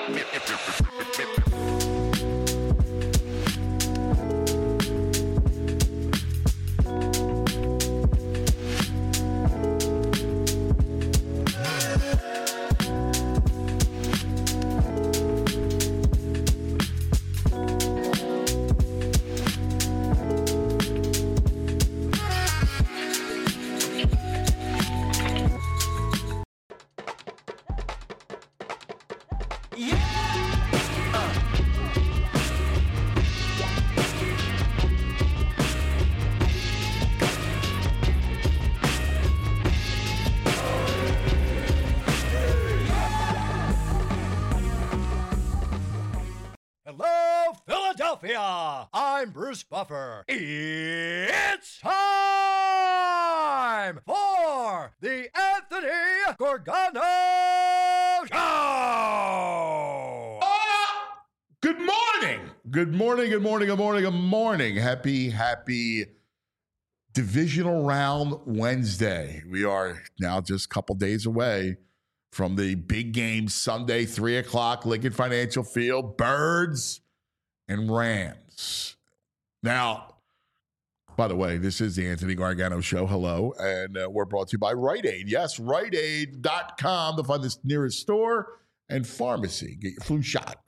Hello, Philadelphia! I'm Bruce Buffer. It's time for the Anthony Gorgano Show! Good morning. Good morning, good morning, good morning, good morning. Happy divisional round Wednesday. We are now just a couple days away from the big game Sunday, 3 o'clock, Lincoln Financial Field, Birds and Rams. Now, by the way, this is the Anthony Gargano Show. Hello. And we're brought to you by Rite Aid. Yes, RiteAid.com to find the nearest store and pharmacy. Get your flu shot.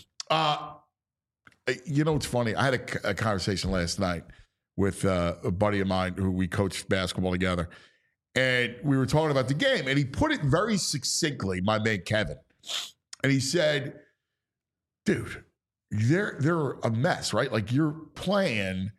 You know, it's funny. I had a conversation last night with a buddy of mine who we coached basketball together. And we were talking about the game, and he put it very succinctly, my man Kevin. And he said, dude, they're a mess, right? Like, you're playing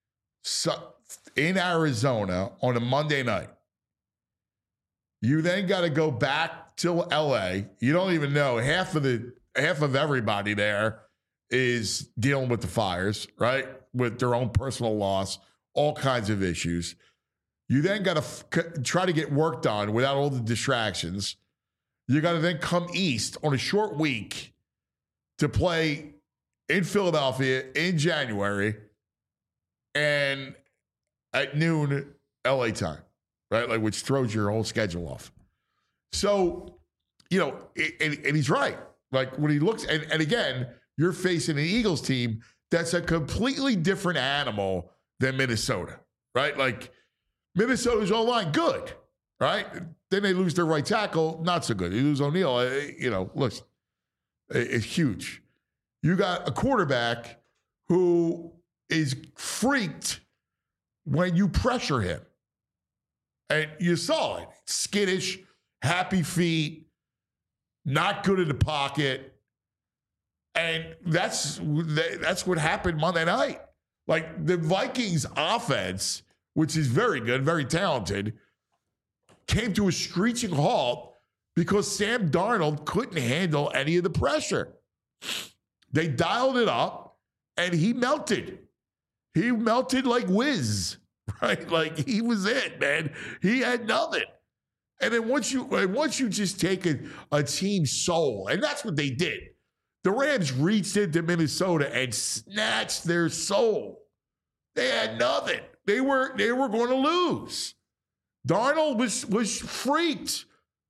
in Arizona on a Monday night. You then got to go back to LA. You don't even know. Half of everybody there is dealing with the fires, right? With their own personal loss, all kinds of issues. You then got to try to get work done without all the distractions. You got to then come east on a short week to play in Philadelphia in January and at noon LA time, right? Like, which throws your whole schedule off. So, you know, and he's right. Like, when he looks, and again, you're facing an Eagles team that's a completely different animal than Minnesota, right? Like, Minnesota's O-line, good, right? Then they lose their right tackle, not so good. They lose O'Neal. You know, listen, it's huge. You got a quarterback who is freaked when you pressure him. And you saw it. Skittish, happy feet, not good in the pocket. And that's what happened Monday night. Like, the Vikings offense, which is very good, very talented, came to a screeching halt because Sam Darnold couldn't handle any of the pressure. They dialed it up, and he melted. He melted like whiz, right? Like, he was it, man. He had nothing. And then once you just take a team's soul, and that's what they did. The Rams reached into Minnesota and snatched their soul. They had nothing. They were going to lose. Darnold was freaked.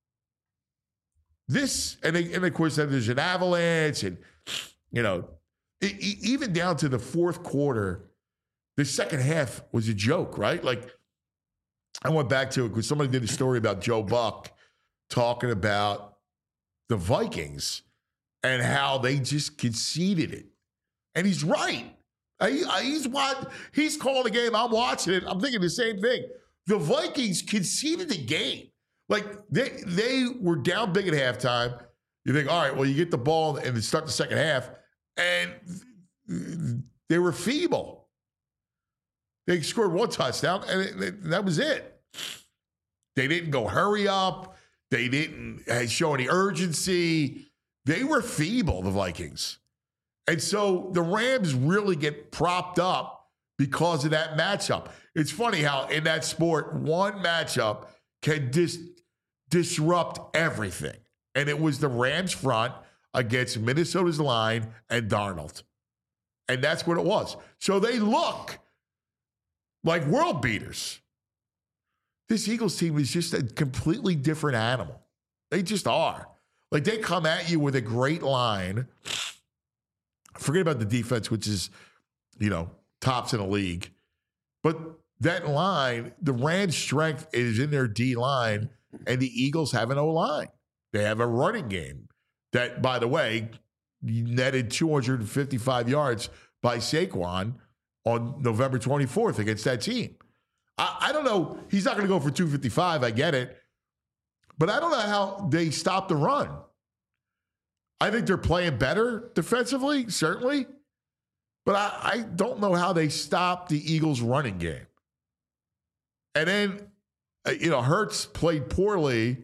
This, and of course, then there's an avalanche, and, you know, even down to the fourth quarter, the second half was a joke, right? Like, I went back to it because somebody did a story about Joe Buck talking about the Vikings and how they just conceded it. And he's right. He's calling the game. I'm watching it. I'm thinking the same thing. The Vikings conceded the game. Like, they were down big at halftime. You think, all right, well, you get the ball and start the second half, and they were feeble. They scored one touchdown, and that was it. They didn't go hurry up. They didn't show any urgency. They were feeble, the Vikings. And so the Rams really get propped up because of that matchup. It's funny how in that sport, one matchup can disrupt everything. And it was the Rams front against Minnesota's line and Darnold. And that's what it was. So they look like world beaters. This Eagles team is just a completely different animal. They just are. Like, they come at you with a great line. Forget about the defense, which is, tops in the league. But that line, the Rams' strength is in their D line, and the Eagles have an O line. They have a running game that, by the way, netted 255 yards by Saquon on November 24th against that team. I don't know. He's not going to go for 255. I get it. But I don't know how they stop the run. I think they're playing better defensively, certainly. But I don't know how they stop the Eagles' running game. And then, Hurts played poorly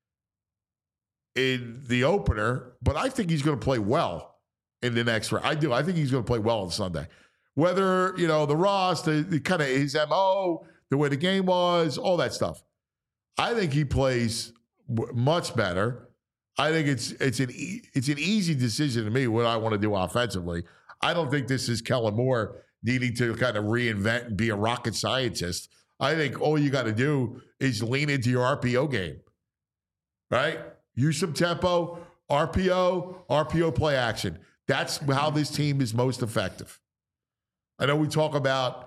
in the opener, but I think he's going to play well in the next round. I do. I think he's going to play well on Sunday. Whether, the Ross, the kind of his MO, the way the game was, all that stuff. I think he plays much better. I think it's an easy decision to me what I want to do offensively. I don't think this is Kellen Moore needing to kind of reinvent and be a rocket scientist. I think all you got to do is lean into your RPO game, right? Use some tempo, RPO play action. That's how this team is most effective. I know we talk about,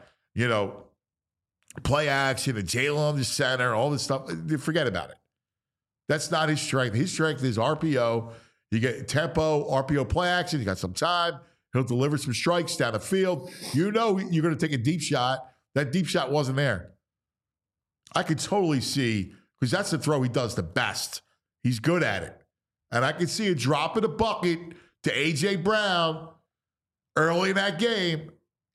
play action and Jalen on the center, all this stuff. Forget about it. That's not his strength. His strength is RPO. You get tempo, RPO play action. You got some time. He'll deliver some strikes down the field. You're going to take a deep shot. That deep shot wasn't there. I could totally see, because that's the throw he does the best. He's good at it. And I could see a drop in the bucket to A.J. Brown early in that game.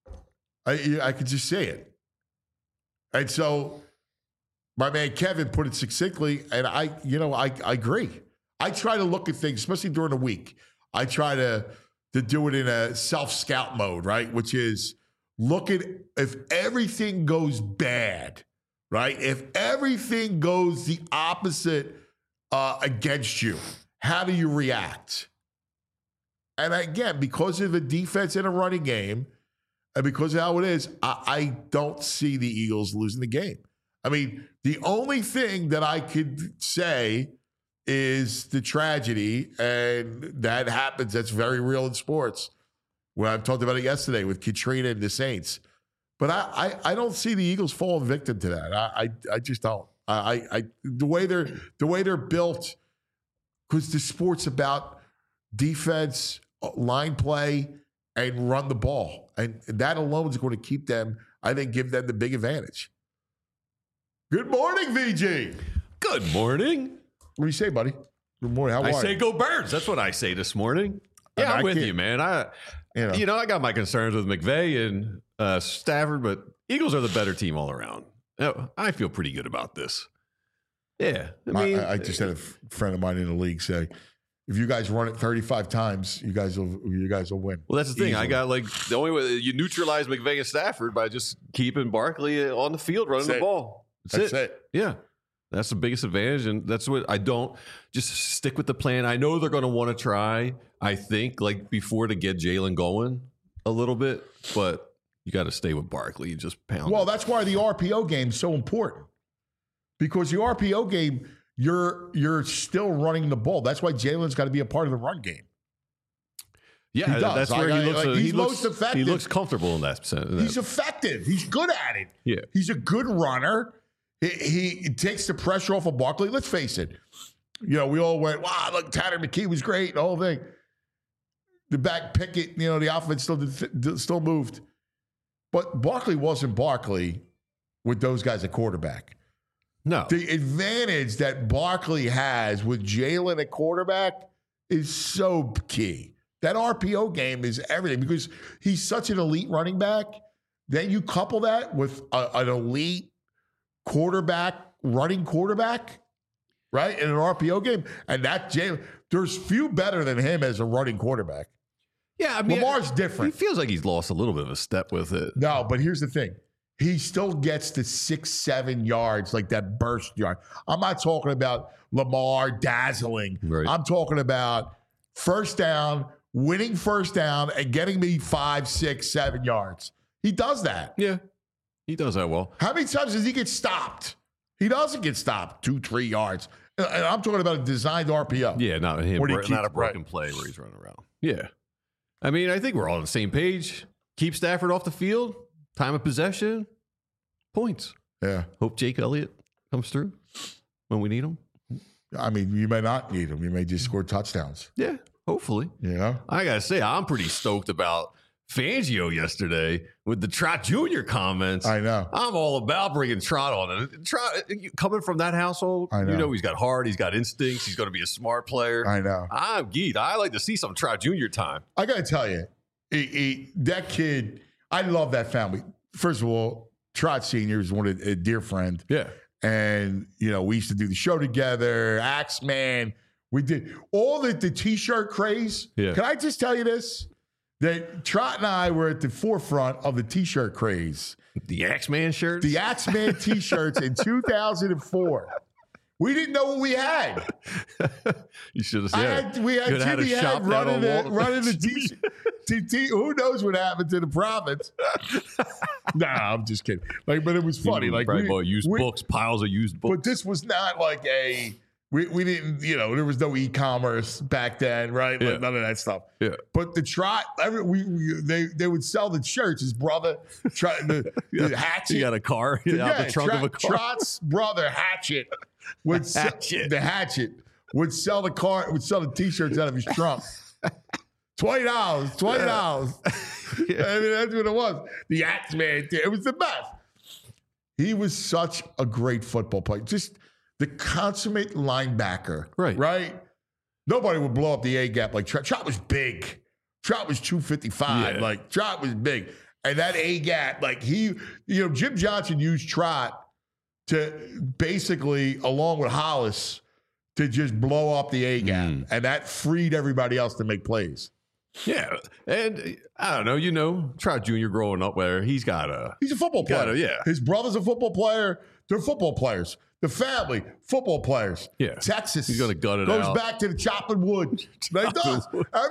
I could just see it. And so my man Kevin put it succinctly, and I agree. I try to look at things, especially during the week. I try to do it in a self-scout mode, right? Which is look at if everything goes bad, right? If everything goes the opposite against you, how do you react? And again, because of the defense and a running game, and because of how it is, I don't see the Eagles losing the game. I mean, the only thing that I could say is the tragedy, and that happens. That's very real in sports. When I talked about it yesterday with Katrina and the Saints. But I don't see the Eagles falling victim to that. I just don't. The way they're built, because the sport's about defense, line play, and run the ball. And that alone is going to keep them, I think, give them the big advantage. Good morning, VG. Good morning. What do you say, buddy? Good morning. How are you? I say go Birds. That's what I say this morning. Yeah, I'm with you, man. I got my concerns with McVay and Stafford, but Eagles are the better team all around. I feel pretty good about this. Yeah. I just had a friend of mine in the league say, if you guys run it 35 times, you guys will win. Well, that's the thing. Easily. I got the only way you neutralize McVay and Stafford by just keeping Barkley on the field running the ball. That's it. Yeah. That's the biggest advantage, and that's what I don't just stick with the plan. I know they're going to want to try, I think, before to get Jalen going a little bit, but you got to stay with Barkley. You just pound. Well, that's why the RPO game is so important, because the RPO game, you're still running the ball. That's why Jalen's got to be a part of the run game. Yeah, that's where he looks most effective. He looks comfortable in that sense. He's effective. He's good at it. Yeah, he's a good runner. He takes the pressure off of Barkley. Let's face it. We all went, wow, look, Tanner McKee was great, the whole thing. The back Pickett, the offense still moved. But Barkley wasn't Barkley with those guys at quarterback. No. The advantage that Barkley has with Jalen at quarterback is so key. That RPO game is everything because he's such an elite running back. Then you couple that with an elite running quarterback, right? In an RPO game. And that Jalen, there's few better than him as a running quarterback. Yeah, I mean, Lamar's different. He feels like he's lost a little bit of a step with it. No, but here's the thing. He still gets to 6-7 yards, like that burst yard. I'm not talking about Lamar dazzling. Right. I'm talking about first down, winning first down, and getting me 5, 6, 7 yards. He does that. Yeah. He does that well. How many times does he get stopped? He doesn't get stopped 2-3 yards. And I'm talking about a designed RPO. Yeah, not him. Keeps, not a broken play where he's running around. Yeah. I mean, I think we're all on the same page. Keep Stafford off the field. Time of possession. Points. Yeah. Hope Jake Elliott comes through when we need him. I mean, you may not need him. You may just score touchdowns. Yeah, hopefully. You know? I got to say, I'm pretty stoked about Fangio yesterday with the Trot Jr. comments. I know. I'm all about bringing Trot on. Trot, coming from that household, you know he's got heart, he's got instincts, he's going to be a smart player. I know. I'm geeked. I like to see some Trot Jr. time. I got to tell you, that kid, I love that family. First of all, Trot Sr. is a dear friend. Yeah. And, you know, we used to do the show together, Axeman. We did all the T-shirt craze. Yeah. Can I just tell you this? That Trot and I were at the forefront of the T-shirt craze. The Axeman shirts? The Axeman T-shirts in 2004. We didn't know what we had. You should have said. We had Jimmy Head running the T-shirt. Who knows what happened to the profits? Nah, I'm just kidding. Like, but it was funny. Like, probably bought used books, piles of used books. But this was not like we didn't, you know, there was no e-commerce back then, right? Like none of that stuff. Yeah. But the Trot, they would sell the shirts. His brother, the Hatchet. He got a car out the trunk of a car. Trot's brother, Hatchet, would sell the T-shirts out of his trunk. $20. I mean, that's what it was. The Axeman. It was the best. He was such a great football player. Just the consummate linebacker. Right? Nobody would blow up the A-gap like Trot. Trot was big. Trot was 255. Yeah. Like, Trot was big. And that A-gap, like Jim Johnson used Trot to basically, along with Hollis, to just blow up the A-gap. And that freed everybody else to make plays. Yeah. And I don't know, Trot Jr. growing up where he's a football player. His brother's a football player. They're football players. The family, football players. Yeah. Texas. He's going to gut it goes out. Goes back to the chopping wood. Like does.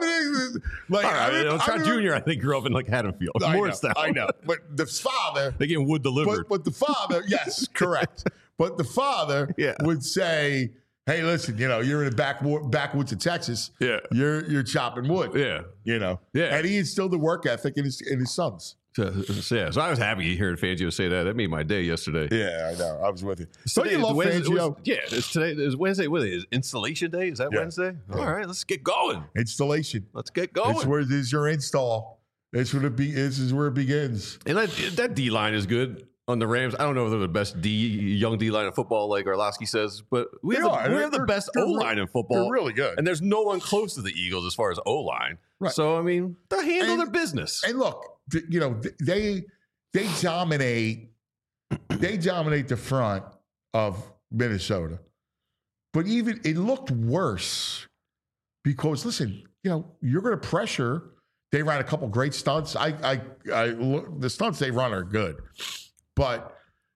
Trot Jr., I think, grew up in like Haddonfield. I know. But the father. They get wood delivered. But the father, yes, correct. But the father would say, hey, listen, you're in the backwoods of Texas. Yeah. You're chopping wood. Yeah. Yeah. And he instilled the work ethic in his sons. So I was happy hearing Fangio say that. That made my day yesterday. Yeah, I know. I was with you. So you love Fangio? Today is Wednesday. What is it? Installation day? Is that Wednesday? Yeah. All right, let's get going. Installation. Let's get going. This is your install. This is where it begins. And that D line is good on the Rams. I don't know if they're the best young D line in football, like Orlovsky says, but we have the best O line in football. They're really good, and there's no one close to the Eagles as far as O line. Right. So I mean, they handle their business. And look, they dominate. They dominate the front of Minnesota, but even it looked worse because listen, you're going to pressure. They ran a couple great stunts. The stunts they run are good. But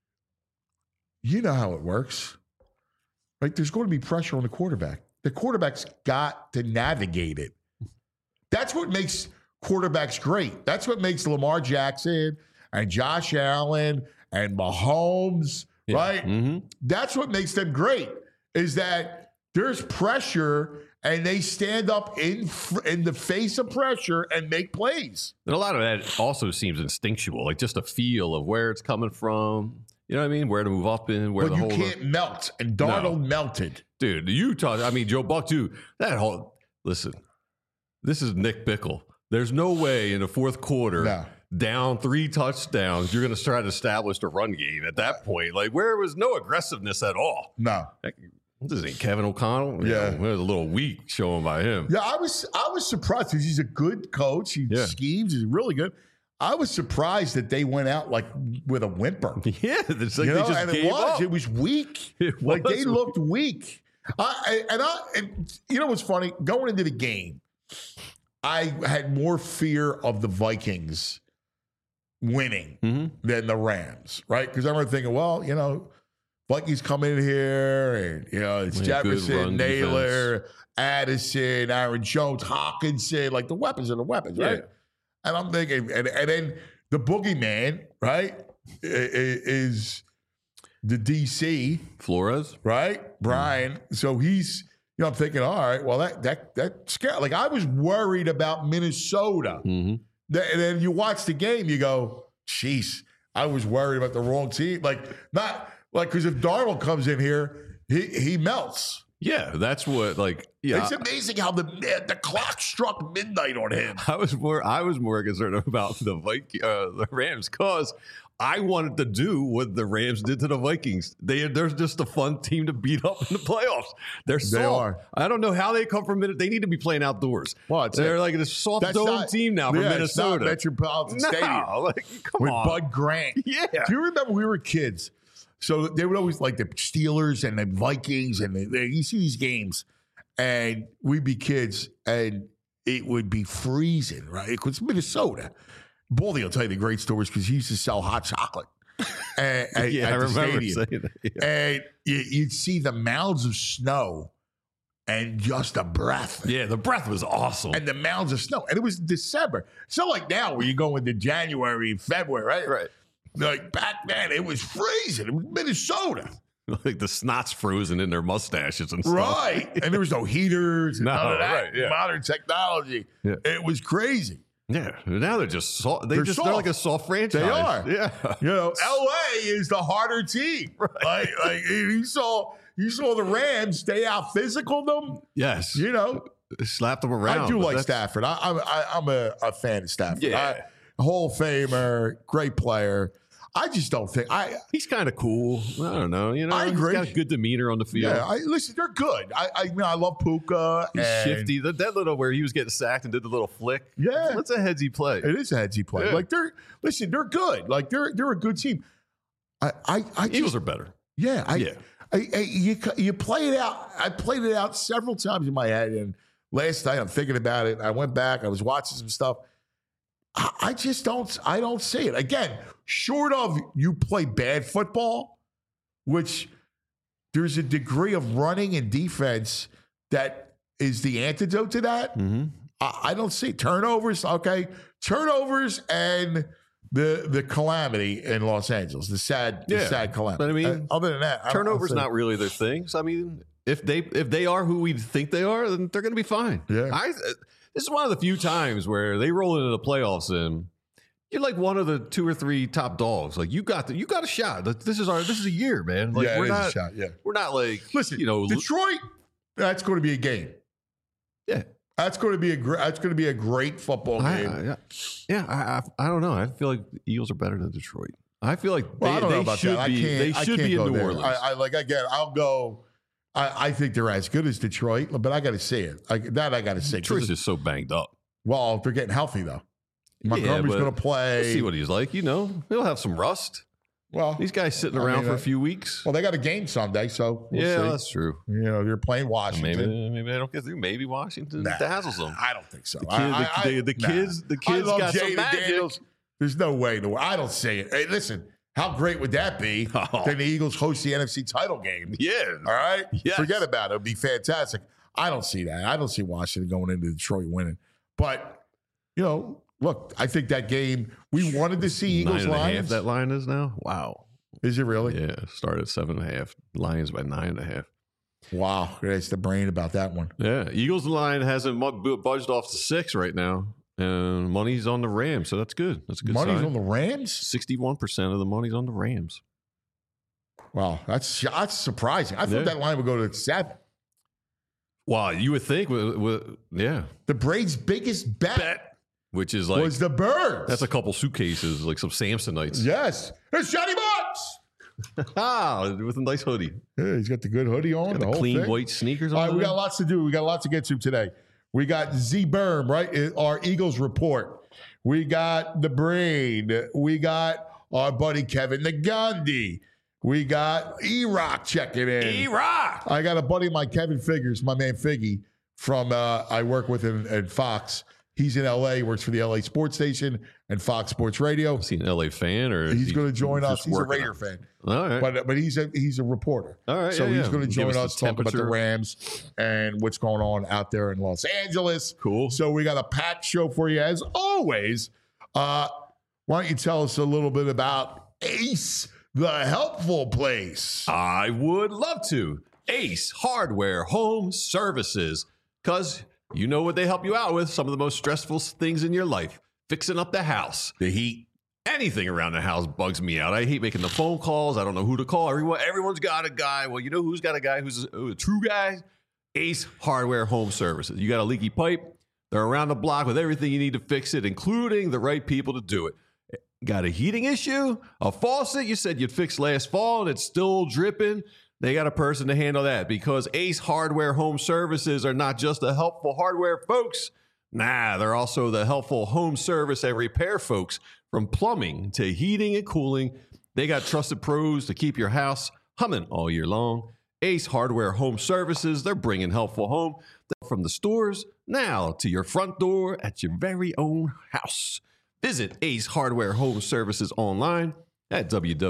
you know how it works, right? There's going to be pressure on the quarterback. The quarterback's got to navigate it. That's what makes quarterbacks great. That's what makes Lamar Jackson and Josh Allen and Mahomes, right? Mm-hmm. That's what makes them great, is that there's pressure and they stand up in the face of pressure and make plays. And a lot of that also seems instinctual, like just a feel of where it's coming from. You know what I mean? Where to move up in, where but you can't melt. And Darnold melted. Dude, Joe Buck too. Listen, this is Nick Bickle. There's no way in the fourth quarter, down 3 touchdowns, you're going to try to establish the run game at that point. Like, where was no aggressiveness at all. No. This ain't Kevin O'Connell. Yeah. It was a little weak showing by him. Yeah, I was surprised because he's a good coach. He schemes. He's really good. I was surprised that they went out like with a whimper. Yeah, it's like they just gave up. It was weak. They looked weak. And you know what's funny? Going into the game, I had more fear of the Vikings winning than the Rams, right? Because I remember thinking, Vikings come in here, and it's Jefferson, Naylor, defense. Addison, Aaron Jones, Hawkinson, like the weapons are the weapons, right? Yeah. And I'm thinking, and then the boogeyman, right, is the DC Flores, right? Brian. So he's, I'm thinking, all right, well, that scary. Like, I was worried about Minnesota. And then you watch the game, you go, jeez, I was worried about the wrong team. Because if Darnold comes in here, he melts. Yeah, that's what, It's amazing how the clock struck midnight on him. I was more concerned about the Rams because I wanted to do what the Rams did to the Vikings. They're just a fun team to beat up in the playoffs. They are. I don't know how they come from Minnesota. They need to be playing outdoors. Well, they're like a soft dome team now from Minnesota. It's not Metropolitan Stadium. Come with on. Bud Grant. Yeah. Do you remember we were kids? So they would always like the Steelers and the Vikings, and you see these games, and we'd be kids, and it would be freezing, right? Because Minnesota. Baldy will tell you the great stories because he used to sell hot chocolate at the stadium. Saying that, yeah. And you'd see the mounds of snow and just the breath. Yeah, the breath was awesome. And the mounds of snow. And it was December. It's not like now where you go into January, February, right? Right. Like back then, it was freezing. It was Minnesota. Like the snot's frozen in their mustaches and stuff. Right. And there was no heaters and none of that. Right, yeah. Modern technology. Yeah. It was crazy. Yeah, now they're just soft. They're like a soft franchise. They are. Yeah, LA is the harder team. Right. Like you saw the Rams stay out physical them. Yes. Slapped them around. I do like Stafford. I'm a fan of Stafford. Yeah. Hall of Famer, great player. I just don't think he's kind of cool. I don't know. I agree. He's got a good demeanor on the field. Yeah, listen, they're good. I love Puka. He's shifty. That little where he was getting sacked and did the little flick. Yeah, that's a headsy play. It is a headsy play. Yeah. Like they're good. Like they're a good team. Eagles are better. Yeah, you play it out. I played it out several times in my head, and last night I'm thinking about it. I went back. I was watching some stuff. I just don't see it. Again, short of you play bad football, which there's a degree of running and defense that is the antidote to that. Mm-hmm. I don't see turnovers. Okay, turnovers and the calamity in Los Angeles, the sad calamity. But I mean, other than that, turnovers not really their thing. So I mean, if they are who we think they are, then they're going to be fine. Yeah. This is one of the few times where they roll into the playoffs and you're like one of the 2 or 3 top dogs. Like you got a shot. This is a year, man. Like we're not a shot. Yeah, we're not like listen. Detroit. That's going to be a game. Yeah, that's going to be a great football game. I don't know. I feel like the Eagles are better than Detroit. I feel like I don't know about should that. be. They should be in New Orleans. I'll go. I think they're as good as Detroit, but I got to see it. I got to see. Detroit's just so banged up. Well, they're getting healthy though. Montgomery's going to play. We'll see what he's like. He'll have some rust. Well, these guys sitting around for a few weeks. Well, they got a game Sunday, so we'll see. That's true. They're playing Washington. Maybe they don't get through. Maybe Washington dazzles them. I don't think so. The kids got some magic. Daniels. There's no way in the world. I don't see it. Hey, listen. How great would that be? Then the Eagles host the NFC title game. Yeah. All right? Yes. Forget about it. It would be fantastic. I don't see that. I don't see Washington going into Detroit winning. But, look, I think that game, we wanted to see Eagles Lions. 9.5 that line is now? Wow. Is it really? Yeah. Started at 7.5. Lions by 9.5. Wow. That's the brain about that one. Yeah. Eagles line hasn't budged off to 6 right now. And money's on the Rams, so that's good. That's a good Money's sign. on the Rams? 61% of the money's on the Rams. Wow, that's surprising. I thought that line would go to 7. Wow, you would think, yeah. The Braves' biggest bet, which is like, was the Birds. That's a couple suitcases, like some Samsonites. Yes. It's Johnny Bucks. With a nice hoodie. Yeah, he's got the good hoodie on. The whole clean thing. White sneakers on. All right, we got lots to do. We got lots to get to today. We got Z Berm, right? Our Eagles report. We got the Brain. We got our buddy Kevin Nagandi. We got E-Rock checking in. E-Rock. I got a buddy of mine, Kevin Figures, my man Figgy, from I work with him at Fox. He's in L.A., works for the L.A. Sports Station and Fox Sports Radio. Is he an L.A. fan? Or he's going to join us. He's a Raider fan. All right. But he's a reporter. All right. So he's going to join us, talk about the Rams and what's going on out there in Los Angeles. Cool. So we got a packed show for you as always. Why don't you tell us a little bit about Ace, the helpful place? I would love to. Ace Hardware Home Services, because you know what they help you out with, some of the most stressful things in your life. Fixing up the house. The heat. Anything around the house bugs me out. I hate making the phone calls. I don't know who to call. Everyone's got a guy. Well, you know who's got a guy who's a true guy? Ace Hardware Home Services. You got a leaky pipe? They're around the block with everything you need to fix it, including the right people to do it. Got a heating issue? A faucet you said you'd fix last fall and it's still dripping? They got a person to handle that, because Ace Hardware Home Services are not just the helpful hardware folks. Nah, they're also the helpful home service and repair folks. From plumbing to heating and cooling, they got trusted pros to keep your house humming all year long. Ace Hardware Home Services, they're bringing helpful home from the stores now to your front door at your very own house. Visit Ace Hardware Home Services online at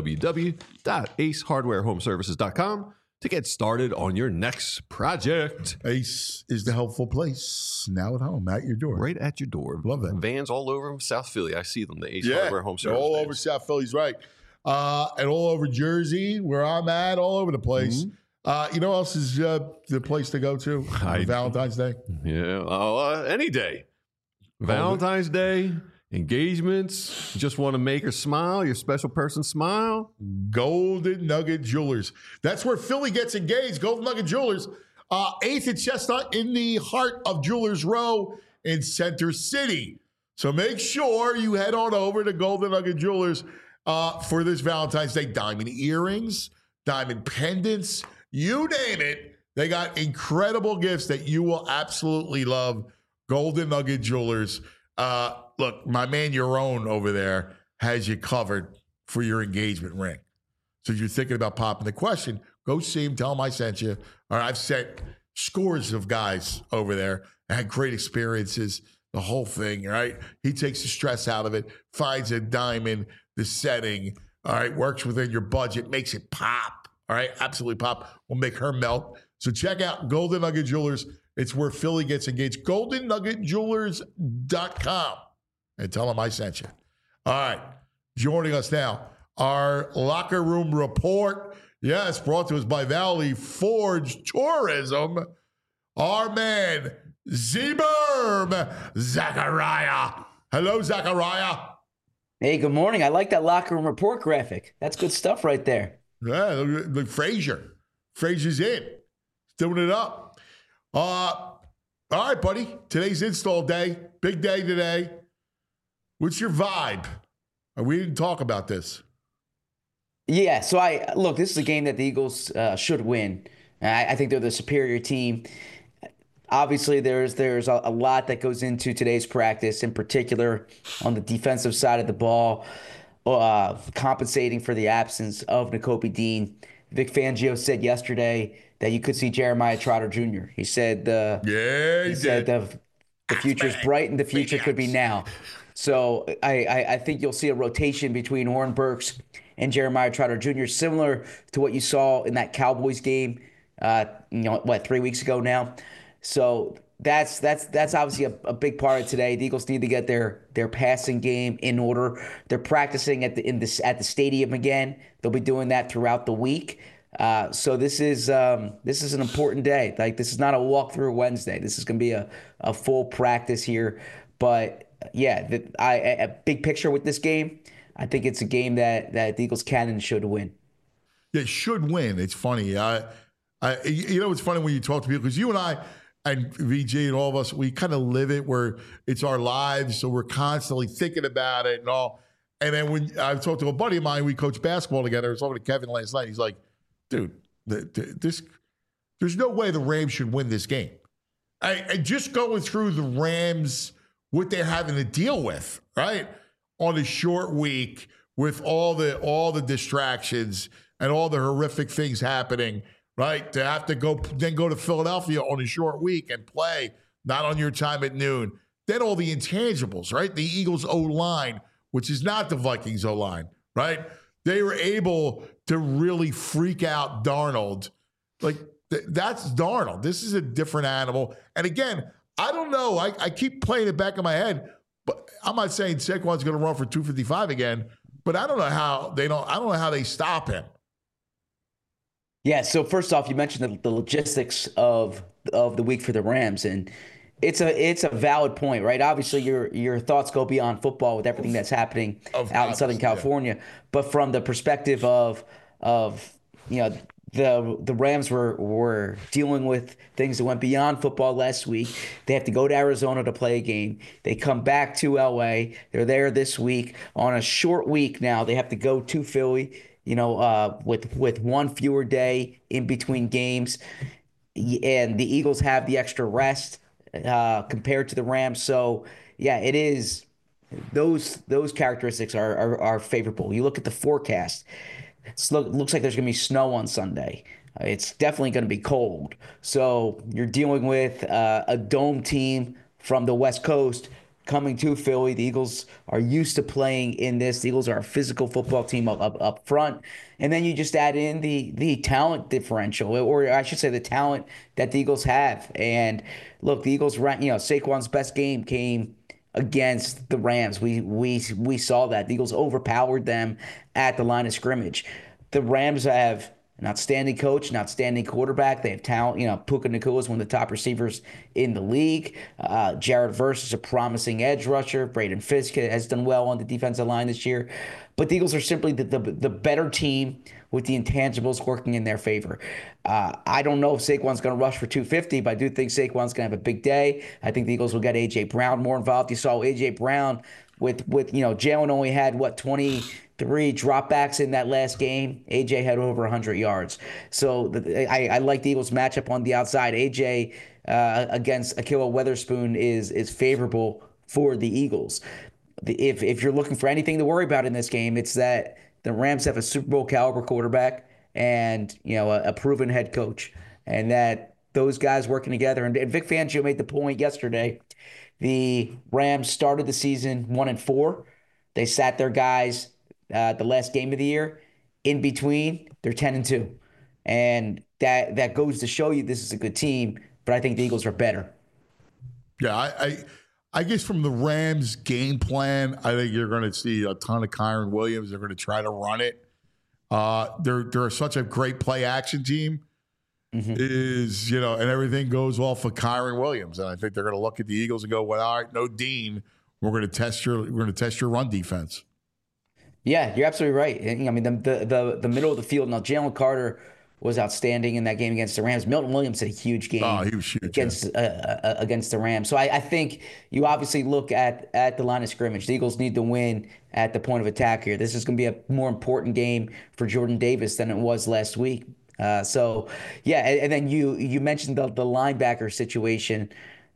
www.acehardwarehomeservices.com to get started on your next project. Ace is the helpful place, now at home, at your door. Right at your door. Love that. Vans all over South Philly. I see them, the Ace Hardware Home Service. All vans. over South Philly's right. And all over Jersey, where I'm at, all over the place. You know what else is the place to go to on Valentine's Day? Yeah, any day. Valentine's Day. Engagements, just want to make her smile, your special person smile. Golden Nugget Jewelers. That's where Philly gets engaged. Golden Nugget Jewelers. 8th and Chestnut in the heart of Jewelers Row in Center City. So make sure you head on over to Golden Nugget Jewelers for this Valentine's Day. Diamond earrings, diamond pendants, you name it. They got incredible gifts that you will absolutely love. Golden Nugget Jewelers. Look, my man Yaron over there has you covered for your engagement ring. So if you're thinking about popping the question, go see him, tell him I sent you. All right, I've sent scores of guys over there. I had great experiences, the whole thing, right? He takes the stress out of it, finds a diamond, the setting, all right, works within your budget, makes it pop, all right? Absolutely pop. Will make her melt. So check out Golden Nugget Jewelers. It's where Philly gets engaged. GoldenNuggetJewelers.com. And tell them I sent you. All right. Joining us now, our locker room report. Yes, brought to us by Valley Forge Tourism. Our man, Z-Berm, Zachariah. Hello, Zachariah. Hey, good morning. I like that locker room report graphic. That's good stuff right there. Yeah, look, Frazier. Frazier's in. Doing it up. All right, buddy. Today's install day. Big day today. What's your vibe? We didn't talk about this. Yeah, so this is a game that the Eagles should win. I think they're the superior team. Obviously, there's a lot that goes into today's practice, in particular on the defensive side of the ball, compensating for the absence of Nakobe Dean. Vic Fangio said yesterday that you could see Jeremiah Trotter Jr. He said the future's bright and the future could be now. So I think you'll see a rotation between Oren Burks and Jeremiah Trotter Jr., similar to what you saw in that Cowboys game, 3 weeks ago now. So that's obviously a big part of today. The Eagles need to get their passing game in order. They're practicing at the stadium again. They'll be doing that throughout the week. So this is an important day. Like, this is not a walkthrough Wednesday. This is going to be a full practice here. But yeah, a big picture with this game, I think it's a game that the Eagles can and should win. Yeah, should win. It's funny. It's funny when you talk to people, because you and I and VG and all of us, we kind of live it where it's our lives, so we're constantly thinking about it and all. And then when I talked to a buddy of mine, we coached basketball together. I was talking to Kevin last night. He's like, dude, there's no way the Rams should win this game. And just going through the Rams, what they're having to deal with, right, on a short week with all the distractions and all the horrific things happening, right? To have to go to Philadelphia on a short week and play, not on your time at noon. Then all the intangibles, right? The Eagles O-line, which is not the Vikings O-line, right? They were able to really freak out Darnold. Like, that's Darnold. This is a different animal. And again, I don't know. I keep playing it back in my head, but I'm not saying Saquon's going to run for 255 again. But I don't know how they stop him. Yeah. So first off, you mentioned the logistics of the week for the Rams, and it's a valid point, right? Obviously, your thoughts go beyond football with everything that's happening out in Southern California, but from the perspective of you know the Rams were dealing with things that went beyond football last week. They have to go to Arizona to play a game. They come back to LA. They're there this week on a short week now. They have to go to Philly, with one fewer day in between games, and the Eagles have the extra rest compared to the Rams. So yeah, it is those characteristics are favorable. You look at the forecast. Looks like there's going to be snow on Sunday. It's definitely going to be cold. So you're dealing with a dome team from the West Coast coming to Philly. The Eagles are used to playing in this. The Eagles are a physical football team up front. And then you just add in the talent differential, or I should say the talent that the Eagles have. And look, the Eagles, Saquon's best game came against the Rams. We saw that. The Eagles overpowered them at the line of scrimmage. The Rams have an outstanding coach, an outstanding quarterback. They have talent. Puka Nacua is one of the top receivers in the league. Jared Verse is a promising edge rusher. Braden Fisk has done well on the defensive line this year. But the Eagles are simply the better team with the intangibles working in their favor. I don't know if Saquon's going to rush for 250, but I do think Saquon's going to have a big day. I think the Eagles will get A.J. Brown more involved. You saw A.J. Brown with Jalen only had, 23 dropbacks in that last game. A.J. had over 100 yards. So I like the Eagles matchup on the outside. A.J. Against Ahkello Witherspoon is favorable for the Eagles. If you're looking for anything to worry about in this game, it's that the Rams have a Super Bowl caliber quarterback and a proven head coach, and that those guys working together. And Vic Fangio made the point yesterday. The Rams started the season 1-4. They sat their guys the last game of the year. In between, they're 10-2, and that goes to show you this is a good team. But I think the Eagles are better. Yeah, I guess from the Rams' game plan, I think you're going to see a ton of Kyren Williams. They're going to try to run it. They're such a great play action team. Mm-hmm. And everything goes well for Kyren Williams. And I think they're going to look at the Eagles and go, well, all right, no Dean. We're going to test your run defense. Yeah, you're absolutely right. I mean, the middle of the field. Now, Jalen Carter was outstanding in that game against the Rams. Milton Williams had a huge game against the Rams. So I think you obviously look at the line of scrimmage. The Eagles need to win at the point of attack here. This is going to be a more important game for Jordan Davis than it was last week. And then you mentioned the linebacker situation.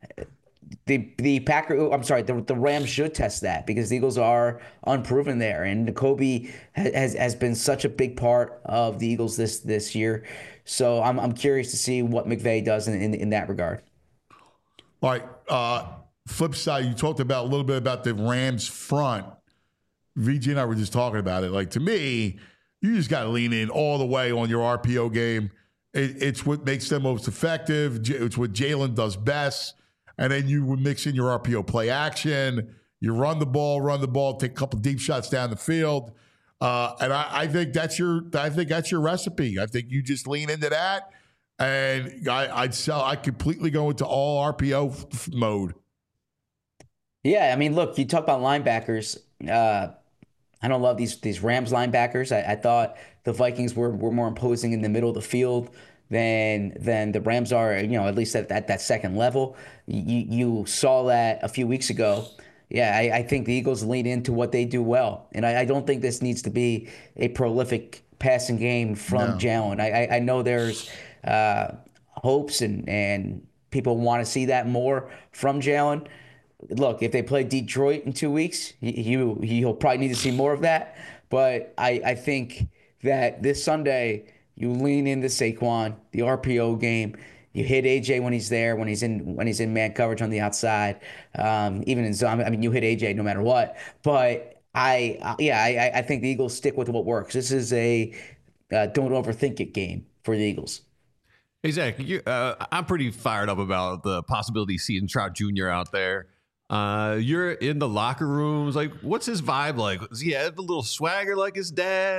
The Rams should test that because the Eagles are unproven there, and Nakobe has been such a big part of the Eagles this year. So I'm curious to see what McVay does in that regard. All right. Flip side, you talked about a little bit about the Rams front. VG and I were just talking about it. Like, to me, you just got to lean in all the way on your RPO game. It's what makes them most effective. It's what Jalen does best. And then you would mix in your RPO play action. You run the ball, take a couple deep shots down the field. And I think that's your recipe. I think you just lean into that. And I'd completely go into all RPO mode. Yeah, I mean, look, you talk about linebackers. I don't love these Rams linebackers. I thought the Vikings were more imposing in the middle of the field than the Rams are, at least at that second level. You saw that a few weeks ago. Yeah, I think the Eagles lean into what they do well. And I don't think this needs to be a prolific passing game from Jalen. I know there's hopes and people want to see that more from Jalen. Look, if they play Detroit in 2 weeks, he'll probably need to see more of that. But I think that this Sunday, you lean into Saquon, the RPO game. You hit AJ when he's there, when he's in man coverage on the outside, even in zone. I mean, you hit AJ no matter what. But I think the Eagles stick with what works. This is a don't overthink it game for the Eagles. Hey Zach, I'm pretty fired up about the possibility of seeing Trout Jr. out there. You're in the locker rooms. Like, what's his vibe like? Does he have a little swagger like his dad?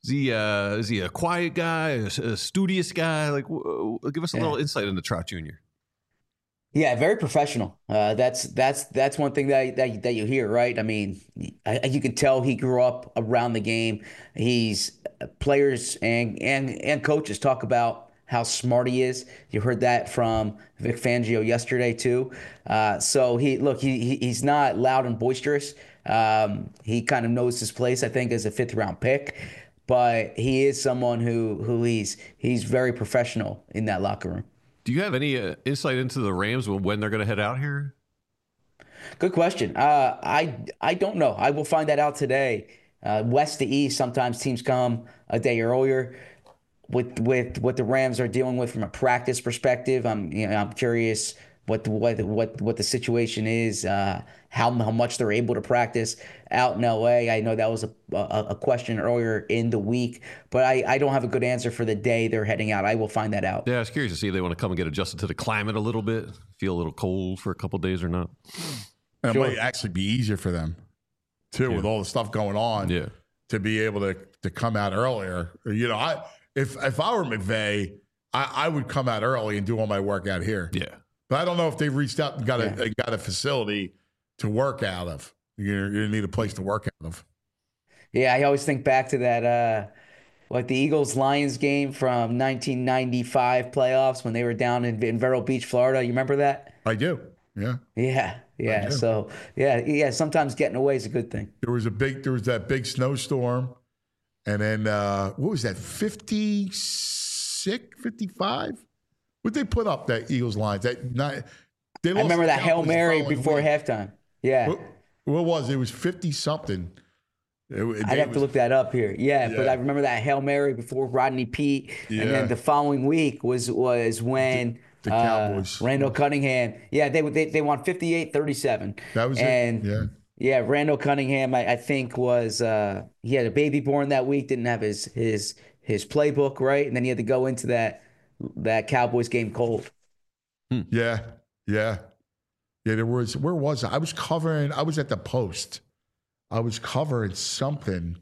Is he a quiet guy, a studious guy? Like, give us a little insight into Trot Jr. Yeah, very professional. That's one thing that you hear, right? I mean, you can tell he grew up around the game. He's players and coaches talk about how smart he is. You heard that from Vic Fangio yesterday too. So he's not loud and boisterous. He kind of knows his place, I think, as a 5th round pick. But he is someone who he's very professional in that locker room. Do you have any insight into the Rams when they're going to head out here? Good question. I don't know. I will find that out today. West to east, sometimes teams come a day earlier. With what the Rams are dealing with from a practice perspective, I'm curious what the situation is, how much they're able to practice out in LA. I know that was a question earlier in the week, but I don't have a good answer for the day they're heading out. I will find that out. Yeah, I was curious to see if they want to come and get adjusted to the climate a little bit, feel a little cold for a couple of days or not. It might actually be easier for them too, with all the stuff going on. Yeah, to be able to come out earlier. If I were McVay, I would come out early and do all my work out here. Yeah. But I don't know if they've reached out and got a facility to work out of. You need a place to work out of. Yeah, I always think back to that, the Eagles-Lions game from 1995 playoffs when they were down in Vero Beach, Florida. You remember that? I do. Yeah. Yeah. So sometimes getting away is a good thing. There was that big snowstorm, and then what was that? 56, 55? What they put up that Eagles Lions that night? I remember that Hail Mary before halftime. Yeah. What was it? It was 50 something. I'd have to look that up here. Yeah, but I remember that Hail Mary before Rodney Peete, and then the following week was when the Cowboys, Randall Cunningham. Yeah, they won 58-37. That was it. Yeah. Yeah, Randall Cunningham, I think was he had a baby born that week, didn't have his playbook right, and then he had to go into that Cowboys game cold. Yeah. There was, where was I? I was at the Post. I was covering something.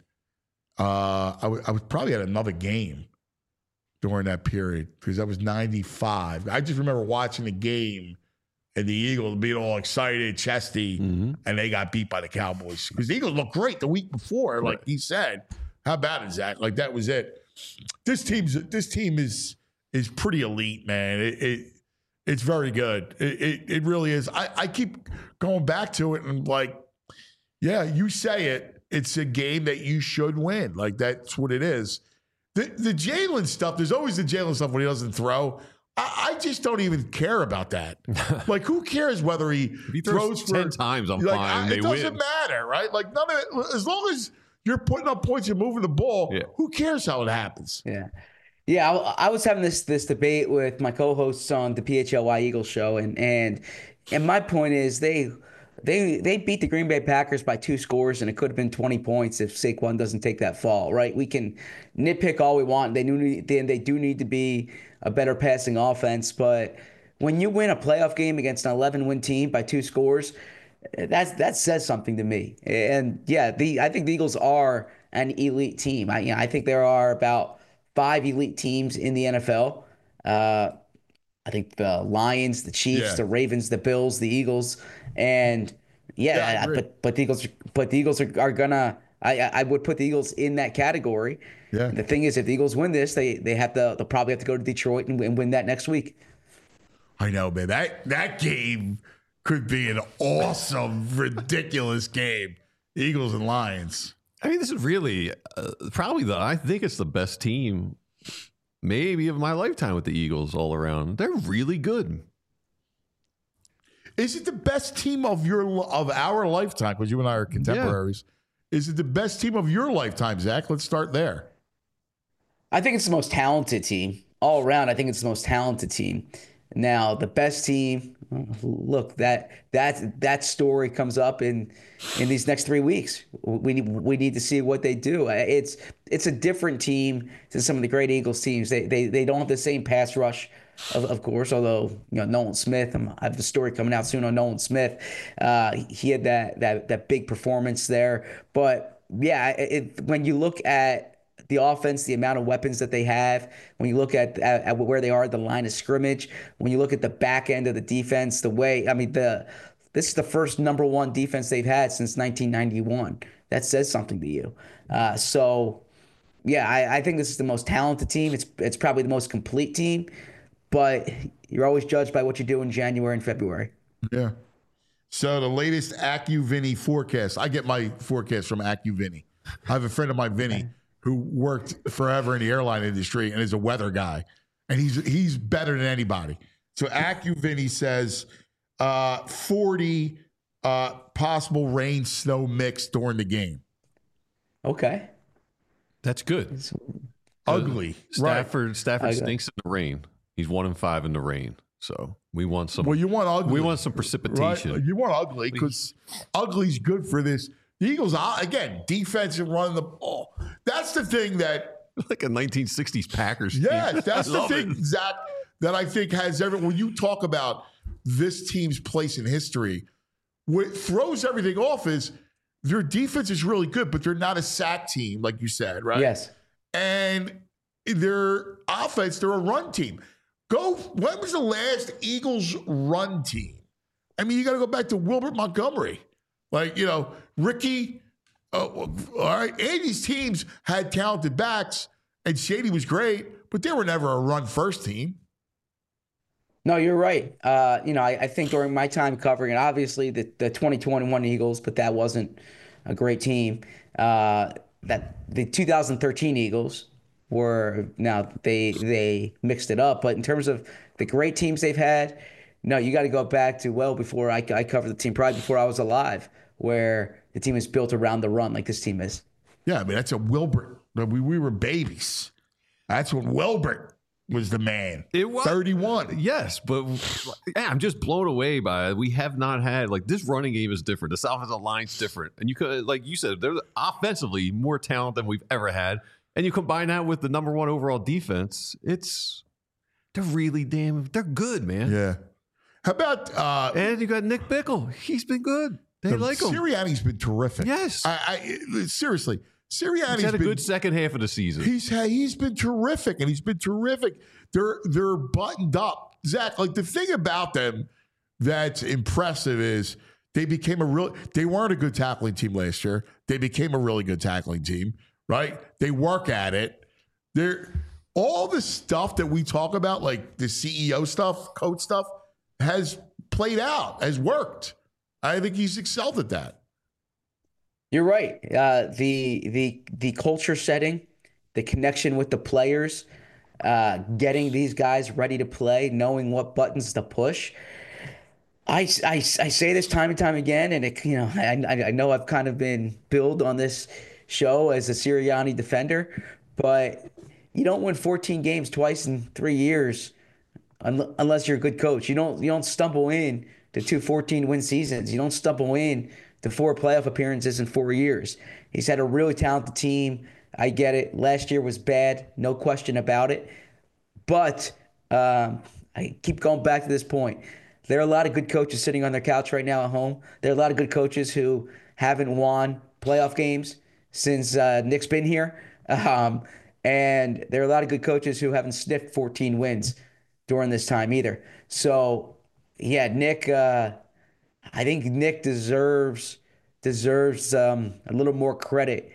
I was probably at another game during that period because that was 95. I just remember watching the game and the Eagles being all excited, chesty, and they got beat by the Cowboys. Because the Eagles looked great the week before, like he said. How bad is that? Like, that was it. This team is pretty elite, man. It's very good. It really is. I keep going back to it and yeah, you say it. It's a game that you should win. Like, that's what it is. The Jalen stuff, there's always the Jalen stuff when he doesn't throw. I just don't even care about that. Like, who cares whether he throws 10 times, I'm fine. They win. It doesn't matter, right? Like, none of it, as long as you're putting up points and moving the ball, who cares how it happens? Yeah. Yeah, I was having this debate with my co-hosts on the PHLY Eagles show, and my point is they beat the Green Bay Packers by 2 scores, and it could have been 20 points if Saquon doesn't take that fall, right? We can nitpick all we want. They do need to be a better passing offense, but when you win a playoff game against an 11-win team by 2 scores, that says something to me. And yeah, I think the Eagles are an elite team. I think there are about 5 elite teams in the NFL. I think the Lions, the Chiefs, the Ravens, the Bills, the Eagles, and but the Eagles are gonna. I would put the Eagles in that category. Yeah. And the thing is, if the Eagles win this, they'll probably have to go to Detroit and win that next week. I know, man. That game could be an awesome, ridiculous game. Eagles and Lions. I mean, this is really probably I think it's the best team maybe of my lifetime with the Eagles all around. They're really good. Is it the best team of our lifetime? Because you and I are contemporaries. Yeah. Is it the best team of your lifetime, Zach? Let's start there. I think it's the most talented team all around. I think it's the most talented team. Now, the best team. Look, that story comes up in these next 3 weeks. We need to see what they do. It's a different team than some of the great Eagles teams. They don't have the same pass rush, of course. Although Nolan Smith, I have the story coming out soon on Nolan Smith. He had that big performance there. But yeah, when you look at the offense, the amount of weapons that they have, when you look at where they are at the line of scrimmage, when you look at the back end of the defense, this is the first number one defense they've had since 1991. That says something to you. I think this is the most talented team. It's probably the most complete team, but you're always judged by what you do in January and February. Yeah. So the latest AccuVinny forecast. I get my forecast from AccuVinny. I have a friend of mine, Vinny, who worked forever in the airline industry and is a weather guy, and he's better than anybody. So AccuVinny says 40 possible rain snow mix during the game. Okay, that's good. It's ugly. Stafford stinks in the rain. He's 1-5 in the rain. So we want some. Well, you want ugly. We want some precipitation. Right? You want ugly because ugly's good for this. The Eagles, again, defense and running the ball. That's the thing that... Like a 1960s Packers team. Yes, that's the thing, Zach, that I think has everyone... When you talk about this team's place in history, what throws everything off is their defense is really good, but they're not a sack team, like you said, right? Yes. And their offense, they're a run team. When was the last Eagles run team? I mean, you got to go back to Wilbert Montgomery. Ricky, all right, Andy's teams had talented backs, and Shady was great, but they were never a run-first team. No, you're right. I think during my time covering it, obviously the 2021 Eagles, but that wasn't a great team. That the 2013 Eagles were, now they mixed it up, but in terms of the great teams they've had, no, you got to go back to well before I covered the team, probably before I was alive, where the team is built around the run like this team is. Yeah, I mean, that's a Wilbert. We were babies. That's when Wilbert was the man. It was 31. Yes, but I'm just blown away by it. We have not had this running game is different. The offensive line's different, and you could, like you said, they're offensively more talent than we've ever had. And you combine that with the number one overall defense. They're really they're good, man. Yeah. How about and you got Nick Bickle. He's been good. They like him. Sirianni's been terrific. Yes. Seriously. Sirianni's had a good second half of the season. He's been terrific, and he's been terrific. They're buttoned up. Zach, the thing about them that's impressive is they weren't a good tackling team last year. They became a really good tackling team, right? They work at it. All the stuff that we talk about, like the CEO stuff, coach stuff, has played out, has worked. I think he's excelled at that. You're right. The culture setting, the connection with the players, getting these guys ready to play, knowing what buttons to push. I say this time and time again, and I know I've kind of been billed on this show as a Sirianni defender, but you don't win 14 games twice in 3 years unless you're a good coach. You don't stumble in to 2 14-win seasons. You don't stumble in to 4 playoff appearances in 4 years. He's had a really talented team. I get it. Last year was bad, no question about it. But I keep going back to this point. There are a lot of good coaches sitting on their couch right now at home. There are a lot of good coaches who haven't won playoff games since Nick's been here. And there are a lot of good coaches who haven't sniffed 14 wins during this time either. So, yeah, Nick, I think Nick deserves a little more credit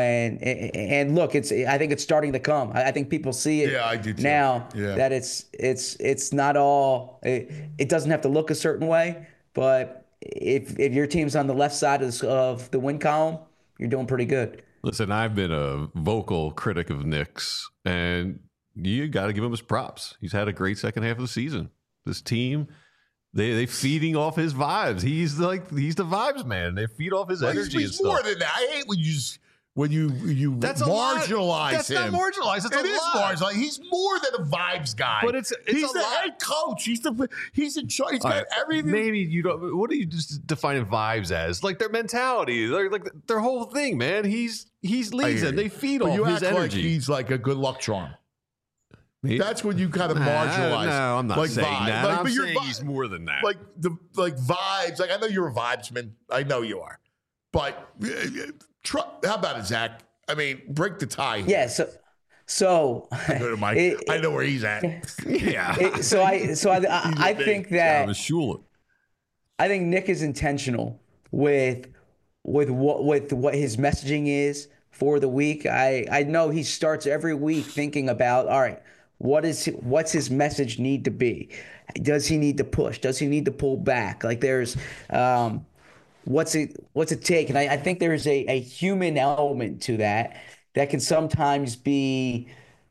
and look, I think it's starting to come. I think people see it I do too. Now that it's not all, it doesn't have to look a certain way, but if your team's on the left side of the win column, you're doing pretty good. Listen, I've been a vocal critic of Nick's, and you got to give him his props. He's had a great second half of the season. This team, they feeding off his vibes. He's the vibes man. They feed off his energy. He's more than that. I hate when you that's marginalize That's him. That's not marginalized. It's it is marginalized. He's more than a vibes guy. But he's the head coach. He's in charge. He's got everything. Maybe you don't. What are you just defining vibes as? Like their mentality, their whole thing, man. He leads them. They feed off his energy. Like he's like a good luck charm. That's when you kind of marginalize. No, I'm not saying vibe. that. I'm saying he's more than that. Like vibes. Like I know you're a vibesman. I know you are. But how about it, Zach? I mean, break the tie here. Yeah. So I go to Mike. I know where he's at. Yeah. I think that I think Nick is intentional with what his messaging is for the week. I know he starts every week thinking about, all right, what's his message need to be? Does he need to push? Does he need to pull back? Like there's what's it take? And I think there's a human element to that can sometimes be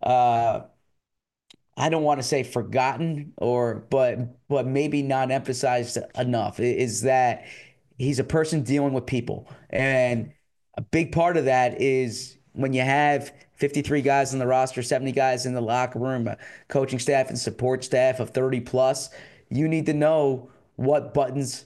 I don't want to say forgotten but maybe not emphasized enough, is that he's a person dealing with people. And a big part of that is when you have 53 guys on the roster, 70 guys in the locker room, a coaching staff and support staff of 30 plus, you need to know what buttons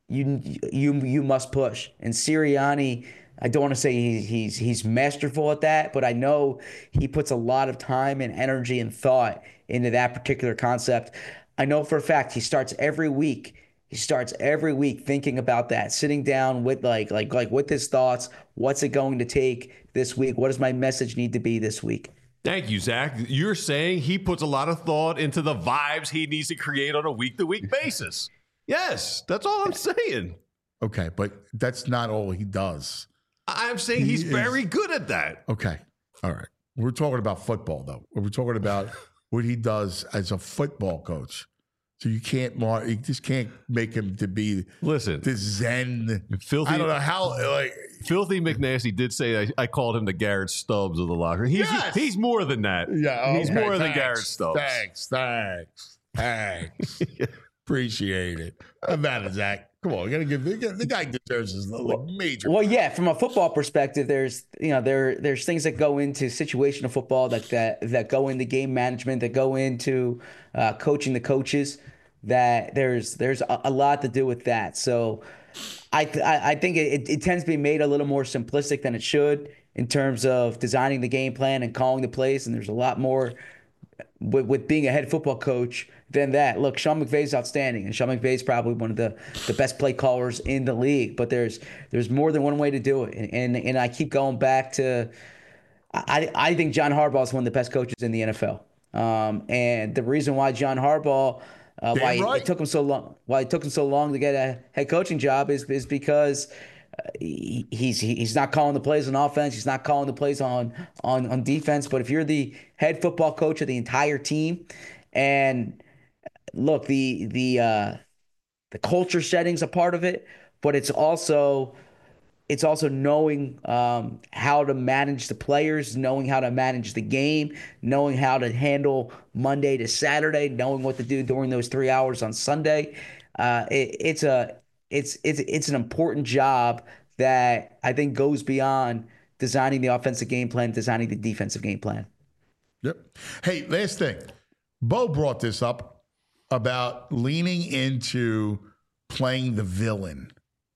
you must push. And Sirianni, I don't want to say he's masterful at that, but I know he puts a lot of time and energy and thought into that particular concept. I know for a fact he starts every week thinking about that, sitting down with like with his thoughts. What's it going to take this week? What does my message need to be this week? Thank you, Zach. You're saying he puts a lot of thought into the vibes he needs to create on a week-to-week basis. Yes, that's all I'm saying. Okay, but that's not all he does. I'm saying he's very good at that. Okay. All right. We're talking about football, though. We're talking about what he does as a football coach. So you just can't make him to be the Zen. Filthy, I don't know how. Filthy McNasty did say I called him the Garrett Stubbs of the locker. He's more than that. Yeah, okay, he's more than Garrett Stubbs. Thanks. Appreciate it. I'm mad at Zach. Come on, you gotta give the guy deserves his major. Well, yeah, from a football perspective, there's there's things that go into situational football that go into game management, that go into coaching the coaches. That there's a lot to do with that. So I think it tends to be made a little more simplistic than it should in terms of designing the game plan and calling the plays. And there's a lot more with being a head football coach than that. Look, Sean McVay is outstanding, and Sean McVay is probably one of the best play callers in the league. But there's more than one way to do it, and I keep going back to I think John Harbaugh is one of the best coaches in the NFL. And the reason why John Harbaugh it took him so long to get a head coaching job is because he's not calling the plays on offense. He's not calling the plays on defense. But if you're the head football coach of the entire team, and look, the culture setting's a part of it, but it's also knowing how to manage the players, knowing how to manage the game, knowing how to handle Monday to Saturday, knowing what to do during those 3 hours on Sunday. It's an important job that I think goes beyond designing the offensive game plan, designing the defensive game plan. Yep. Hey, last thing. Bo brought this up about leaning into playing the villain.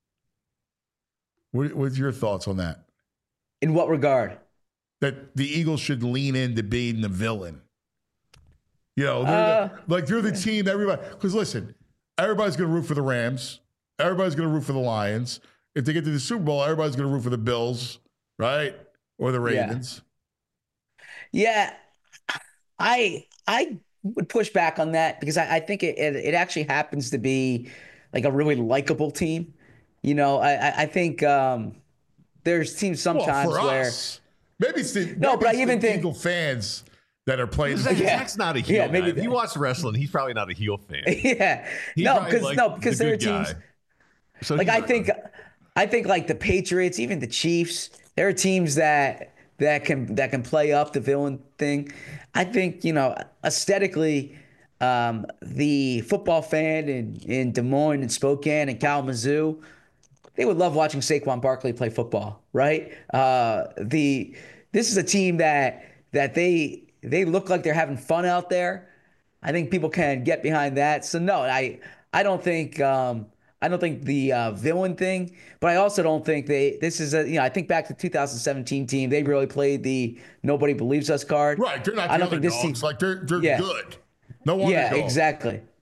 What's your thoughts on that? In what regard? That the Eagles should lean into being the villain. You know, they're the team, everybody. Because listen, everybody's going to root for the Rams. Everybody's going to root for the Lions. If they get to the Super Bowl, everybody's going to root for the Bills, right? Or the Ravens. Yeah. I would push back on that because I think it actually happens to be like a really likable team. You know, I think there's teams sometimes where maybe it's the Eagle fans that are playing. Zach's not a heel. Yeah, maybe if you watch wrestling, he's probably not a heel fan. Yeah, because there are teams. So like I think like the Patriots, even the Chiefs, there are teams that can play up the villain thing. I think aesthetically. The football fan in Des Moines and Spokane and Kalamazoo, they would love watching Saquon Barkley play football, right? This is a team that they look like they're having fun out there. I think people can get behind that. So no, I don't think the villain thing, but I also don't think I think back to the 2017 team, they really played the nobody believes us card. Right, they're not. I don't think this team like they're good. No wonder. Yeah, exactly.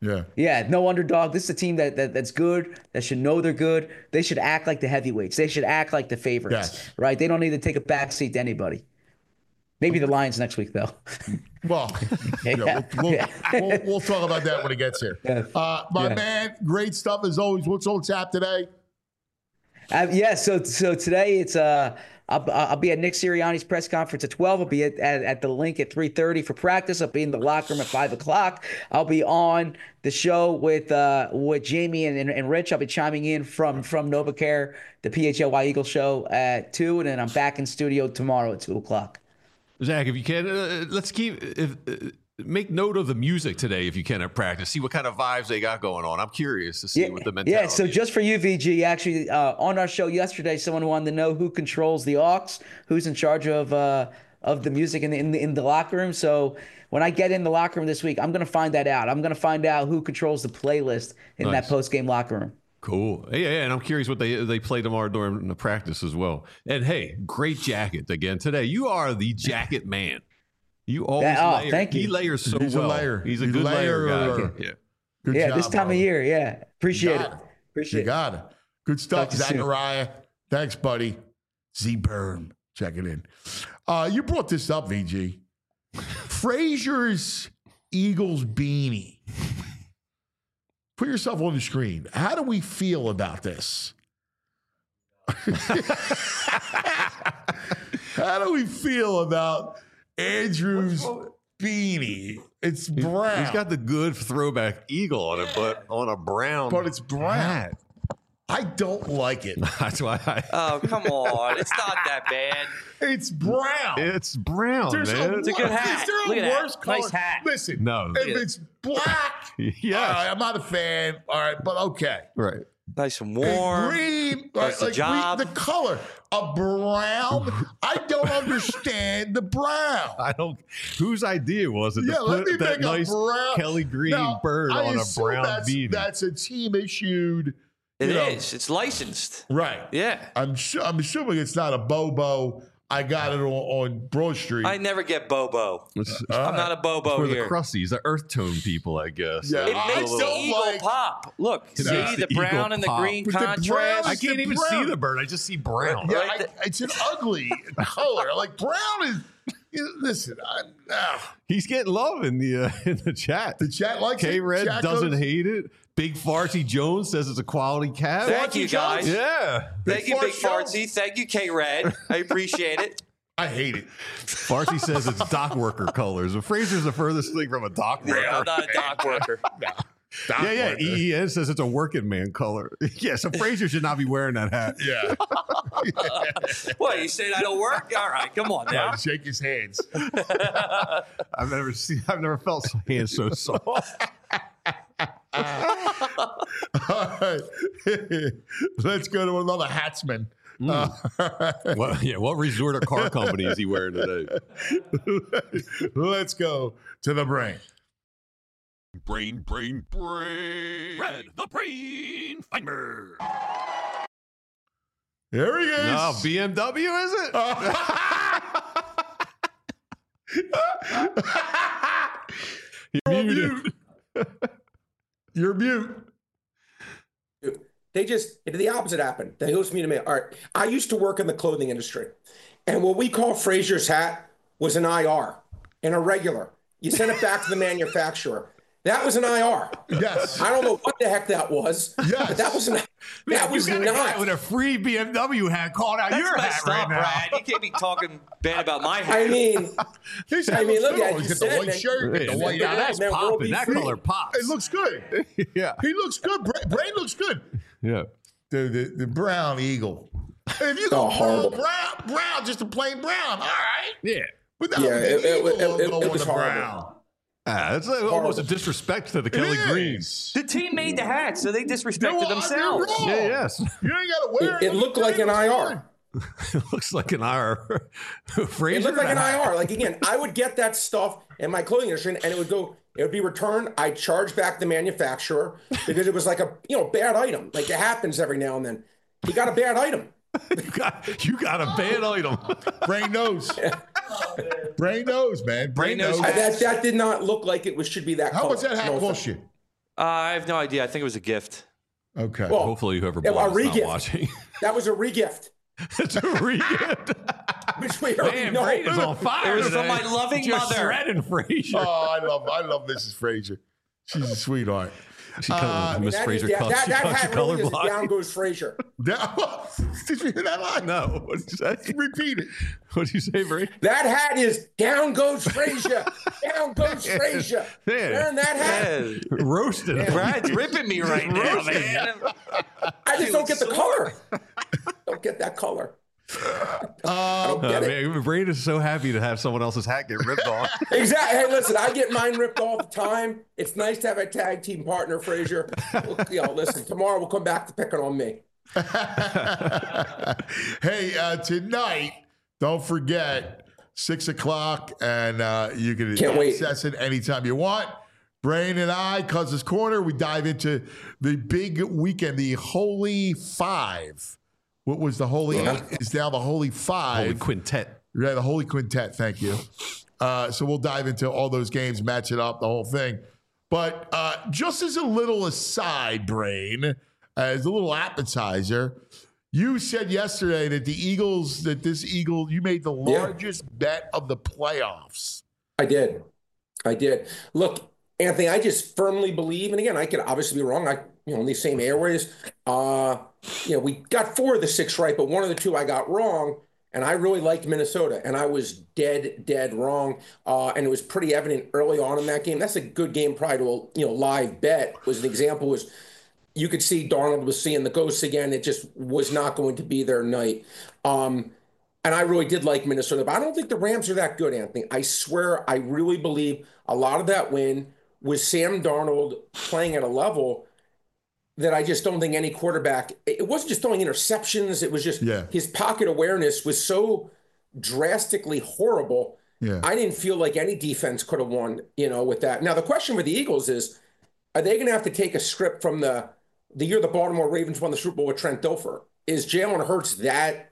Yeah, no underdog. This is a team that's good, that should know they're good. They should act like the heavyweights. They should act like the favorites, right? They don't need to take a backseat to anybody. Maybe the Lions next week, though. Well, we'll talk about that when it gets here. My man, great stuff as always. What's on tap today? So today it's I'll be at Nick Sirianni's press conference at 12. I'll be at the link at 3:30 for practice. I'll be in the locker room at 5 o'clock. I'll be on the show with Jamie and Rich. I'll be chiming in from NovaCare, the PHLY Eagle show at 2, and then I'm back in studio tomorrow at 2 o'clock. Zach, if you can, let's make note of the music today if you can at practice. See what kind of vibes they got going on. I'm curious to see what the mentality is. So just for you, VG, actually on our show yesterday, someone wanted to know who controls the aux, who's in charge of the music in the locker room. So when I get in the locker room this week, I'm going to find that out. I'm going to find out who controls the playlist in that post-game locker room. Cool. Yeah, and I'm curious what they play tomorrow during the practice as well. And hey, great jacket again today. You are the jacket man. You always layer. Thank you. He layers so He's well. a layer. He's a good layer guy. Good job, this time of year. Yeah, appreciate it. You got it. Good stuff, Zachariah. Thanks, buddy. Z-Burn, checking in. You brought this up, VG. Frazier's Eagles beanie. Put yourself on the screen. How do we feel about this? How do we feel about Andrew's beanie? It's brown. He's got the good throwback eagle on it, but on a brown. But it's brown. Hat. I don't like it. That's why Oh, come on. It's not that bad. It's brown. It's brown, man. It's a good hat. Is there Look a at worse that. color? Nice hat. Listen, No. if it's black, Yeah. all right, I'm not a fan. All right, but okay. Right. Nice and warm. Green, Does the job. the color. A brown. I don't understand the brown. I don't. Whose idea was it Yeah, to let me put that make a nice brown Kelly Green Now, bird I on a assume brown beanie? That's a team issued. It is. It's licensed. Right. Yeah. I'm assuming it's not a Bobo. I got it on Broad Street. I never get Bobo. I'm not a Bobo for here. the crusties, the earth tone people, I guess. Yeah. It I makes the don't eagle like- pop. Look, It see makes the the brown eagle and the pop. green But the brown contrast. I is can't the even brown. see the bird. I just see brown. Yeah, Right? it's an ugly color. Like brown is. Listen, He's getting love in the chat. the chat likes it. K-Red Chat doesn't goes- hate it. Big Farty Jones says it's a quality cat. Thank you, guys. Yeah. Thank you, Big Fart Fartsy. Thank you, K-Red. I appreciate it. I hate it. Farty says it's dock worker colors. But Frazier's the furthest thing from a dock worker. I'm not a dock worker. Yeah. EEN says it's a working man color. Yeah, so Frazier should not be wearing that hat. Yeah. What, you saying I don't work? All right, come on now. Shake his hands. I've never felt hands so soft. All right. Let's go to another hatsman. What resort or car company is he wearing today? Let's go to the brain. Brain. Red, the brain finder. There he is. No, BMW, is it? You're mute. You're mute. The opposite happened. They host me to me. All right. I used to work in the clothing industry. And what we call Frazier's hat was an IR, an irregular. You sent it back to the manufacturer. That was an IR. Yes. I don't know what the heck that was. Yes. But that was an that was you got a guy not. with a free BMW hat calling out That's your hat messed right up, now. Brad. You can't be talking bad about my hat. I mean, His I hat mean, looks look good. at He's you got the said, white man. shirt. Yeah, The white now hat. that's Man, popping. world That be color free. pops. It looks good. Yeah. He looks good. Brain looks good. Yeah. The brown eagle. If you go horrible. brown, just a plain brown. All right. Yeah. But that Yeah, it it was horrible. brown. It's almost a disrespect to the Kelly Greens. The team made the hat, so they disrespected themselves. You're wrong. Yeah, yes. You ain't got to wear it. It looked like an IR. It looks like an IR. Frazier It looked like an hat. IR. Like, again, I would get that stuff in my clothing industry and it would be returned. I'd charge back the manufacturer because it was like a, bad item. Like it happens every now and then. You got a bad item. You got a bad item. Brain knows. Brain knows, man. Brain knows. knows. That did not look like it should be that How color. much that hat No cost offense. you? I have no idea. I think it was a gift. Okay. Well, hopefully whoever bought it's not watching. That was a regift. It's a re-gift. Which we already know. Brain is on fire. It was today. from my loving Just mother. shredding Frazier. Oh, I love Mrs. Frazier. She's a sweetheart. Miss Frazier that hat really is colorblind. down goes Frazier. Did you hear that line? No. What did you say? Repeat it. What did you say, Brady? That hat is down goes Frazier. Down goes Frazier. Man. Wearing that hat. Yeah. Roasted. Brad's ripping me right now, man. I just don't get the color. Don't get that color. I don't get it. Man, Brady is so happy to have someone else's hat get ripped off. Exactly. Hey, listen, I get mine ripped all the time. It's nice to have a tag team partner, Frazier. Listen, tomorrow we'll come back to picking on me. Hey, tonight, don't forget, 6 o'clock, and you can access it anytime you want. Brain and I, Cousins Corner, we dive into the big weekend, the Holy Five. What was the Holy Eight is now the Holy Five. Holy Quintet. Yeah, the Holy Quintet. Thank you. So we'll dive into all those games, match it up, the whole thing. But just as a little aside, Brain, as a little appetizer, you said yesterday that you made the largest bet of the playoffs. I did. Look, Anthony, I just firmly believe, and again, I could obviously be wrong. In these same airways, we got 4 of the 6 right, but 1 of the 2 I got wrong, and I really liked Minnesota, and I was dead wrong, and it was pretty evident early on in that game. That's a good game, probably to a live bet. You could see Darnold was seeing the ghosts again. It just was not going to be their night. And I really did like Minnesota, but I don't think the Rams are that good, Anthony. I swear, I really believe a lot of that win was Sam Darnold playing at a level that I just don't think any quarterback, it wasn't just throwing interceptions. It was just his pocket awareness was so drastically horrible. Yeah. I didn't feel like any defense could have won, with that. Now, the question with the Eagles is, are they going to have to take a script from the year the Baltimore Ravens won the Super Bowl with Trent Dilfer? Is Jalen Hurts that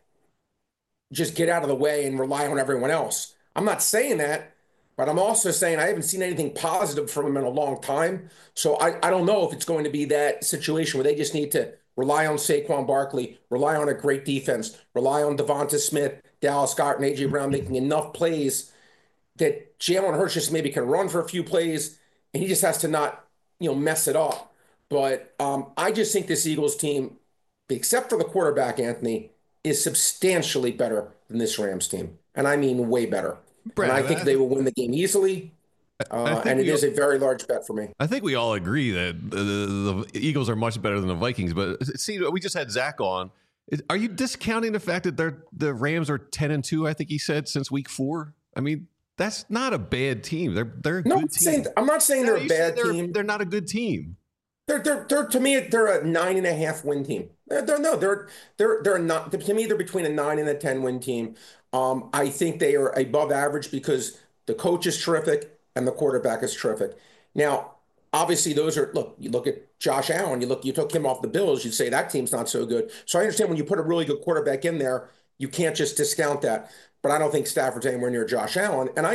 just get out of the way and rely on everyone else? I'm not saying that, but I'm also saying I haven't seen anything positive from him in a long time. So I don't know if it's going to be that situation where they just need to rely on Saquon Barkley, rely on a great defense, rely on Devonta Smith, Dallas Scott, and A.J. Brown making enough plays that Jalen Hurts just maybe can run for a few plays, and he just has to not, mess it up. But I just think this Eagles team, except for the quarterback, Anthony, is substantially better than this Rams team. And I mean way better. Brad, and I think they will win the game easily. And it is a very large bet for me. I think we all agree that the Eagles are much better than the Vikings. But see, we just had Zach on. Are you discounting the fact that the Rams are 10-2? I think he said since week 4. I mean, that's not a bad team. They're a good team. I'm not saying they're a bad team. They're not a good team. They're to me they're a 9.5 win team. They're not, to me they're between a 9 and a 10 win team. I think they are above average because the coach is terrific and the quarterback is terrific. Now, obviously you look at Josh Allen, you took him off the Bills, you'd say that team's not so good. So I understand when you put a really good quarterback in there, you can't just discount that. But I don't think Stafford's anywhere near Josh Allen. And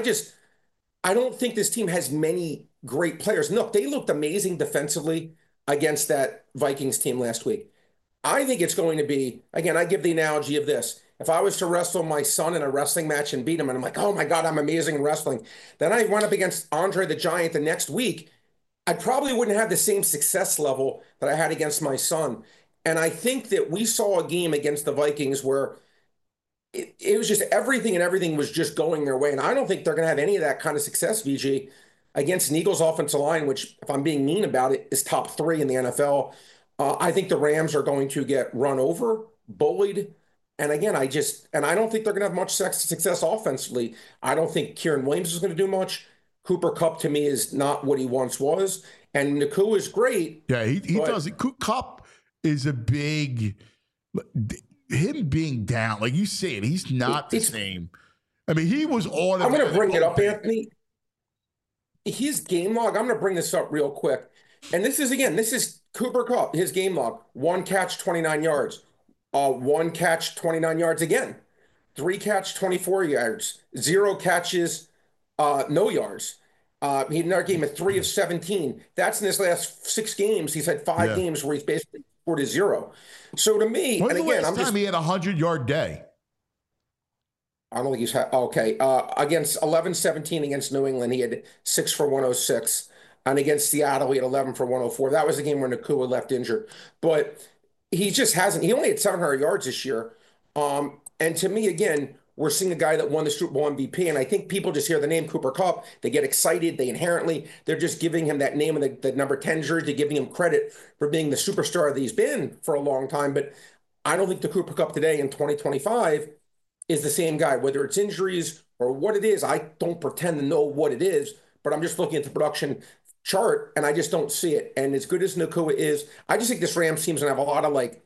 I don't think this team has many great players. Look, they looked amazing defensively against that Vikings team last week. I think it's going to be, again, I give the analogy of this. If I was to wrestle my son in a wrestling match and beat him, and I'm like, oh my God, I'm amazing in wrestling. Then I run up against Andre the Giant the next week, I probably wouldn't have the same success level that I had against my son. And I think that we saw a game against the Vikings where it was just everything was just going their way. And I don't think they're going to have any of that kind of success, VG, against an Eagles offensive line, which, if I'm being mean about it, is top 3 in the NFL. I think the Rams are going to get run over, bullied. And again, I don't think they're going to have much success offensively. I don't think Kieran Williams is going to do much. Cooper Kupp, to me, is not what he once was. And Nacua is great. Yeah, he does it. Kupp is a big... Him being down, like you said, he's not the same. I mean, he was on. I'm going to bring it up, Anthony. His game log, I'm going to bring this up real quick. And this is Cooper Kupp, his game log. 1 catch, 29 yards. 1 catch, 29 yards again. 3 catch, 24 yards. 0 catches, no yards. He had another game at 3 of 17. That's in his last 6 games. He's had 5 games where he's basically scored a 0. So to me, when's the last time he had a 100-yard day? I don't think he's had. Okay, against 11-17 against New England, he had 6 for 106, and against Seattle, he had 11 for 104. That was the game where Nacua left injured, but he just hasn't. He only had 700 yards this year, and to me, again, we're seeing a guy that won the Super Bowl MVP, and I think people just hear the name Cooper Kupp, they get excited, they're just giving him that name and the number 10 jersey, giving him credit for being the superstar that he's been for a long time. But I don't think the Cooper Kupp today in 2025 is the same guy, whether it's injuries or what it is. I don't pretend to know what it is, but I'm just looking at the production chart and I just don't see it. And as good as Nacua is, I just think this Rams team's gonna have a lot of like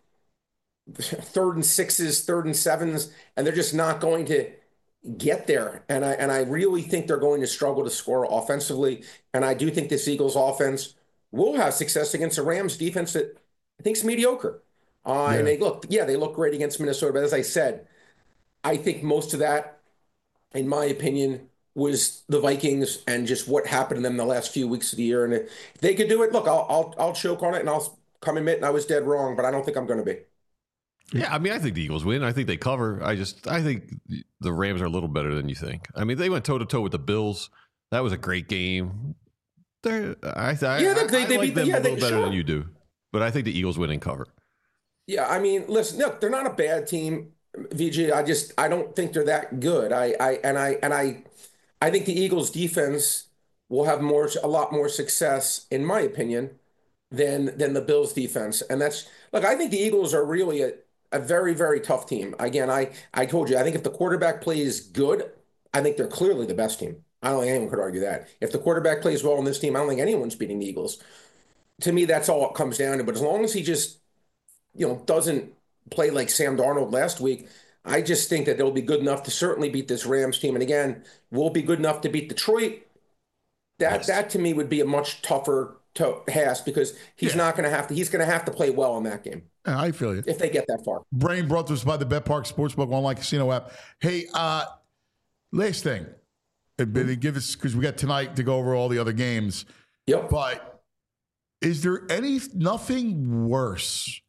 3rd and 6s, 3rd and 7s, and they're just not going to get there. And I really think they're going to struggle to score offensively. And I do think this Eagles offense will have success against a Rams defense that I think is mediocre. And they look great against Minnesota. But as I said, I think most of that, in my opinion, was the Vikings and just what happened to them the last few weeks of the year. And if they could do it, look, I'll choke on it and I'll come admit and I was dead wrong, but I don't think I'm going to be. Yeah, I mean, I think the Eagles win. I think they cover. I think the Rams are a little better than you think. I mean, they went toe-to-toe with the Bills. That was a great game. I like them a little better than you do. But I think the Eagles win and cover. Yeah, I mean, listen, look, they're not a bad team, VG. I don't think they're that good. I think the Eagles defense will have a lot more success, in my opinion, than the Bills defense. And I think the Eagles are really a very, very tough team. Again, I told you, I think if the quarterback plays good, I think they're clearly the best team. I don't think anyone could argue that. If the quarterback plays well on this team, I don't think anyone's beating the Eagles. To me, that's all it comes down to. But as long as he just, doesn't play like Sam Darnold last week, I just think that they'll be good enough to certainly beat this Rams team. And again, will be good enough to beat Detroit. That to me would be a much tougher task because he's not going to have to. He's going to have to play well in that game. I feel you. If they get that far. Brain brought to us by the BetPark Sportsbook online casino app. Hey, last thing. Give us, because we got tonight to go over all the other games. Yep. But is there anything worse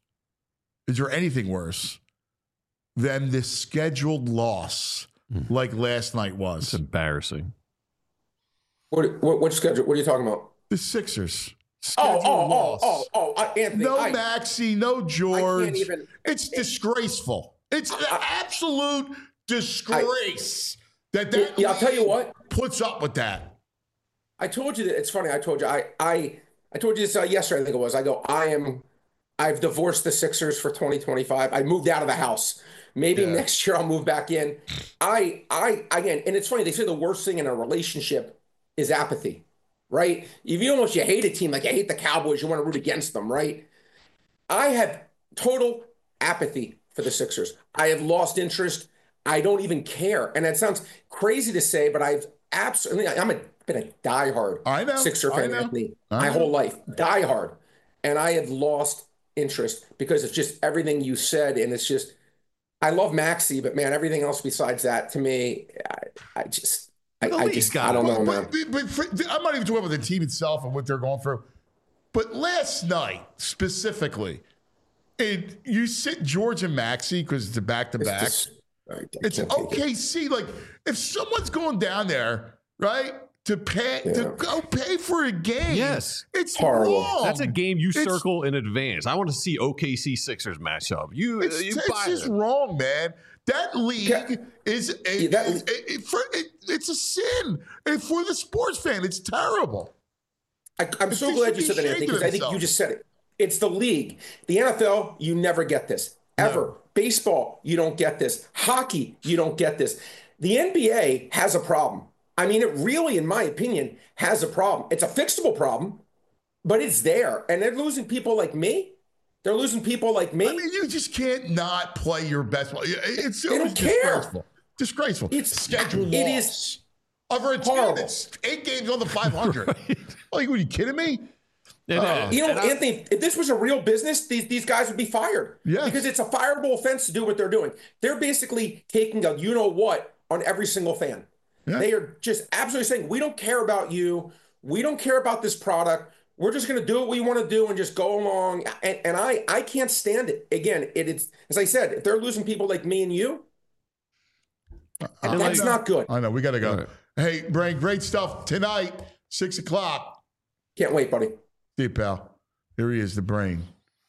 than this scheduled loss like last night was? It's embarrassing. What schedule? What are you talking about? The Sixers. Anthony. No Maxey, no George. It's disgraceful. It's an absolute disgrace that I'll tell you what puts up with that. I told you that. It's funny. I told you. I told you this yesterday. I think it was. I've divorced the Sixers for 2025. I moved out of the house. Maybe next year I'll move back in. Again, and it's funny. They say the worst thing in a relationship is apathy. Right? If you hate a team, like I hate the Cowboys, you want to root against them, right? I have total apathy for the Sixers. I have lost interest. I don't even care. And that sounds crazy to say, but I'm been a diehard Sixer fan, Anthony, my whole life. Diehard. And I have lost interest because it's just everything you said. And it's just, I love Maxey, but man, everything else besides that, to me, I don't know, man. But I'm not even talking about the team itself and what they're going through. But last night, specifically, you sit George and Maxey because it's a back-to-back. It's OKC. Like, if someone's going down there, right, to go pay for a game, yes, it's horrible. Wrong. That's a game you circle in advance. I want to see OKC Sixers match up. It's just wrong, man. That league it's a sin. And for the sports fan, it's terrible. I'm so glad you said that, Anthony, because I think you just said it. It's the league. The NFL, you never get this. Ever. No. Baseball, you don't get this. Hockey, you don't get this. The NBA has a problem. I mean, it really, in my opinion, has a problem. It's a fixable problem, but it's there. And they're losing people like me. They're losing people like me. I mean, you just can't not play your best ball. It's disgraceful. Disgraceful. It's scheduled loss. It is over a team that's 8 games on the 500. Right. Like, are you kidding me? Anthony, if this was a real business, these guys would be fired. Yes. Because it's a fireable offense to do what they're doing. They're basically taking a you-know-what on every single fan. Yeah. They are just absolutely saying, we don't care about you. We don't care about this product. We're just going to do what we want to do and just go along. And I can't stand it. Again, it's as I said, if they're losing people like me and you, that's not good. I know. We got to go. Right. Hey, Brain, great stuff. Tonight, 6 o'clock. Can't wait, buddy. See you, pal. Here he is, the Brain.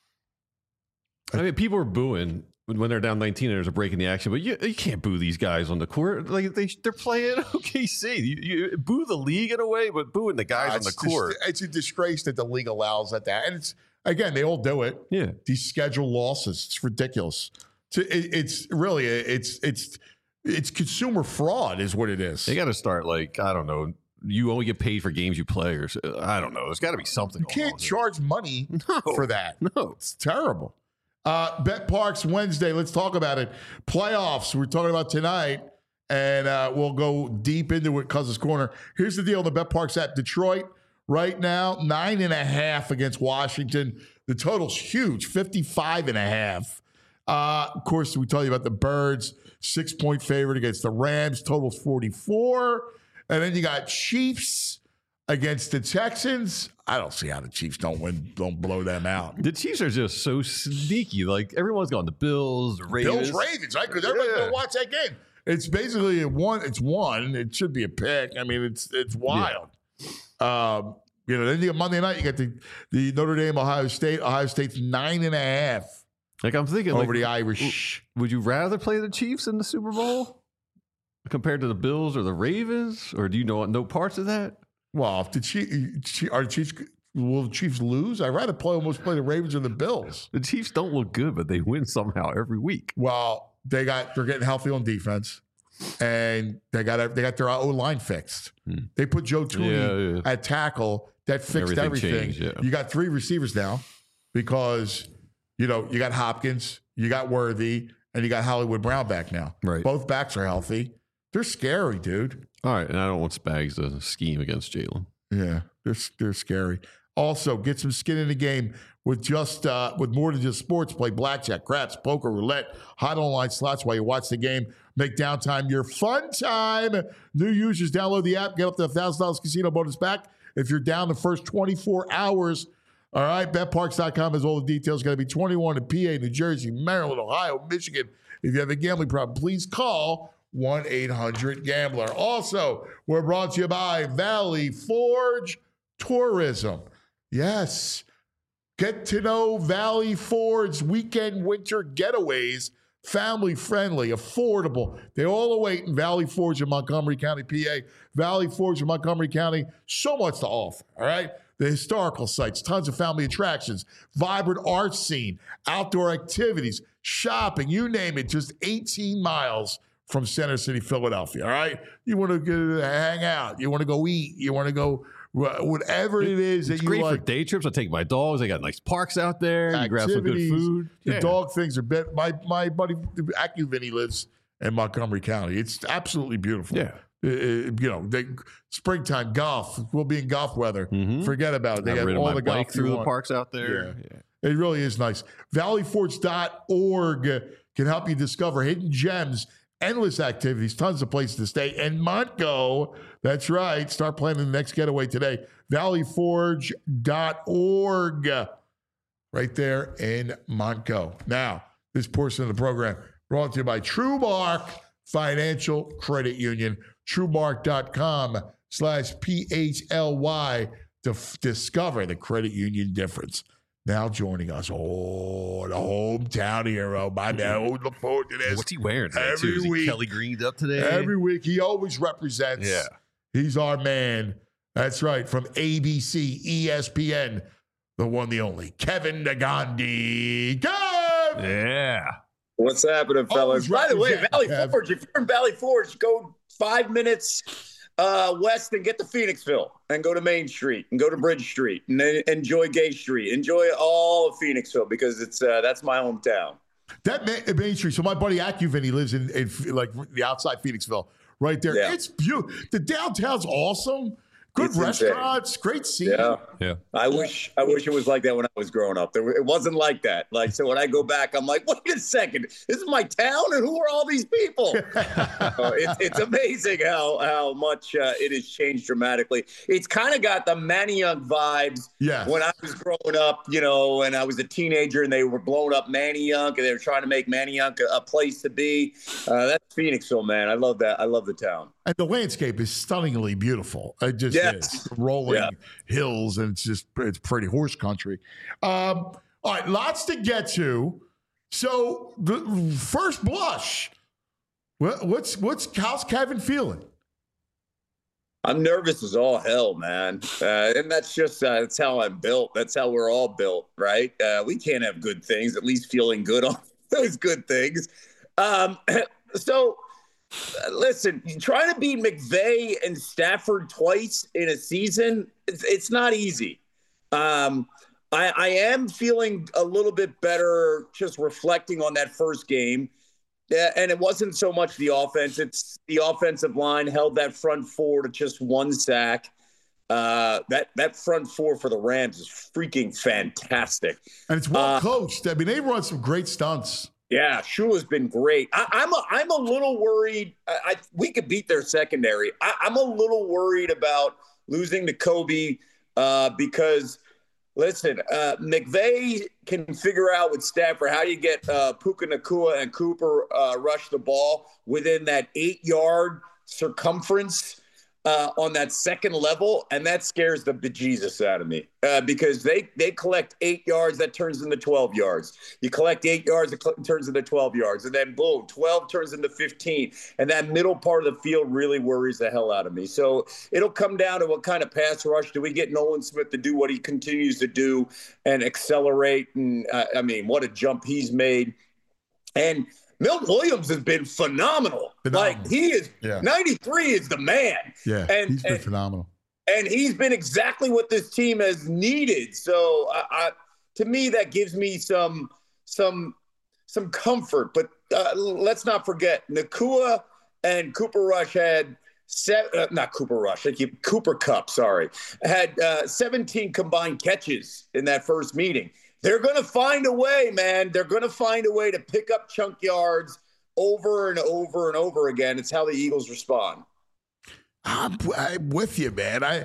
I mean, people are booing when they're down 19 and there's a break in the action, but you can't boo these guys on the court. Like they're playing OKC. You boo the league in a way, but booing the guys on the court. It's a disgrace that the league allows that. And it's, again, they all do it. Yeah. These schedule losses. It's ridiculous. It's really, it's consumer fraud is what it is. They got to start like, I don't know, you only get paid for games you play, or I don't know. There's got to be something. You can't charge money for that. No. It's terrible. Bet Parks Wednesday. Let's talk about it. Playoffs. We're talking about tonight, and we'll go deep into it. Cousins Corner. Here's the deal on the Bet Parks app. Detroit right now 9.5 against Washington. The total's huge, 55.5. Of course, we tell you about the Birds, 6-point favorite against the Rams. Total's 44. And then you got Chiefs against the Texans. I don't see how the Chiefs don't blow them out. The Chiefs are just so sneaky. Like, everyone's going the Bills, Ravens. Bills, Ravens, right? Because everybody's going to watch that game. It's basically one. It should be a pick. I mean, it's wild. Yeah. Then you got Monday night, you got the Notre Dame, Ohio State. Ohio State's 9.5. Like, I'm thinking over the Irish. Would you rather play the Chiefs in the Super Bowl compared to the Bills or the Ravens? Or do you know no parts of that? Well, if will the Chiefs lose? I'd rather almost play the Ravens or the Bills. The Chiefs don't look good, but they win somehow every week. Well, they're getting healthy on defense, and they got their O-line fixed. They put Joe Thuney at tackle. That fixed everything. Changed, You got 3 receivers now because you got Hopkins, you got Worthy, and you got Hollywood Brown back now. Right. Both backs are healthy. They're scary, dude. All right, and I don't want Spags to scheme against Jalen. Yeah, they're scary. Also, get some skin in the game with more than just sports. Play blackjack, craps, poker, roulette, hot online slots while you watch the game. Make downtime your fun time. New users download the app, get up to $1,000 casino bonus back if you're down the first 24 hours. All right, betparks.com has all the details. Got to be 21 in PA, New Jersey, Maryland, Ohio, Michigan. If you have a gambling problem, please call 1-800-GAMBLER. Also, we're brought to you by Valley Forge Tourism. Yes. Get to know Valley Forge weekend winter getaways. Family friendly, affordable. They all await in Valley Forge in Montgomery County, PA. Valley Forge in Montgomery County. So much to offer, all right? The historical sites, tons of family attractions, vibrant art scene, outdoor activities, shopping, you name it, just 18 miles from Center City, Philadelphia, all right? You want to hang out. You want to go eat. You want to go whatever it is that you like. It's great for day trips. I take my dogs. They got nice parks out there. You grab some good food. The dog things are better. My buddy, AccuVinny, lives in Montgomery County. It's absolutely beautiful. Yeah. Springtime golf. We'll be in golf weather. Mm-hmm. Forget about it. They got all the golf through the parks out there. Yeah. It really is nice. ValleyForge.org can help you discover hidden gems, endless activities, tons of places to stay. And Montgo, that's right. Start planning the next getaway today. ValleyForge.org, right there in Montgo. Now, this portion of the program brought to you by TrueMark Financial Credit Union. TrueMark.com/PHLY to discover the credit union difference. Now joining us, the hometown hero. My man, look forward to this. What's he wearing today, every week? Kelly greened up today? Every week. He always represents. Yeah. He's our man. That's right. From ABC, ESPN, the one, the only, Kevin Negandhi. Kev! Yeah. What's happening, fellas? By the way, Valley Forge, if you're in Valley Forge, go 5 minutes west and get to Phoenixville and go to Main Street and go to Bridge Street and then enjoy Gay Street. Enjoy all of Phoenixville because it's that's my hometown. That Main Street. So my buddy AccuVinny lives in like the outside Phoenixville, right there. Yeah. It's beautiful. The downtown's awesome. Good restaurants, great scene. Yeah. I wish it was like that when I was growing up. It wasn't like that. Like, so when I go back, I'm like, wait a second, this is my town, and who are all these people? It's amazing how much it has changed dramatically. It's kind of got the Manayunk vibes. Yeah. When I was growing up, and I was a teenager, and they were blowing up Manayunk, and they were trying to make Manayunk a place to be. That's Phoenixville, man. I love that. I love the town. And the landscape is stunningly beautiful. It just is. Rolling hills, and it's pretty horse country. All right, lots to get to. So the first blush, how's Kevin feeling? I'm nervous as all hell, man. And that's just, that's how I'm built. That's how we're all built, right? We can't have good things, at least feeling good on those good things. Listen, trying to beat McVay and Stafford twice in a season, it's not easy. I am feeling a little bit better just reflecting on that first game. And it wasn't so much the offense. It's the offensive line held that front four to just one sack. That front four for the Rams is freaking fantastic. And it's well coached. I mean, they run some great stunts. Yeah, Shula's been great. I'm a little worried. We could beat their secondary. I'm a little worried about losing to Kobe because, listen, McVay can figure out with Stafford how you get Puka Nacua and Cooper rush the ball within that 8-yard circumference on that second level, and that scares the bejesus out of me because they collect 8 yards, that turns into 12 yards. You collect 8 yards, it turns into 12 yards, and then boom, 12 turns into 15, and that middle part of the field really worries the hell out of me. So it'll come down to what kind of pass rush do we get Nolan Smith to do what he continues to do and accelerate, and what a jump he's made. And Milton Williams has been phenomenal. Like, he is 93 is the man. Yeah, he's been phenomenal. And he's been exactly what this team has needed. So to me, that gives me some comfort. But let's not forget, Nacua and Cooper Rush had Cooper Kupp, had 17 combined catches in that first meeting. They're going to find a way, man. They're going to find a way to pick up chunk yards over and over and over again. It's how the Eagles respond. I'm with you, man.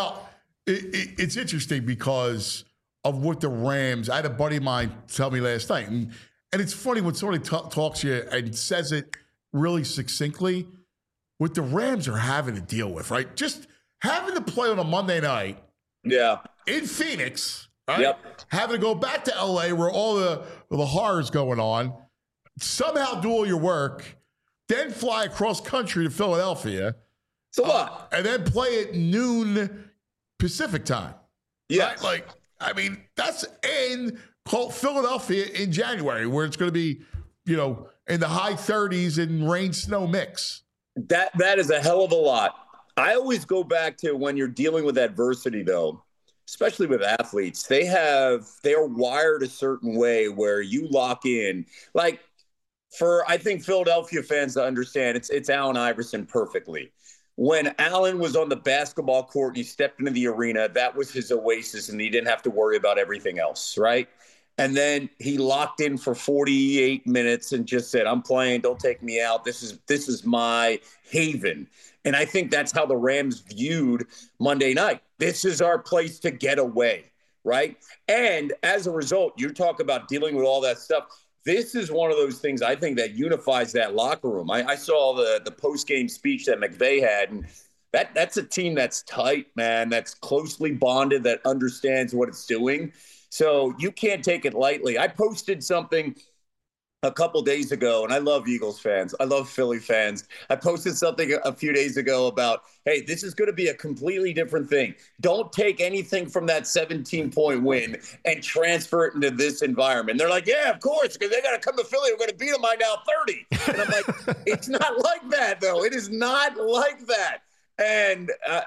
It's interesting because of what the Rams, I had a buddy of mine tell me last night, and it's funny when somebody talks to you and says it really succinctly, what the Rams are having to deal with, right? Just having to play on a Monday night in Phoenix, right? Yep. Having to go back to L.A. where all the horror's going on, somehow do all your work, then fly across country to Philadelphia. So what? And then play at noon Pacific time. Yeah. Right? That's in Philadelphia in January where it's going to be, in the high 30s and rain, snow mix. That is a hell of a lot. I always go back to when you're dealing with adversity, though, especially with athletes, they are wired a certain way where you lock in. Like, I think Philadelphia fans to understand, it's Allen Iverson perfectly. When Allen was on the basketball court and he stepped into the arena, that was his oasis, and he didn't have to worry about everything else, right? And then he locked in for 48 minutes and just said, I'm playing, don't take me out. This is my haven. And I think that's how the Rams viewed Monday night. This is our place to get away, right? And as a result, you talk about dealing with all that stuff. This is one of those things I think that unifies that locker room. I saw the post-game speech that McVay had, and that's a team that's tight, man, that's closely bonded, that understands what it's doing. So you can't take it lightly. I posted something a couple days ago, and I love Eagles fans. I love Philly fans. I posted something a few days ago about, hey, this is going to be a completely different thing. Don't take anything from that 17-point win and transfer it into this environment. And they're like, yeah, of course, because they got to come to Philly. We're going to beat them by now 30. And I'm like, it's not like that, though. It is not like that. And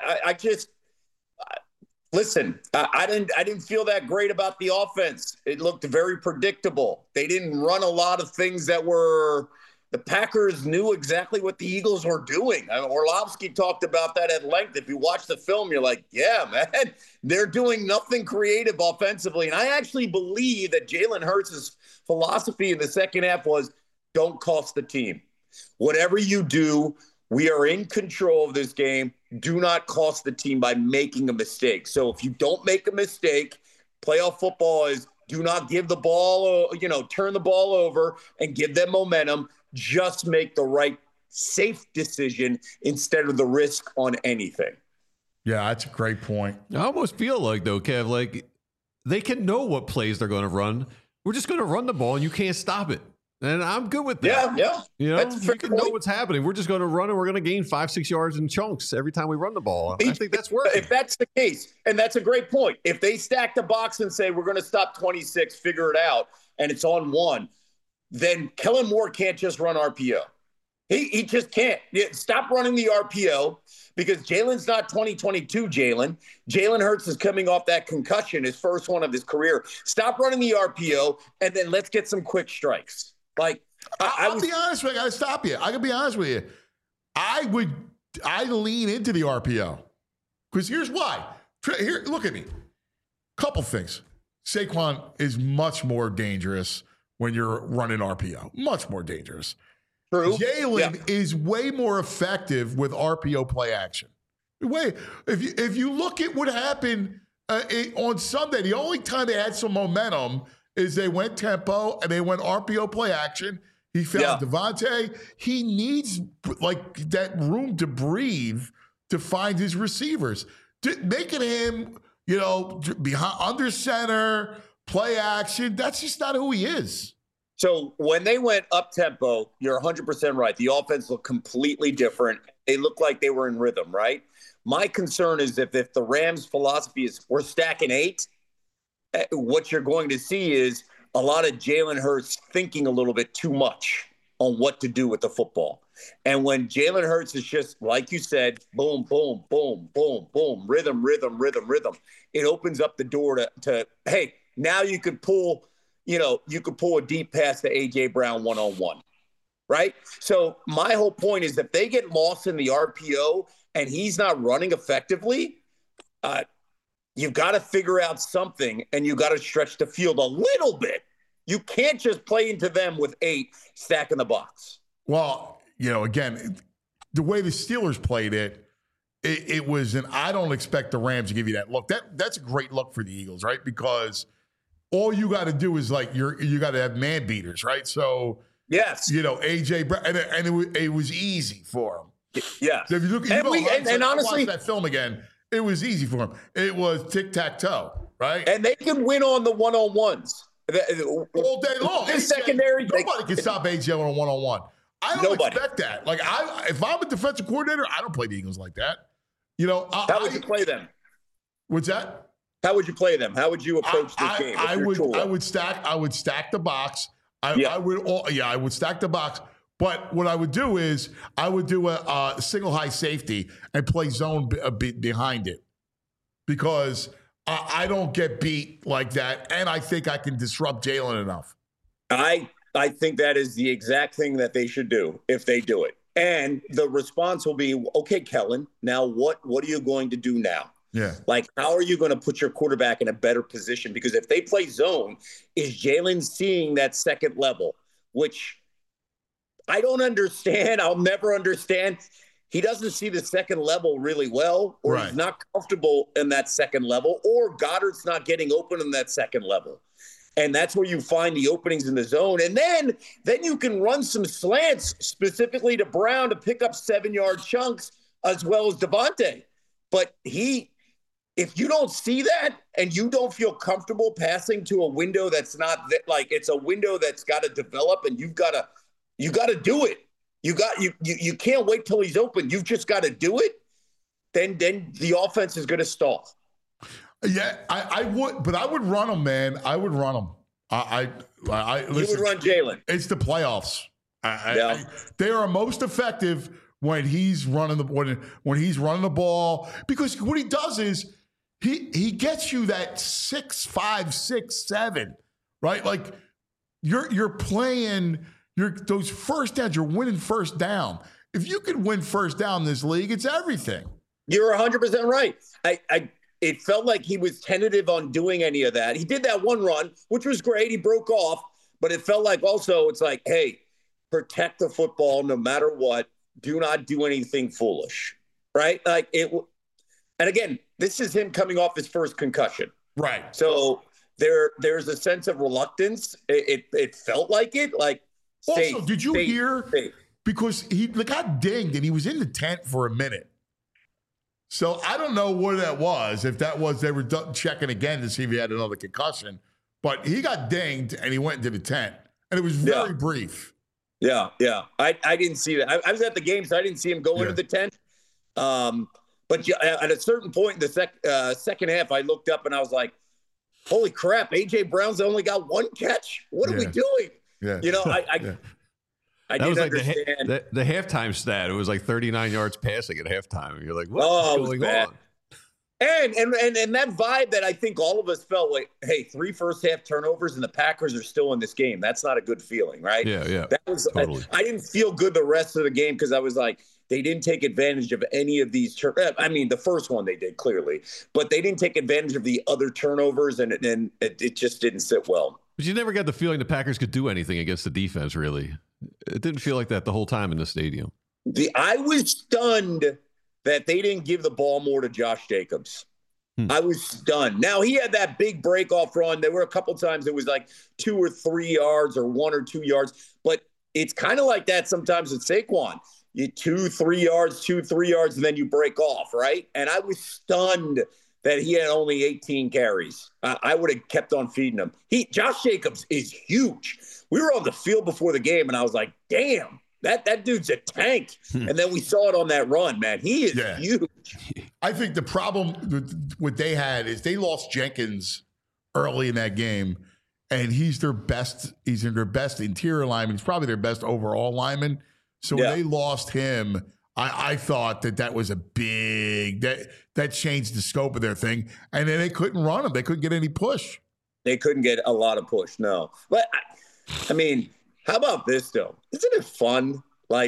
listen, I didn't feel that great about the offense. It looked very predictable. They didn't run a lot of things that were the Packers knew exactly what the Eagles were doing. Orlovsky talked about that at length. If you watch the film, you're like, yeah, man, they're doing nothing creative offensively. And I actually believe that Jalen Hurts' philosophy in the second half was don't cost the team. Whatever you do, we are in control of this game. Do not cost the team by making a mistake. So if you don't make a mistake, playoff football is do not give the ball, turn the ball over and give them momentum. Just make the right, safe decision instead of the risk on anything. Yeah, that's a great point. I almost feel like, though, Kev, like they can know what plays they're going to run. We're just going to run the ball, and you can't stop it. And I'm good with that. Yeah. You can know what's happening. We're just going to run, and we're going to gain 5-6 yards in chunks every time we run the ball. I think that's working. If that's the case, and that's a great point, if they stack the box and say, we're going to stop 26, figure it out, and it's on one, then Kellen Moore can't just run RPO. He just can't. Stop running the RPO because Jalen's not 2022 Jalen. Jalen Hurts is coming off that concussion, his first one of his career. Stop running the RPO, and then let's get some quick strikes. Like, I'll be honest with you. I got to stop you. I can be honest with you. I lean into the RPO because here's why. Here, look at me. Couple things. Saquon is much more dangerous when you're running RPO. Much more dangerous. True. Jalen is way more effective with RPO play action. If you look at what happened on Sunday, the only time they had some momentum is they went tempo and they went RPO play action. He found Devontae. He needs like that room to breathe to find his receivers. Making him, behind under center, play action, that's just not who he is. So when they went up tempo, you're 100% right. The offense looked completely different. They looked like they were in rhythm, right? My concern is if the Rams' philosophy is we're stacking 8, what you're going to see is a lot of Jalen Hurts thinking a little bit too much on what to do with the football. And when Jalen Hurts is just, like you said, boom, boom, boom, boom, boom, rhythm, it opens up the door to hey, now you could pull a deep pass to A.J. Brown one-on-one, right? So my whole point is if they get lost in the RPO and he's not running effectively, you've got to figure out something, and you've got to stretch the field a little bit. You can't just play into them with 8 stacking the box. Well, again, the way the Steelers played it was I don't expect the Rams to give you that look. That's a great look for the Eagles, right? Because all you got to do is you got to have man beaters, right? So yes, A.J. Brown, and it was easy for him. Yes. So if you look, and honestly, watch that film again. It was easy for him. It was tic-tac-toe, right? And they can win on the one-on-ones. All day long. Secondary. Nobody can stop AJ on a one-on-one. I don't expect that. Like, if I'm a defensive coordinator, I don't play the Eagles like that. How would you play them? What's that? How would you play them? How would you approach this game? I would stack the box. I would stack the box. But what I would do is I would do a single high safety and play zone behind it because I don't get beat like that, and I think I can disrupt Jalen enough. I think that is the exact thing that they should do if they do it. And the response will be, okay, Kellen, now what are you going to do now? Yeah. Like, how are you going to put your quarterback in a better position? Because if they play zone, is Jalen seeing that second level, which I don't understand. I'll never understand. He doesn't see the second level really well, or he's not comfortable in that second level, or Goddard's not getting open in that second level. And that's where you find the openings in the zone. And then you can run some slants specifically to Brown to pick up 7-yard chunks as well as Devontae. But if you don't see that and you don't feel comfortable passing to a window that's not it's a window that's got to develop, and you got to do it. You can't wait till he's open. You've just got to do it. Then the offense is going to stall. Yeah, I would, but I would run them, man. I would run them. Listen, you would run Jalen. It's the playoffs. They are most effective when he's running the ball, because what he does is he gets you that 6'5", 6'7", right? Like you're playing. those first downs, you're winning first down. If you could win first down in this league, it's everything. You're 100% right. It felt like he was tentative on doing any of that. He did that one run, which was great. He broke off, but it felt like also it's like, hey, protect the football no matter what. Do not do anything foolish, right? Like it. And again, this is him coming off his first concussion. Right. So there's a sense of reluctance. It felt like it. Like also, did you hear? Because he got dinged and he was in the tent for a minute. So I don't know what that was. If that was they were checking again to see if he had another concussion, but he got dinged and he went into the tent, and it was very brief. Yeah. I didn't see that. I was at the game, so I didn't see him go into the tent. But at a certain point in the second half, I looked up and I was like, "Holy crap! AJ Brown's only got one catch. What are we doing?" Yeah. You know, I didn't understand. The halftime stat. It was like 39 yards passing at halftime. You're like, what's going on? And that vibe that I think all of us felt like, hey, 3 first half turnovers and the Packers are still in this game. That's not a good feeling, right? Yeah. That was totally. I didn't feel good the rest of the game because I was like, they didn't take advantage of any of these. I mean, the first one they did clearly, but they didn't take advantage of the other turnovers, and it just didn't sit well. But you never got the feeling the Packers could do anything against the defense, really. It didn't feel like that the whole time in the stadium. I was stunned that they didn't give the ball more to Josh Jacobs. I was stunned. Now, he had that big break-off run. There were a couple times it was like 2 or 3 yards or 1 or 2 yards. But it's kind of like that sometimes with Saquon. You 2, 3 yards, 2, 3 yards, and then you break off, right? And I was stunned that he had only 18 carries. I would have kept on feeding him. Josh Jacobs is huge. We were on the field before the game, and I was like, damn, that dude's a tank. And then we saw it on that run, man. He is huge. I think the problem with what they had is they lost Jenkins early in that game, and he's their best interior lineman. He's probably their best overall lineman. So when they lost him, I thought that was a big that changed the scope of their thing, and then they couldn't run him. They couldn't get any push. They couldn't get a lot of push, no. But I mean, how about this though? Isn't it fun? Like,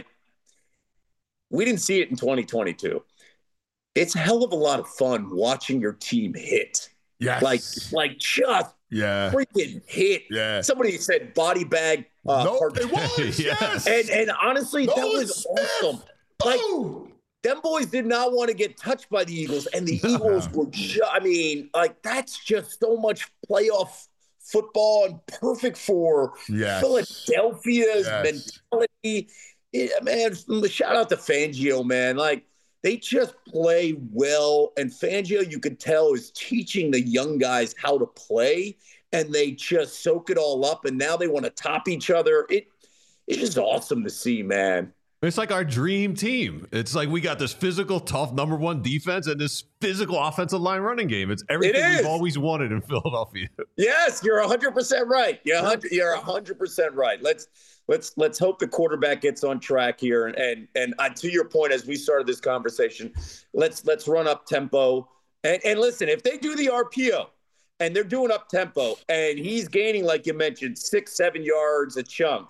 we didn't see it in 2022. It's a hell of a lot of fun watching your team hit. Yes. Like just freaking hit. Yeah. Somebody said body bag. It was. Yes. And honestly, that was awesome. Like, them boys did not want to get touched by the Eagles, and the Eagles were that's just so much playoff football and perfect for Philadelphia's mentality. Man, shout out to Fangio, man. Like, they just play well, and Fangio, you could tell, is teaching the young guys how to play, and they just soak it all up, and now they want to top each other. It's just awesome to see, man. It's like our dream team. It's like we got this physical, tough #1 defense and this physical offensive line running game. It's everything we've always wanted in Philadelphia. Yes, you're 100% right. You're 100% right. Let's hope the quarterback gets on track here. And to your point, as we started this conversation, let's run up tempo. And listen, if they do the RPO and they're doing up tempo and he's gaining, like you mentioned, 6-7 yards a chunk,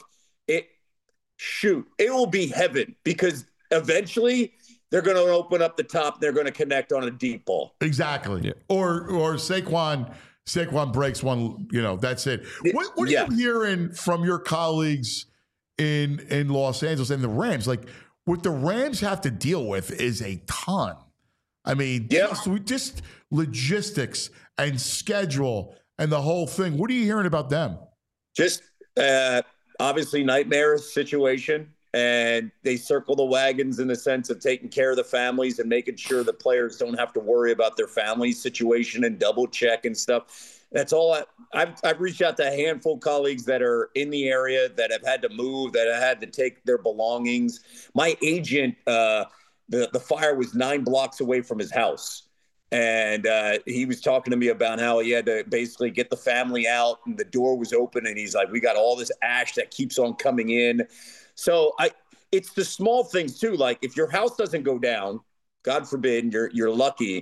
it will be heaven, because eventually they're going to open up the top. They're going to connect on a deep ball. Exactly. Yeah. Or Saquon breaks one, that's it. What are you hearing from your colleagues in Los Angeles and the Rams? Like, what the Rams have to deal with is a ton. I mean, just logistics and schedule and the whole thing. What are you hearing about them? Just obviously nightmare situation, and they circle the wagons in the sense of taking care of the families and making sure the players don't have to worry about their family situation and double check and stuff. That's all. I've reached out to a handful of colleagues that are in the area that have had to move, that have had to take their belongings. My agent, the fire was 9 blocks away from his house. And he was talking to me about how he had to basically get the family out, and the door was open, and he's like, we got all this ash that keeps on coming in. So it's the small things too. Like, if your house doesn't go down, God forbid, you're lucky,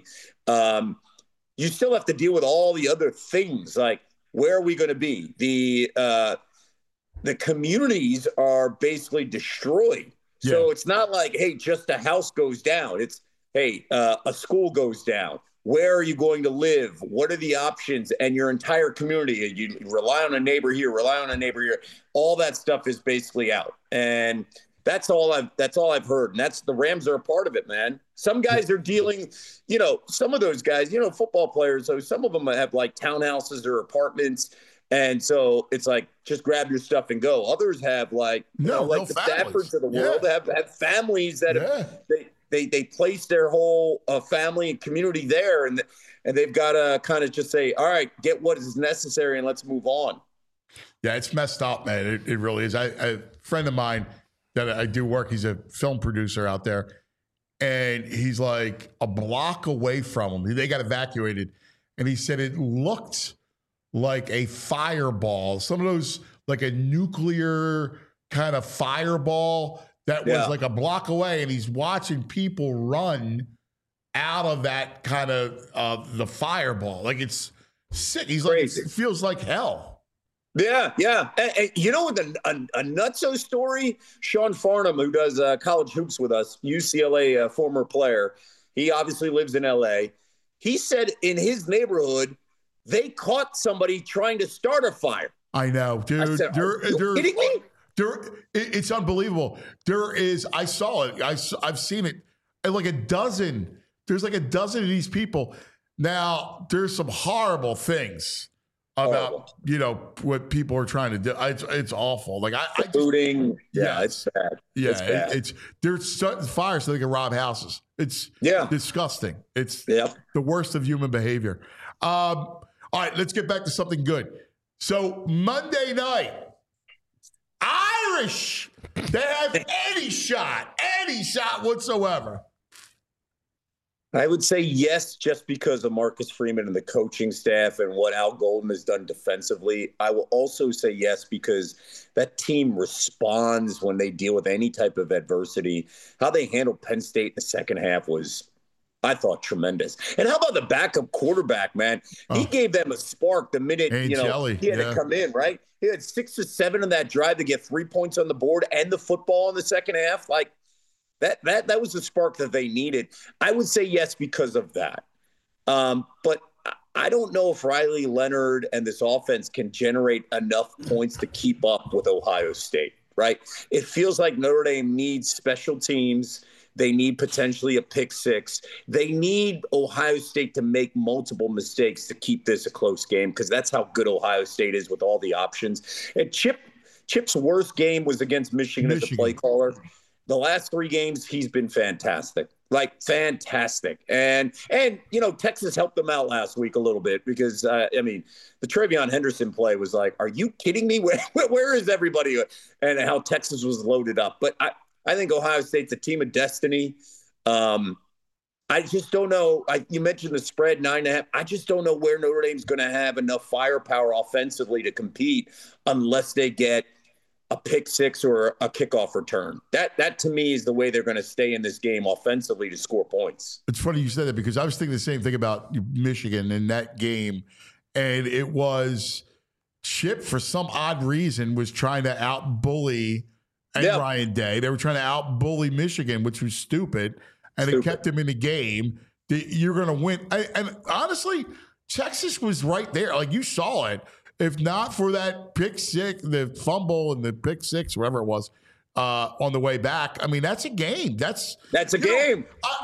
you still have to deal with all the other things. Like, where are we going to be? the communities are basically destroyed. Yeah. So it's not like, hey, just a house goes down. It's, hey, a school goes down. Where are you going to live? What are the options? And your entire community, you rely on a neighbor here, rely on a neighbor here. All that stuff is basically out. And that's all I've heard. And that's the Rams are a part of it, man. Some guys are dealing, some of those guys, football players, so some of them have like townhouses or apartments. And so it's like, just grab your stuff and go. Others have like the Staffords of the world have families that they place their whole family and community there. And they've got to kind of just say, all right, get what is necessary and let's move on. Yeah, it's messed up, man. It really is. A friend of mine that I do work, he's a film producer out there. And he's like a block away from him. They got evacuated. And he said it looked like a fireball, some of those, like a nuclear kind of fireball that was like a block away. And he's watching people run out of that kind of the fireball. Like, it's sick. He's crazy. Like, it feels like hell. Yeah, yeah. And you know what, a nutso story? Sean Farnham, who does college hoops with us, UCLA former player, he obviously lives in L.A. He said in his neighborhood, they caught somebody trying to start a fire. I know, dude. I said, are you kidding me? It's unbelievable. I saw it. I've seen it. Like a dozen. There's like a dozen of these people. Now, there's some horrible things about what people are trying to do. It's awful. Like looting. It's bad. Yeah, it's bad. They're starting fires so they can rob houses. It's disgusting. It's the worst of human behavior. All right, let's get back to something good. So Monday night, Irish, they have any shot whatsoever. I would say yes, just because of Marcus Freeman and the coaching staff and what Al Golden has done defensively. I will also say yes because that team responds when they deal with any type of adversity. How they handled Penn State in the second half was, I thought, tremendous. And how about the backup quarterback, man? He gave them a spark the minute he had to come in, right? He had 6 or 7 in that drive to get 3 points on the board and the football in the second half. Like, That was the spark that they needed. I would say yes because of that. But I don't know if Riley Leonard and this offense can generate enough points to keep up with Ohio State, right? It feels like Notre Dame needs special teams. They need potentially a pick six. They need Ohio State to make multiple mistakes to keep this a close game because that's how good Ohio State is with all the options. And Chip's worst game was against Michigan as a play caller. The last 3 games, he's been fantastic, like fantastic. And Texas helped them out last week a little bit because, the TreVeyon Henderson play was like, are you kidding me? Where is everybody? And how Texas was loaded up. But I think Ohio State's a team of destiny. I just don't know. You mentioned the spread, 9.5. I just don't know where Notre Dame's going to have enough firepower offensively to compete unless they get a pick six or a kickoff return. That to me is the way they're going to stay in this game offensively to score points. It's funny you said that because I was thinking the same thing about Michigan in that game. And it was Chip, for some odd reason, was trying to out-bully Ryan Day. They were trying to out-bully Michigan, which was stupid. And it kept him in the game. You're going to win. And honestly, Texas was right there. Like, you saw it. If not for that pick six, the fumble and the pick six, whatever it was, on the way back, I mean, that's a game. That's a game.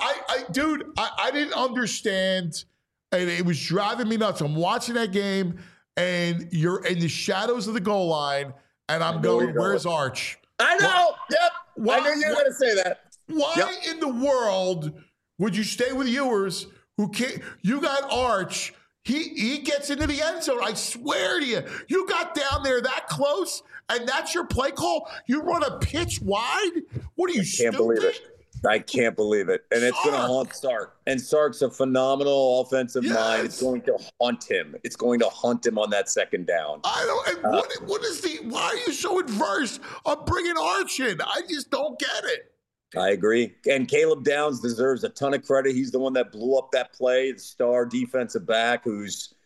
I didn't understand, and it was driving me nuts. I'm watching that game, and you're in the shadows of the goal line, and I'm going, where's Arch? I know. Yep. I knew you were going to say that. Why in the world would you stay with Ewers who can't? You got Arch. He gets into the end zone. I swear to you, you got down there that close, and that's your play call? You run a pitch wide? What are you, stupid? Believe it. I can't believe it. And it's going to haunt Sark. And Sark's a phenomenal offensive mind. It's going to haunt him. It's going to haunt him on that second down. I don't. And why are you so adverse on bringing Arch in? I just don't get it. I agree. And Caleb Downs deserves a ton of credit. He's the one that blew up that play, the star defensive back who's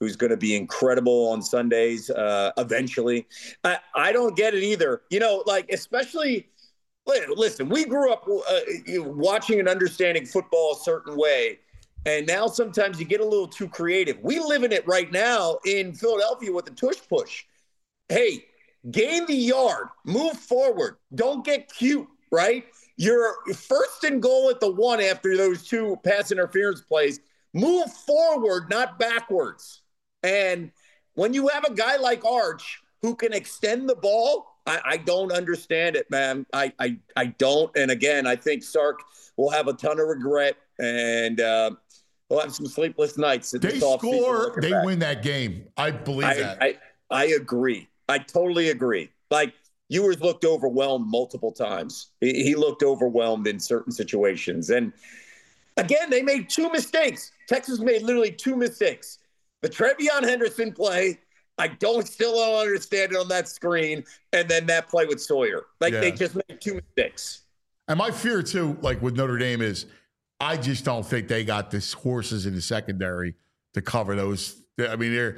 who's going to be incredible on Sundays eventually. I don't get it either. Especially, listen, we grew up watching and understanding football a certain way. And now sometimes you get a little too creative. We live in it right now in Philadelphia with the tush push. Hey, gain the yard, move forward. Don't get cute, right? You're first and goal at the 1 after those 2 pass interference plays. Move forward, not backwards. And when you have a guy like Arch who can extend the ball, I don't understand it, man. I don't. And again, I think Sark will have a ton of regret, and we'll have some sleepless nights. They score, they win that game. I believe that. I agree. I totally agree. Like, Ewers looked overwhelmed multiple times. He looked overwhelmed in certain situations. And again, they made 2 mistakes. Texas made literally 2 mistakes. The TreVeyon Henderson play, I still don't understand it on that screen. And then that play with Sawyer. They just made 2 mistakes. And my fear, too, like with Notre Dame, is I just don't think they got the horses in the secondary to cover those. If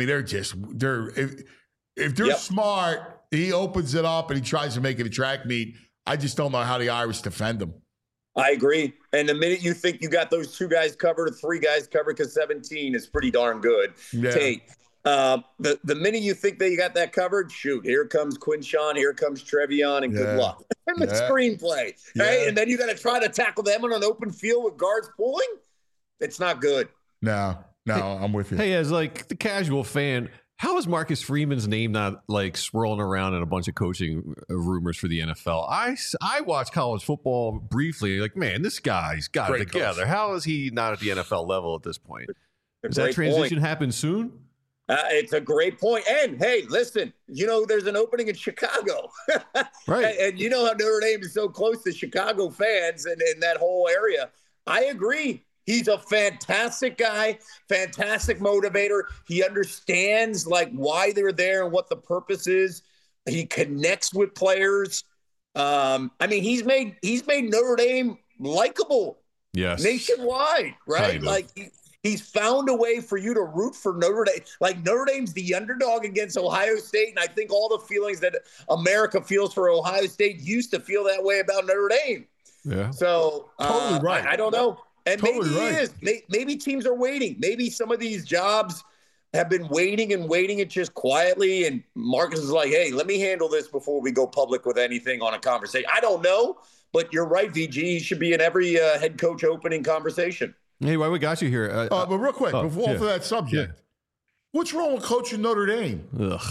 they're smart, he opens it up and he tries to make it a track meet. I just don't know how the Irish defend them. I agree. And the minute you think you got those 2 guys covered or 3 guys covered, because 17 is pretty darn good. Yeah. Tate, the minute you think that you got that covered, shoot, here comes Quinshon, here comes TreVeyon, and good luck. And the screenplay, right? And then you got to try to tackle them on an open field with guards pulling. It's not good. No, I'm with you. Hey, as like the casual fan, how is Marcus Freeman's name not like swirling around in a bunch of coaching rumors for the NFL? I watch college football briefly. Like, man, this guy's got it together. Coach. How is he not at the NFL level at this point? Does that transition happen soon? It's a great point. And hey, listen, there's an opening in Chicago. Right. And you know how Notre Dame is so close to Chicago fans and in that whole area. I agree. He's a fantastic guy, fantastic motivator. He understands why they're there and what the purpose is. He connects with players. He's made Notre Dame likable. Yes. Nationwide, right? Kind of. He's found a way for you to root for Notre Dame. Like, Notre Dame's the underdog against Ohio State, and I think all the feelings that America feels for Ohio State used to feel that way about Notre Dame. Yeah. So totally right. I don't know. And totally maybe right. it is. Maybe teams are waiting. Maybe some of these jobs have been waiting it just quietly. And Marcus is like, hey, let me handle this before we go public with anything on a conversation. I don't know, but you're right, VG. He should be in every head coach opening conversation. Hey, why we got you here? But real quick, before for that subject, what's wrong with coaching Notre Dame? Ugh.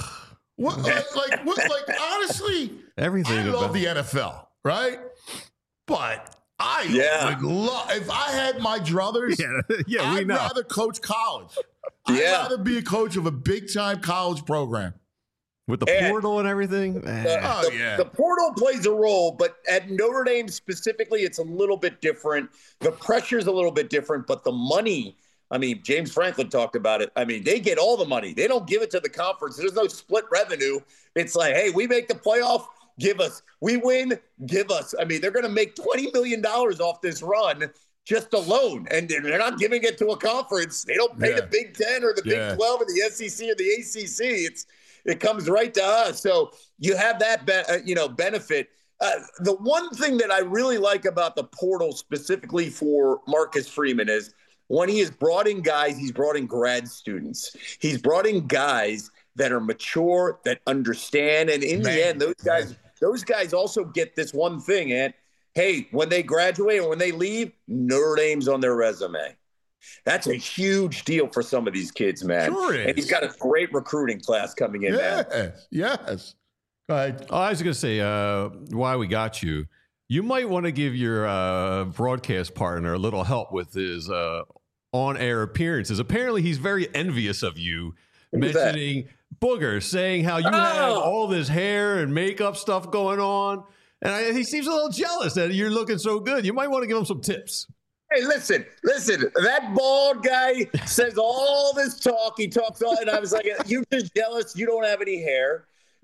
Honestly, everything. I love the NFL, right? But I would love, if I had my druthers, I'd rather coach college. I'd rather be a coach of a big-time college program. With the portal and everything? The portal plays a role, but at Notre Dame specifically, it's a little bit different. The pressure's a little bit different, but the money, James Franklin talked about it. They get all the money. They don't give it to the conference. There's no split revenue. It's like, hey, we make the playoff, give us. We win, give us. They're going to make $20 million off this run just alone, and they're not giving it to a conference. They don't pay the Big Ten or the Big 12 or the SEC or the ACC. It comes right to us. So you have that, benefit. The one thing that I really like about the portal specifically for Marcus Freeman is when he has brought in guys, he's brought in grad students. He's brought in guys that are mature, that understand. And in the end, those guys also get this one thing, and hey, when they graduate and when they leave, Notre Dame's on their resume. That's a huge deal for some of these kids, man. Sure is. And he's got a great recruiting class coming in, man. Yes. Go ahead. Oh, I was going to say, why we got you. You might want to give your broadcast partner a little help with his on-air appearances. Apparently, he's very envious of you, mentioning Booger, saying how you have all this hair and makeup stuff going on. And he seems a little jealous that you're looking so good. You might want to give him some tips. Hey, listen. That bald guy says all this talk. He talks all, and I was like, you're just jealous. You don't have any hair.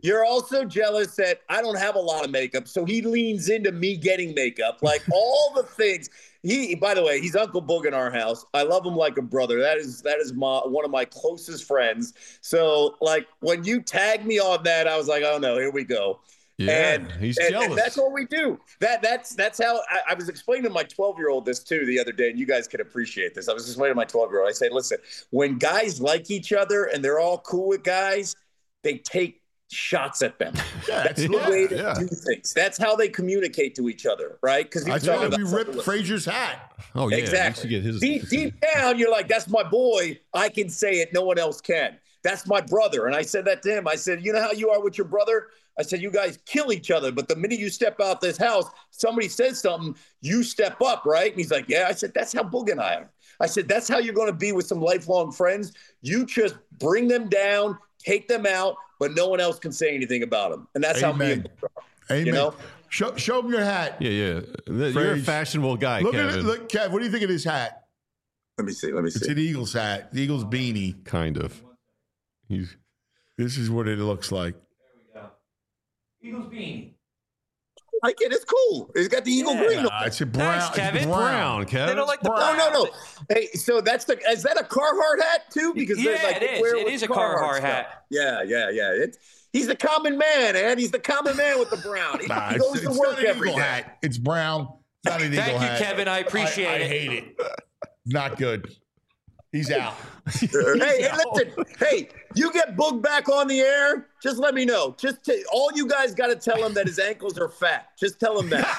You're also jealous that I don't have a lot of makeup, so he leans into me getting makeup, like all the things. By the way, he's Uncle Boog in our house. I love him like a brother. That is one of my closest friends. So, like, when you tagged me on that, I was like, oh no, here we go. Yeah, he's jealous. And that's what we do. That's how I was explaining to my 12-year-old this too the other day, and you guys can appreciate this. I was explaining to my 12-year-old. I said, listen, when guys like each other and they're all cool with guys, they take shots at them. That's the way to do things. That's how they communicate to each other, right? Because I thought we ripped Frazier's hat. Oh yeah, exactly. Get his. Deep down, you're like, that's my boy. I can say it. No one else can. That's my brother. And I said that to him. I said, you know how you are with your brother? I said, you guys kill each other. But the minute you step out this house, somebody says something, you step up, right? And he's like, yeah. I said, that's how Boog and I are. I said, that's how you're going to be with some lifelong friends. You just bring them down, take them out, but no one else can say anything about them. And that's how me and Boog are. Amen. You know? Show him your hat. Yeah. You're a fashionable guy, Kevin. Look, Kev, what do you think of this hat? Let me see. It's an Eagles hat. The Eagles beanie. Kind of. This is what it looks like. There we go. Eagles beanie. I like it. It's cool. It's got the Eagle green. It's a brown. Thanks, Kevin. It's brown, Kevin. They don't like the brown. No. Hey, so is that a Carhartt hat too? Because it is. It is a Carhartt hat. Yeah. He's the common man, and he's the common man with the brown. He goes to work every day. Hat. It's brown. It's not an Eagle hat. Thank you, Kevin. I appreciate it. I hate it. Not good. He's out. Hey, listen. Hey, you get Boog back on the air, just let me know. All you guys got to tell him that his ankles are fat. Just tell him that,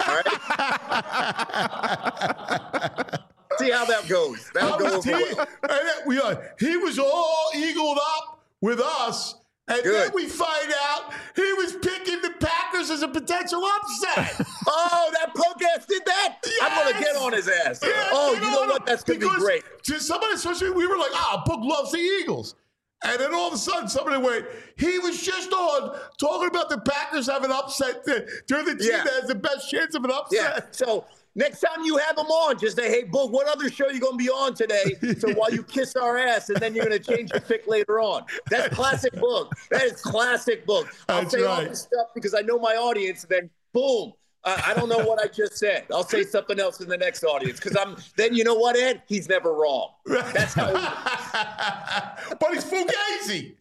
all right? See how that goes. That'll go over well. He was all eagled up with us. And then we find out he was picking the Packers as a potential upset. Oh, that punk ass did that? Yes. I'm going to get on his ass. Yeah, you know what? That's going to be great. To somebody, especially, we were like, Boog loves the Eagles. And then all of a sudden, somebody went, he was just on talking about the Packers having upset. They're the team that has the best chance of an upset. Yeah. So next time you have him on, just say, hey, Boog, what other show are you going to be on today? So while you kiss our ass, and then you're going to change your pick later on. That's classic Boog. That is classic Boog. I'll say all this stuff because I know my audience, and then boom. I don't know what I just said. I'll say something else in the next audience because then you know what, Ed? He's never wrong. That's how But he's fugazi.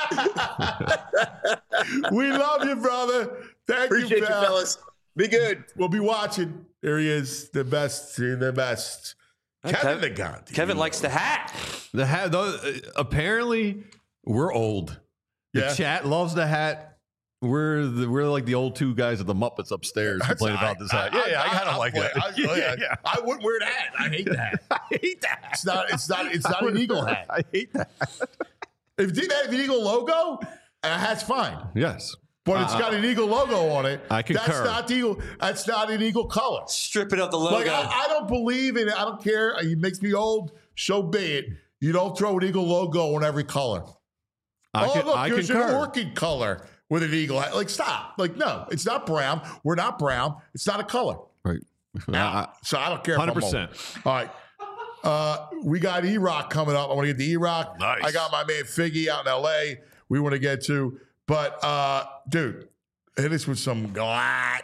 We love you, brother. Appreciate you, fellas. Be good. We'll be watching. There he is, the best. Kevin the God. Kevin likes the hat. The hat. Apparently, we're old. The chat loves the hat. We're like the old two guys at the Muppets upstairs complaining about this hat. I kind of like that. I wouldn't wear that. I hate that. I hate that. It's not an Eagle hat. I hate that. If it didn't have an Eagle logo, a hat's fine. Yes. But it's got an Eagle logo on it. I concur. That's not an Eagle color. Strip it of the logo. Like, I don't believe in it. I don't care. It makes me old. So be it. You don't throw an Eagle logo on every color. There's an orchid color with an Eagle hat. Like, stop. Like, no, it's not brown. We're not brown. It's not a color. Right. So I don't care. 100%. All right. We got E-Rock coming up. I want to get to E-Rock. Nice. I got my man Figgy out in L.A. we want to get to. But, dude, hit us with some Glatt.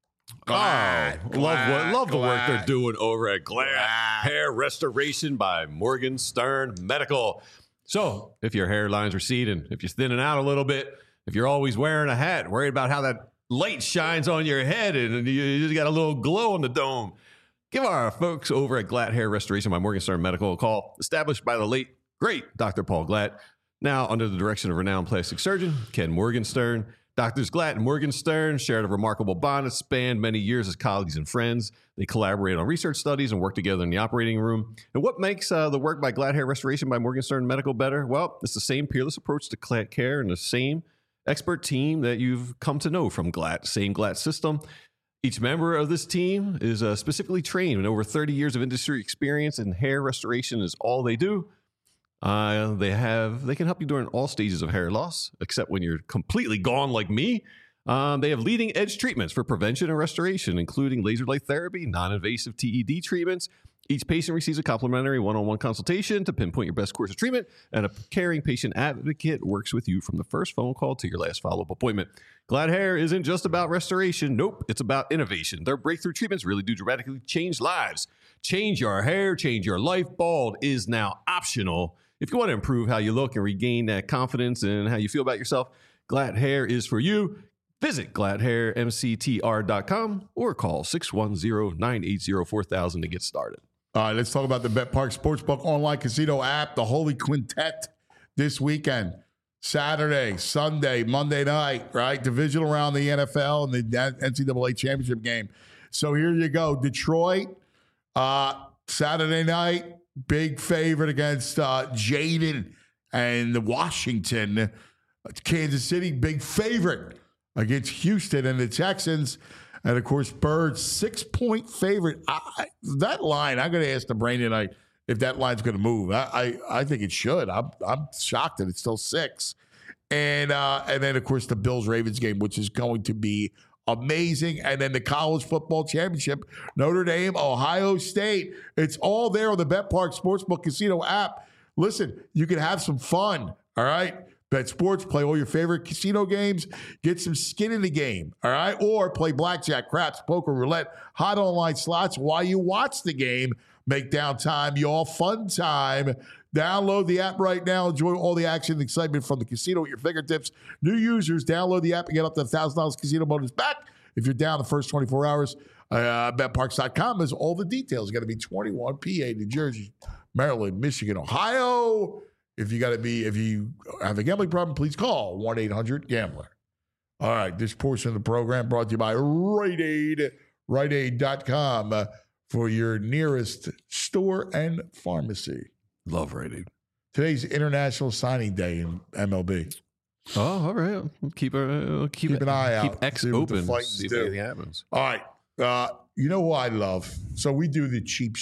Love the work they're doing over at Glatt Hair Restoration by Morgan Stern Medical. So if your hairline's receding, if you're thinning out a little bit, if you're always wearing a hat, worried about how that light shines on your head and you just got a little glow on the dome, give our folks over at Glatt Hair Restoration by Morgan Stern Medical a call. Established by the late, great Dr. Paul Glatt, now under the direction of renowned plastic surgeon Ken Morgenstern. Doctors Glatt and Morgenstern shared a remarkable bond that spanned many years as colleagues and friends. They collaborate on research studies and work together in the operating room. And what makes the work by Glatt Hair Restoration by Morgenstern Medical better? Well, it's the same peerless approach to care and the same expert team that you've come to know from Glatt, same Glatt system. Each member of this team is specifically trained in over 30 years of industry experience, and hair restoration is all they do. They can help you during all stages of hair loss, except when you're completely gone like me. They have leading edge treatments for prevention and restoration, including laser light therapy, non-invasive TED treatments. Each patient receives a complimentary one-on-one consultation to pinpoint your best course of treatment, and a caring patient advocate works with you from the first phone call to your last follow-up appointment. Glad Hair isn't just about restoration. Nope, it's about innovation. Their breakthrough treatments really do dramatically change lives. Change your hair, change your life. Bald is now optional. If you want to improve how you look and regain that confidence and how you feel about yourself, Glad Hair is for you. Visit gladhairmctr.com or call 610-980-4000 to get started. All right, let's talk about the BetParx Sportsbook online casino app, the Holy Quintet this weekend. Saturday, Sunday, Monday night, right? Divisional round the NFL and the NCAA championship game. So here you go. Detroit, Saturday night, big favorite against Jaden and Washington. Kansas City, big favorite against Houston and the Texans. And, of course, Birds, 6-point favorite. That line, I'm going to ask the brain tonight if that line's going to move. I think it should. I'm shocked that it's still 6. And then, of course, the Bills-Ravens game, which is going to be amazing. And then the college football championship, Notre Dame, Ohio State. It's all there on the BetParx Sportsbook Casino app. Listen, you can have some fun, all right? Bet sports, play all your favorite casino games, get some skin in the game, all right? Or play blackjack, craps, poker, roulette, hot online slots while you watch the game. Make downtime your fun time. Download the app right now. Enjoy all the action and excitement from the casino at your fingertips. New users, download the app and get up to $1,000 casino bonus back. If you're down the first 24 hours, betparx.com has all the details. Got to be 21, PA, New Jersey, Maryland, Michigan, Ohio. If you have a gambling problem, please call 1-800-GAMBLER. All right, this portion of the program brought to you by Rite Aid, RiteAid.com for your nearest store and pharmacy. Love Rite Aid. Today's International Signing Day in MLB. Oh, all right. Keep an eye out. Keep X open. See if anything happens. All right. You know what I love? So we do the cheap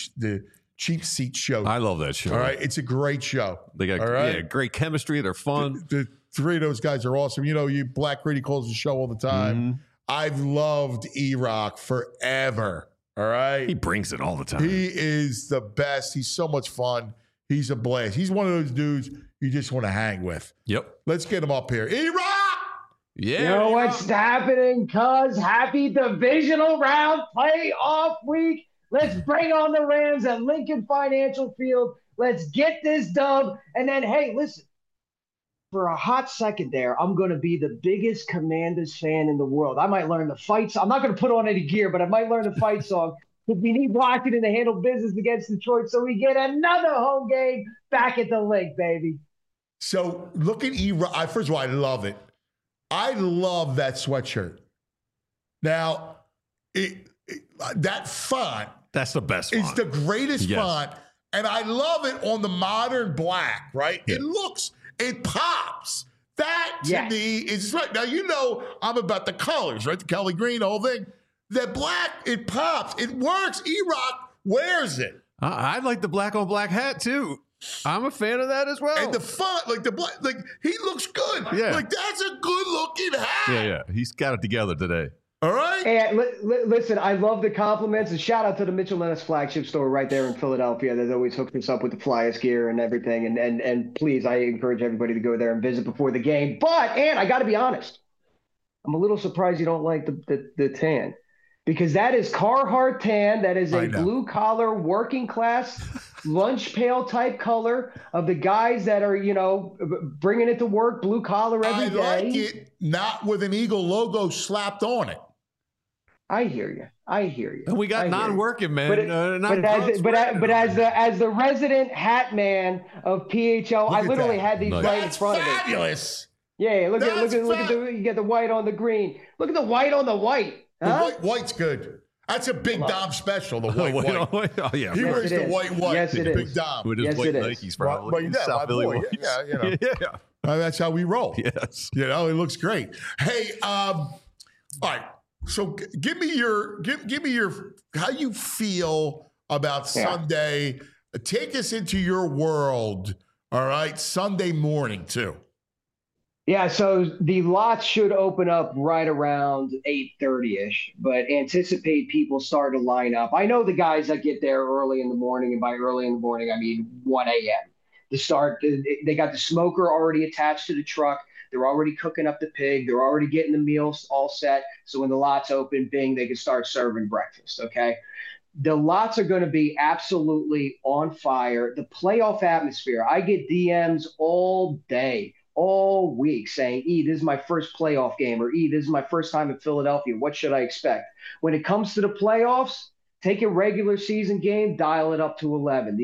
seat show. I love that show. All right. It's a great show. They got great chemistry. They're fun. The three of those guys are awesome. You know, Black Grady calls the show all the time. Mm-hmm. I've loved E-Rock forever. All right. He brings it all the time. He is the best. He's so much fun. He's a blast. He's one of those dudes you just want to hang with. Yep. Let's get him up here. E-Rock! Yeah. You know what's happening, cuz? Happy divisional round playoff week. Let's bring on the Rams at Lincoln Financial Field. Let's get this dub. And then, hey, listen, for a hot second there, I'm going to be the biggest Commanders fan in the world. I might learn the fight song. I'm not going to put on any gear, but I might learn the fight song. If we need Washington to handle business against Detroit, so we get another home game back at the link, baby. So look at E-Rock. First of all, I love it. I love that sweatshirt. Now, that font. That's the best font. It's the greatest font. And I love it on the modern black, right? Yeah. It pops. That, to me, is right. Now, you know I'm about the colors, right? The Kelly green, the whole thing. That black, it pops. It works. E-Rock wears it. I like the black on black hat, too. I'm a fan of that as well. And the font, like the black, like he looks good. Yeah. Like that's a good looking hat. Yeah. He's got it together today. All right. Hey, listen, I love the compliments. And shout out to the Mitchell Lennis flagship store right there in Philadelphia that always hooks us up with the Flyers gear and everything. And please, I encourage everybody to go there and visit before the game. But, and I got to be honest, I'm a little surprised you don't like the tan. Because that is Carhartt tan. That is a blue-collar, working-class, lunch pail type color of the guys that are, bringing it to work, blue-collar every day. I like it not with an Eagle logo slapped on it. I hear you. And we got non-working, man. But as the resident hat man of PHL, I literally had these right in front of me. Fabulous. Yeah, look at you get the white on the green. Look at the white on the white. Huh? The white's good. That's a Big Dom special, the white. Oh, yeah. He wears the white. Yes, it is. Big Dom. With his white Nikes, probably. South Philly ones. Yeah. That's how we roll. Yes. It looks great. Hey, all right. So give me your how you feel about Sunday. Take us into your world. All right. Sunday morning, too. Yeah, so the lots should open up right around 8:30ish, but anticipate people start to line up. I know the guys that get there early in the morning, and by early in the morning, I mean 1 a.m. to start. They got the smoker already attached to the truck. They're already cooking up the pig. They're already getting the meals all set. So when the lots open, bing, they can start serving breakfast, okay? The lots are going to be absolutely on fire. The playoff atmosphere, I get DMs all day, all week saying, this is my first playoff game, or this is my first time in Philadelphia. What should I expect? When it comes to the playoffs, take a regular season game, dial it up to 11.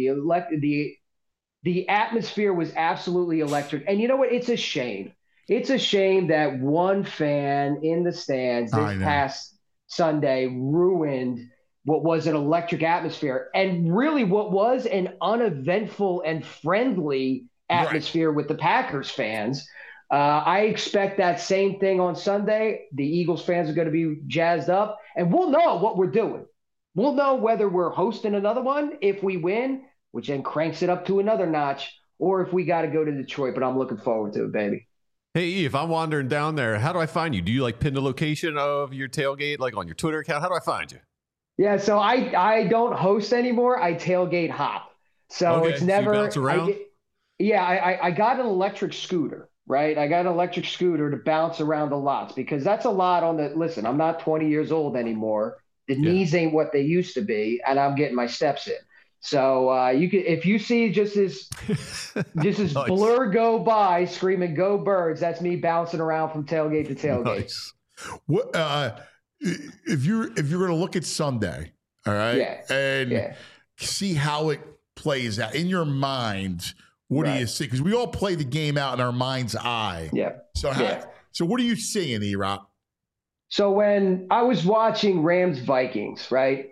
The atmosphere was absolutely electric. And you know what? It's a shame. It's a shame that one fan in the stands this past Sunday ruined what was an electric atmosphere, and really what was an uneventful and friendly atmosphere with the Packers fans. I expect that same thing on Sunday. The Eagles fans are going to be jazzed up, and we'll know what we're doing. We'll know whether we're hosting another one if we win, which then cranks it up to another notch, or if we got to go to Detroit. But I'm looking forward to it, baby. Hey, E, if I'm wandering down there, how do I find you? Do you pin the location of your tailgate on your Twitter account? How do I find you? Yeah, so I don't host anymore. I tailgate hop. So it's never. So you bounce around? I got an electric scooter, right? I got an electric scooter to bounce around the lots, because that's a lot on the. Listen, I'm not 20 years old anymore. The knees ain't what they used to be, and I'm getting my steps in. So you can, if you see just this nice. Blur go by screaming "Go Birds," that's me bouncing around from tailgate to tailgate. Nice. What? If you're going to look at Sunday, all right, and see how it plays out in your mind, what do you see? Because we all play the game out in our mind's eye. Yeah. So what are you seeing, E-Rock? So when I was watching Rams-Vikings, right,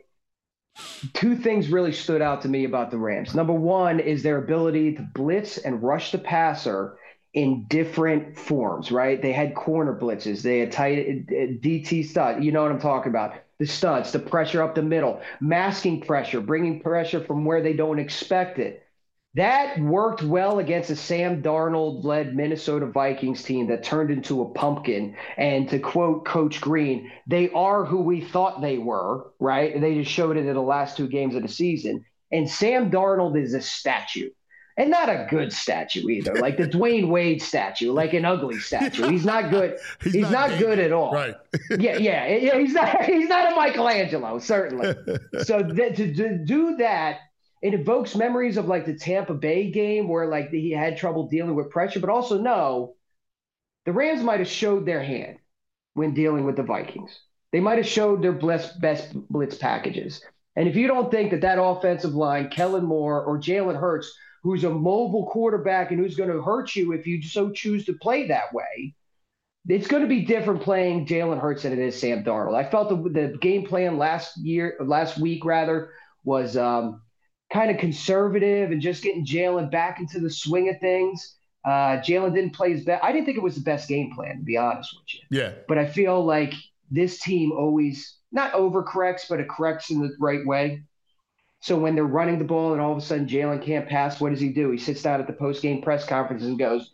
two things really stood out to me about the Rams. Number one is their ability to blitz and rush the passer in different forms, right? They had corner blitzes. They had tight DT stud. You know what I'm talking about. The studs, the pressure up the middle, masking pressure, bringing pressure from where they don't expect it. That worked well against a Sam Darnold-led Minnesota Vikings team that turned into a pumpkin. And to quote Coach Green, they are who we thought they were, right? And they just showed it in the last two games of the season. And Sam Darnold is a statue. And not a good statue either, like the Dwayne Wade statue, like an ugly statue. He's not good. He's not good at all. Right. Yeah. He's not a Michelangelo, certainly. So to do that, it evokes memories of like the Tampa Bay game where like he had trouble dealing with pressure, but also the Rams might have showed their hand when dealing with the Vikings. They might have showed their best blitz packages. And if you don't think that offensive line, Kellen Moore or Jalen Hurts, who's a mobile quarterback and who's going to hurt you if you so choose to play that way, it's going to be different playing Jalen Hurts than it is Sam Darnold. I felt the game plan last week was kind of conservative and just getting Jalen back into the swing of things. Jalen didn't play his best. I didn't think it was the best game plan, to be honest with you. Yeah. But I feel like this team always not overcorrects, but it corrects in the right way. So when they're running the ball and all of a sudden Jalen can't pass, what does he do? He sits down at the post-game press conference and goes,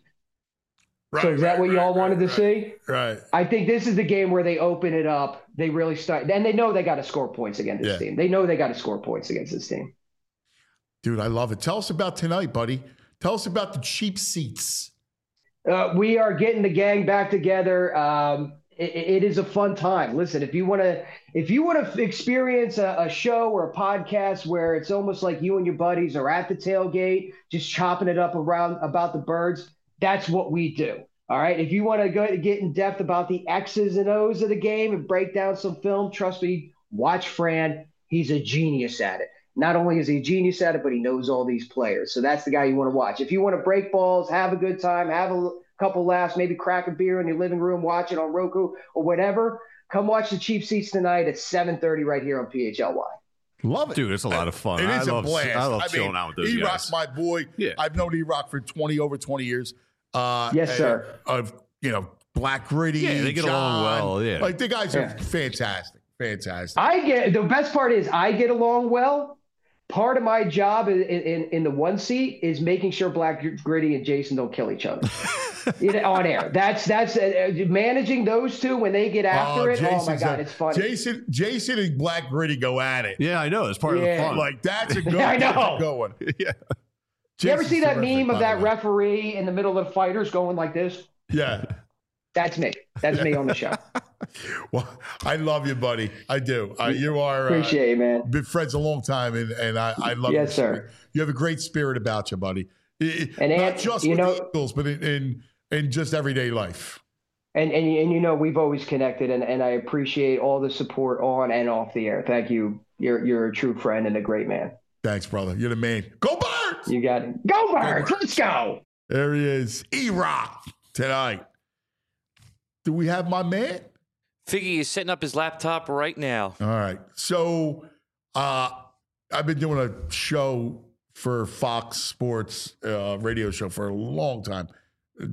so is that what you all wanted to see? Right. I think this is the game where they open it up. They really start. And they know they got to score points against this team. They know they got to score points against this team. Dude, I love it. Tell us about tonight, buddy. Tell us about the cheap seats. We are getting the gang back together. It is a fun time. Listen, if you want to experience a show or a podcast where it's almost like you and your buddies are at the tailgate, just chopping it up around about the birds, that's what we do. All right. If you want to go to get in depth about the X's and O's of the game and break down some film, trust me, watch Fran. He's a genius at it. Not only is he a genius at it, but he knows all these players. So that's the guy you want to watch. If you want to break balls, have a good time, have a couple laughs, maybe crack a beer in your living room, watch it on Roku or whatever, come watch the Cheap Seats tonight at 7:30 right here on PHLY. Love it. Dude, it's a lot of fun. It is a blast. I love chilling out with those guys. E-Rock's my boy. Yeah. I've known E-Rock for over 20 years. Yes, sir. Black Gritty. Yeah, they get along well. Yeah. Like the guys are fantastic. Fantastic. The best part is I get along well. part of my job in the one seat is making sure Black Gritty and Jason don't kill each other on air. That's managing those two when they get after it. Oh my God, it's funny. Jason and Black Gritty go at it. Yeah, I know. It's part of the fun. Like that's a good. I know. That's a good one. Yeah. You ever see that meme of that referee in the middle of the fighters going like this? Yeah. That's me. That's me on the show. Well, I love you, buddy. I do. You are appreciate it, man. Been friends a long time, and I love you. Yes, sir. You have a great spirit about you, buddy. And not just with the Eagles, but in just everyday life. And we've always connected, and I appreciate all the support on and off the air. Thank you. You're a true friend and a great man. Thanks, brother. You're the man. Go Birds! You got it. Go Birds! Let's go. There he is, E-Rock tonight. Do we have my man? Figgy is setting up his laptop right now. All right. So I've been doing a show for Fox Sports radio show for a long time. I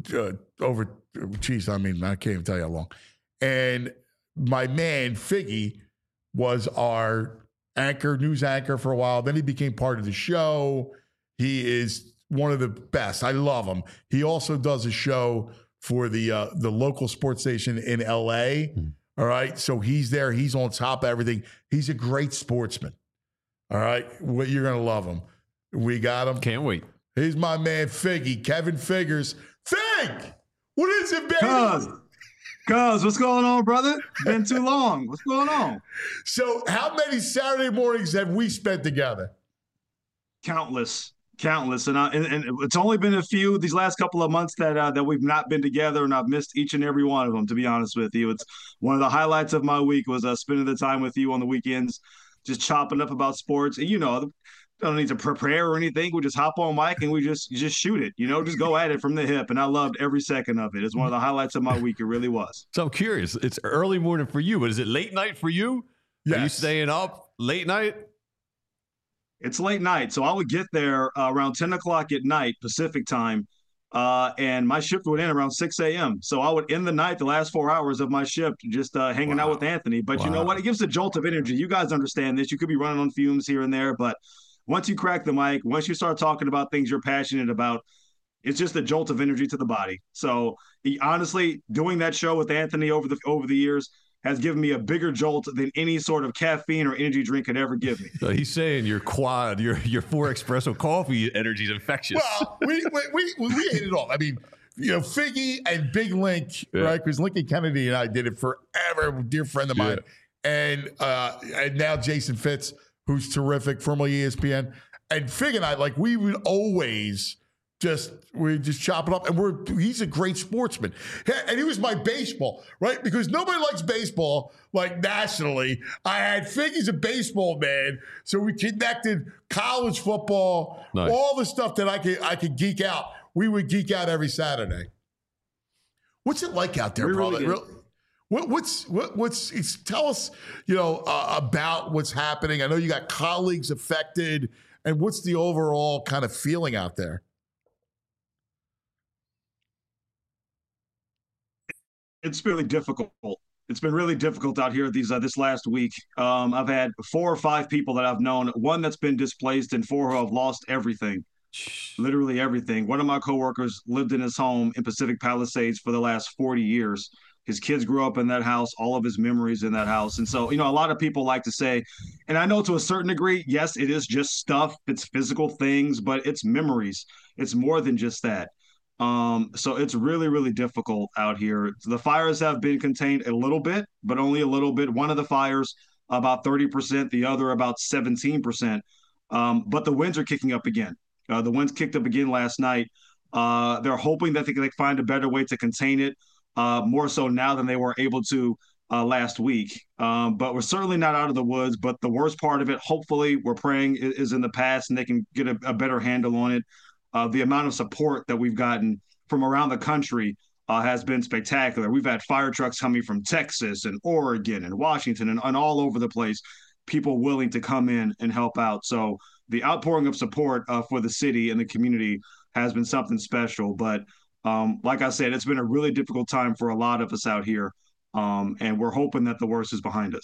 can't even tell you how long. And my man, Figgy, was our news anchor for a while. Then he became part of the show. He is one of the best. I love him. He also does a show for the local sports station in L.A. All right. So he's there. He's on top of everything. He's a great sportsman. All right. Well, you're going to love him. We got him. Can't wait. He's my man, Figgy. Kevin Figures. Fig! What is it, baby? Cuz, what's going on, brother? Been too long. What's going on? So how many Saturday mornings have we spent together? Countless. And it's only been a few these last couple of months that we've not been together, and I've missed each and every one of them, to be honest with you. It's one of the highlights of my week was spending the time with you on the weekends, just chopping up about sports. And, don't need to prepare or anything. We just hop on mic and we just shoot it, just go at it from the hip. And I loved every second of it. It's one of the highlights of my week. It really was. So I'm curious. It's early morning for you, but is it late night for you? Yes. Are you staying up late night? It's late night. So I would get there around 10 o'clock at night, Pacific time. And my shift would end around 6 a.m. So I would end the night, the last 4 hours of my shift, just hanging out with Anthony. But you know what? It gives a jolt of energy. You guys understand this. You could be running on fumes here and there, but once you crack the mic, once you start talking about things you're passionate about, it's just a jolt of energy to the body. So honestly, doing that show with Anthony over the years has given me a bigger jolt than any sort of caffeine or energy drink could ever give me. So he's saying your 4 espresso coffee energy is infectious. Well, we ate it all. I mean, Figgy and Big Link, right? Because Lincoln Kennedy and I did it forever, a dear friend of mine. And now Jason Fitz, who's terrific, formerly ESPN. And Fig and I, we would always just chop it up. And he's a great sportsman. And he was my baseball, right? Because nobody likes baseball, nationally. I had Fig, he's a baseball man. So we connected college football, all the stuff that I could geek out. We would geek out every Saturday. What's it like out there, brother? Really? Tell us, about what's happening. I know you got colleagues affected, and what's the overall kind of feeling out there? It's really difficult. It's been really difficult out here this last week. I've had 4 or 5 people that I've known, one that's been displaced and 4 who have lost everything, literally everything. One of my coworkers lived in his home in Pacific Palisades for the last 40 years. His kids grew up in that house, all of his memories in that house. And so, a lot of people like to say, and I know to a certain degree, yes, it is just stuff. It's physical things, but it's memories. It's more than just that. So it's really, really difficult out here. The fires have been contained a little bit, but only a little bit. One of the fires, about 30%, the other about 17%. But the winds are kicking up again. The winds kicked up again last night. They're hoping that they can find a better way to contain it. More so now than they were able to last week. But we're certainly not out of the woods. But the worst part of it, hopefully, we're praying is in the past and they can get a better handle on it. The amount of support that we've gotten from around the country has been spectacular. We've had fire trucks coming from Texas and Oregon and Washington and all over the place, people willing to come in and help out. So the outpouring of support for the city and the community has been something special. But like I said, it's been a really difficult time for a lot of us out here, and we're hoping that the worst is behind us.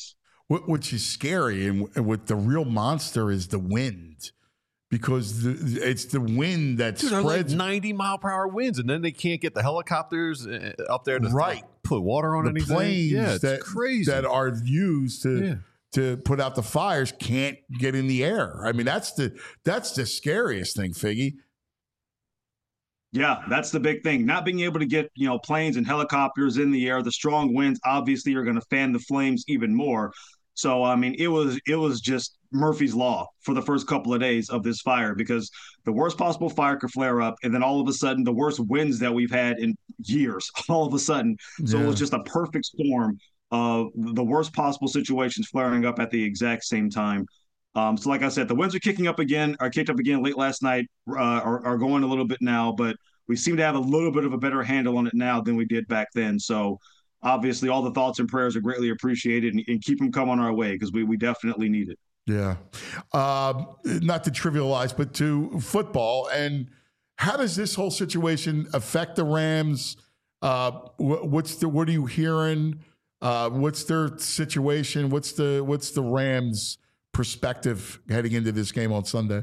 which is scary. And with the real monster is the wind, because it's the wind that spreads. Like 90-mile-per-hour winds, and then they can't get the helicopters up there to put water on anything. Planes crazy that are used to put out the fires can't get in the air. I mean, that's the scariest thing, Figgy. Yeah, that's the big thing. Not being able to get, planes and helicopters in the air. The strong winds obviously are going to fan the flames even more. So, I mean, it was just Murphy's Law for the first couple of days of this fire, because the worst possible fire could flare up, and then all of a sudden the worst winds that we've had in years, all of a sudden. So it was just a perfect storm of the worst possible situations flaring up at the exact same time. So like I said, the winds are kicked up again late last night, are going a little bit now, but we seem to have a little bit of a better handle on it now than we did back then. So obviously all the thoughts and prayers are greatly appreciated, and keep them coming our way, because we definitely need it. Yeah. Not to trivialize, but to football. And how does this whole situation affect the Rams? What are you hearing? What's their situation? What's the Rams' perspective heading into this game on Sunday?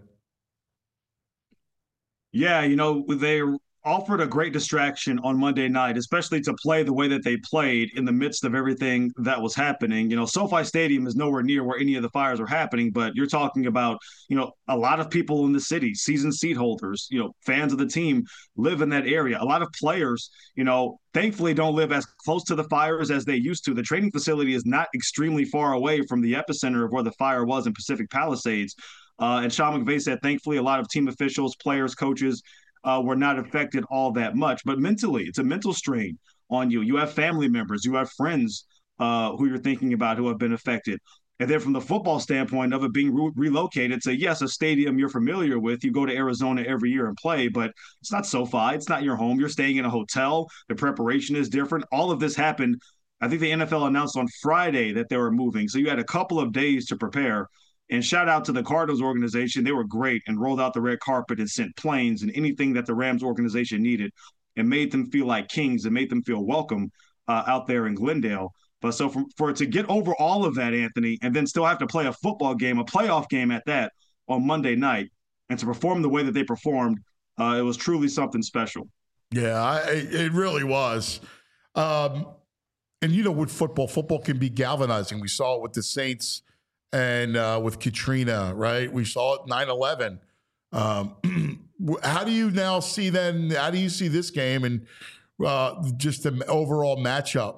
Yeah, they offered a great distraction on Monday night, especially to play the way that they played in the midst of everything that was happening. SoFi Stadium is nowhere near where any of the fires are happening, but you're talking about, a lot of people in the city, season seat holders, fans of the team live in that area. A lot of players, thankfully don't live as close to the fires as they used to. The training facility is not extremely far away from the epicenter of where the fire was in Pacific Palisades. And Sean McVay said, thankfully, a lot of team officials, players, coaches, were not affected all that much. But mentally, it's a mental strain on you. You have family members, you have friends who you're thinking about who have been affected. And then from the football standpoint of it being relocated to, yes, a stadium you're familiar with, you go to Arizona every year and play, but it's not SoFi. It's not your home. You're staying in a hotel. The preparation is different. All of this happened. I think the NFL announced on Friday that they were moving. So you had a couple of days to prepare. And shout out to the Cardinals organization. They were great and rolled out the red carpet and sent planes and anything that the Rams organization needed, and made them feel like kings and made them feel welcome out there in Glendale. But so for it to get over all of that, Anthony, and then still have to play a football game, a playoff game at that, on Monday night, and to perform the way that they performed, it was truly something special. Yeah, it really was. And with football can be galvanizing. We saw it with the Saints and with Katrina, right? We saw it 9/11. How do you now see then? How do you see this game and just the overall matchup?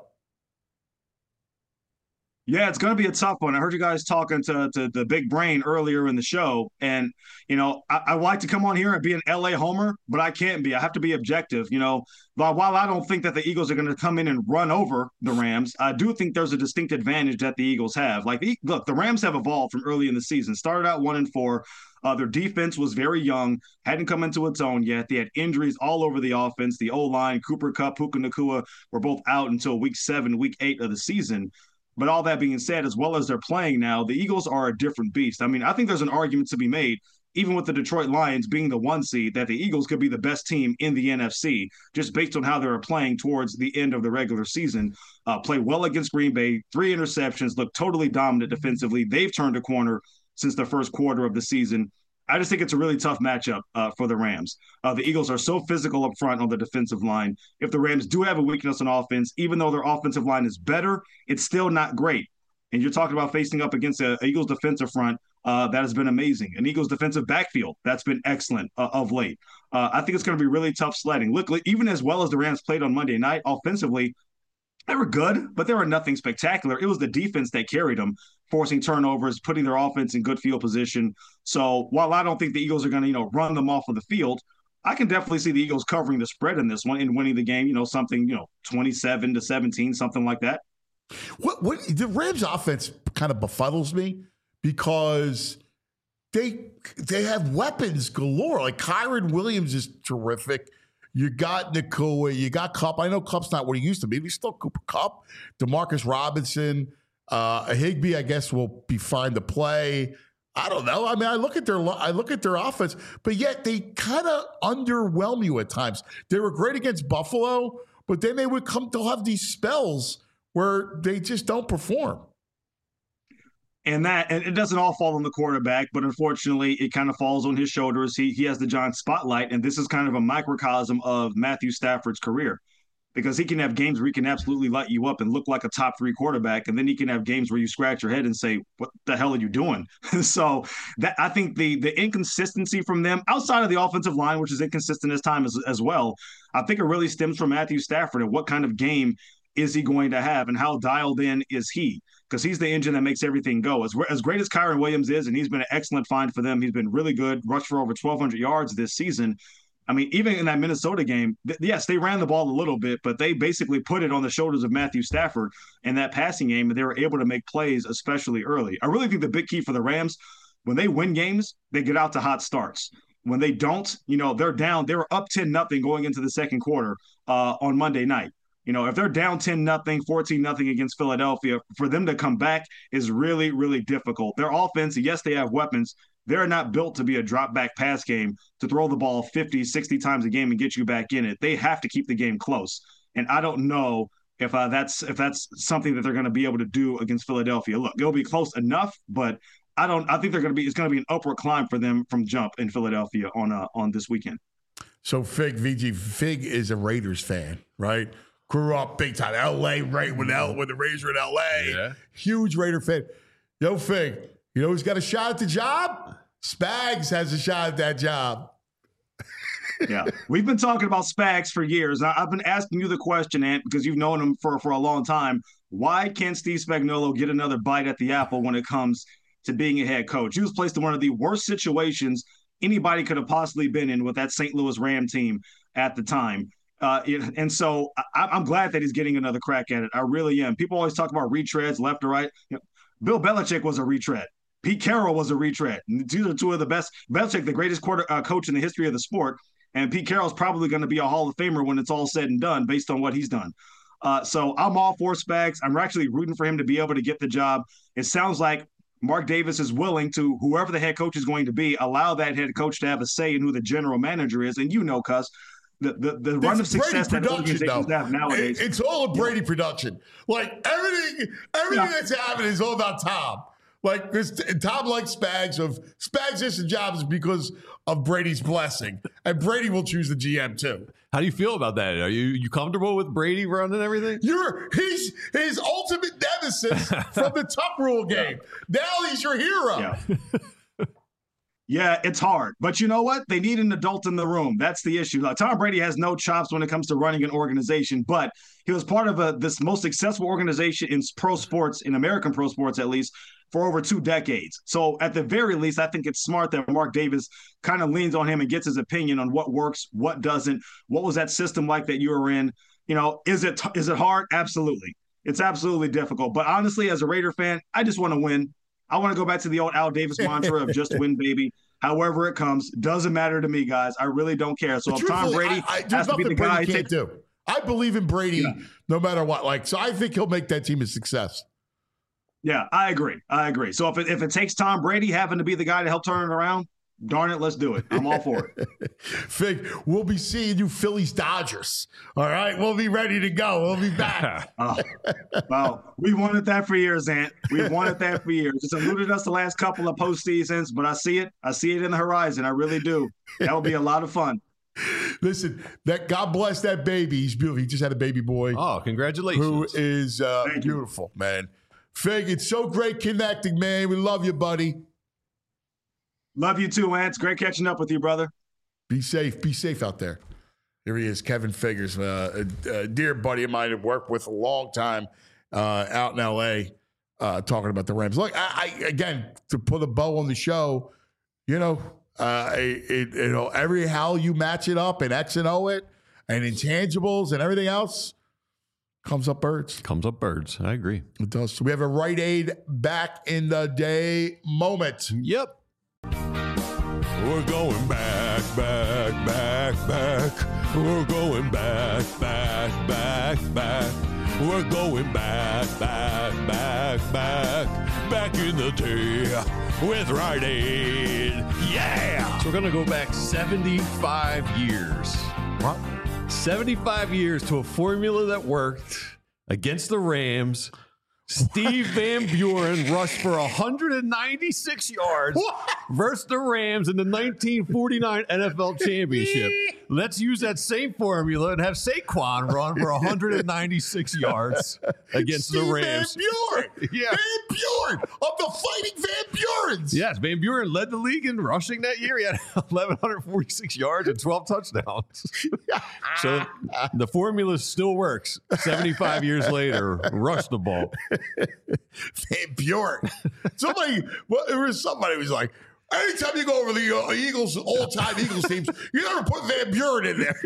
Yeah, it's going to be a tough one. I heard you guys talking to the big brain earlier in the show. And, I like to come on here and be an LA homer, but I can't be. I have to be objective. But while I don't think that the Eagles are going to come in and run over the Rams, I do think there's a distinct advantage that the Eagles have. Look, the Rams have evolved from early in the season, started out 1-4. Their defense was very young, hadn't come into its own yet. They had injuries all over the offense. The O-line, Cooper Kupp, Puka Nacua were both out until week 7, week 8 of the season. But all that being said, as well as they're playing now, the Eagles are a different beast. I mean, I think there's an argument to be made, even with the Detroit Lions being the 1 seed, that the Eagles could be the best team in the NFC, just based on how they were playing towards the end of the regular season. Play well against Green Bay, 3 interceptions, look totally dominant defensively. They've turned a corner since the first quarter of the season. I just think it's a really tough matchup for the Rams. The Eagles are so physical up front on the defensive line. If the Rams do have a weakness on offense, even though their offensive line is better, it's still not great. And you're talking about facing up against an Eagles defensive front that has been amazing. An Eagles defensive backfield that's been excellent of late. I think it's going to be really tough sledding. Look, even as well as the Rams played on Monday night offensively, they were good, but they were nothing spectacular. It was the defense that carried them, forcing turnovers, putting their offense in good field position. So while I don't think the Eagles are going to, run them off of the field, I can definitely see the Eagles covering the spread in this one and winning the game, something, 27-17, something like that. What the Rams offense kind of befuddles me because they have weapons galore. Like Kyren Williams is terrific. You got Nacua, you got Kupp. I know Kupp's not what he used to be, but he's still Cooper Kupp. Demarcus Robinson, Higbee, I guess, will be fine to play. I don't know. I mean, I look at their offense, but yet they kind of underwhelm you at times. They were great against Buffalo, but then they'll have these spells where they just don't perform. And it doesn't all fall on the quarterback, but unfortunately, it kind of falls on his shoulders. He has the giant spotlight, and this is kind of a microcosm of Matthew Stafford's career, because he can have games where he can absolutely light you up and look like a top 3 quarterback, and then he can have games where you scratch your head and say, "What the hell are you doing?" So that I think the inconsistency from them, outside of the offensive line, which is inconsistent as well, I think it really stems from Matthew Stafford and what kind of game is he going to have and how dialed in is he. Because he's the engine that makes everything go. As great as Kyren Williams is, and he's been an excellent find for them, he's been really good, rushed for over 1,200 yards this season. I mean, even in that Minnesota game, yes, they ran the ball a little bit, but they basically put it on the shoulders of Matthew Stafford in that passing game, and they were able to make plays, especially early. I really think the big key for the Rams, when they win games, they get out to hot starts. When they don't, they're down. They were up 10-0 going into the second quarter on Monday night. If they're down 10-0, 14-0 against Philadelphia, for them to come back is really, really difficult. Their offense, yes, they have weapons. They're not built to be a drop-back pass game to throw the ball 50, 60 times a game and get you back in it. They have to keep the game close. And I don't know if that's something that they're going to be able to do against Philadelphia. Look, it'll be close enough, but I think it's going to be an upward climb for them from jump in Philadelphia on this weekend. So Fig is a Raiders fan, right? Grew up big time, L.A. right when the Raiders were in L.A. Yeah. Huge Raider fan. Yo, Fig, who's got a shot at the job? Spags has a shot at that job. Yeah, we've been talking about Spags for years. I've been asking you the question, Ant, because you've known him for a long time. Why can't Steve Spagnuolo get another bite at the apple when it comes to being a head coach? He was placed in one of the worst situations anybody could have possibly been in with that St. Louis Ram team at the time. And so I'm glad that he's getting another crack at it. I really am. People always talk about retreads left or right. Bill Belichick was a retread. Pete Carroll was a retread. These are two of the best. Belichick, the greatest coach in the history of the sport, and Pete Carroll's probably going to be a Hall of Famer when it's all said and done based on what he's done. So I'm all for Spags. I'm actually rooting for him to be able to get the job. It sounds like Mark Davis is willing to, whoever the head coach is going to be, allow that head coach to have a say in who the general manager is. And Cuz, the run of success that organizations have nowadays. It's all a Brady production. Like everything that's happening is all about Tom. Like, because Tom likes Spags. Spags gets the job is because of Brady's blessing, and Brady will choose the GM too. How do you feel about that? Are you comfortable with Brady running everything? He's his ultimate nemesis from the Tuck Rule game. Now he's your hero. Yeah. Yeah, it's hard. But you know what? They need an adult in the room. That's the issue. Like, Tom Brady has no chops when it comes to running an organization, but he was part of this most successful organization in pro sports, in American pro sports at least, for over 2 decades. So at the very least, I think it's smart that Mark Davis kind of leans on him and gets his opinion on what works, what doesn't. What was that system like that you were in? Is it hard? Absolutely. It's absolutely difficult. But honestly, as a Raider fan, I just want to win. I want to go back to the old Al Davis mantra of just win, baby. However it comes, doesn't matter to me, guys. I really don't care. So if Tom Brady has to be the guy, can't do. I believe in Brady no matter what. So I think he'll make that team a success. Yeah, I agree. So if it takes Tom Brady having to be the guy to help turn it around, darn it, let's do it. I'm all for it. Fig, we'll be seeing you Phillies Dodgers. All right, we'll be ready to go. We'll be back. Well, we wanted that for years, Ant. We've wanted that for years. It's eluded us the last couple of postseasons, but I see it. I see it in the horizon. I really do. That will be a lot of fun. Listen, God bless that baby. He's beautiful. He just had a baby boy. Oh, congratulations. Who is beautiful, man. Fig, it's so great connecting, man. We love you, buddy. Love you too, Ant. It's great catching up with you, brother. Be safe. Be safe out there. Here he is, Kevin Figures, a dear buddy of mine I've worked with a long time out in L.A. Talking about the Rams. Look, I again, to put a bow on the show, every how you match it up and X and O it and intangibles and everything else comes up birds. I agree. It does. So we have a Rite Aid back in the day moment. Yep. We're going back. We're going back. We're going back in the day with Rite Aid. Yeah! So we're going to go back 75 years. What? 75 years to a formula that worked against the Rams. Steve Van Buren rushed for 196 yards versus the Rams in the 1949 NFL Championship. Let's use that same formula and have Saquon run for 196 yards against the Rams. Van Buren. Yeah. Van Buren of the Fighting Van Burens. Yes, Van Buren led the league in rushing that year. He had 1,146 yards and 12 touchdowns. So the formula still works. 75 years later, rush the ball. Van Buren. Somebody was like, anytime you go over the Eagles, all-time Eagles teams, you never put Van Buren in there.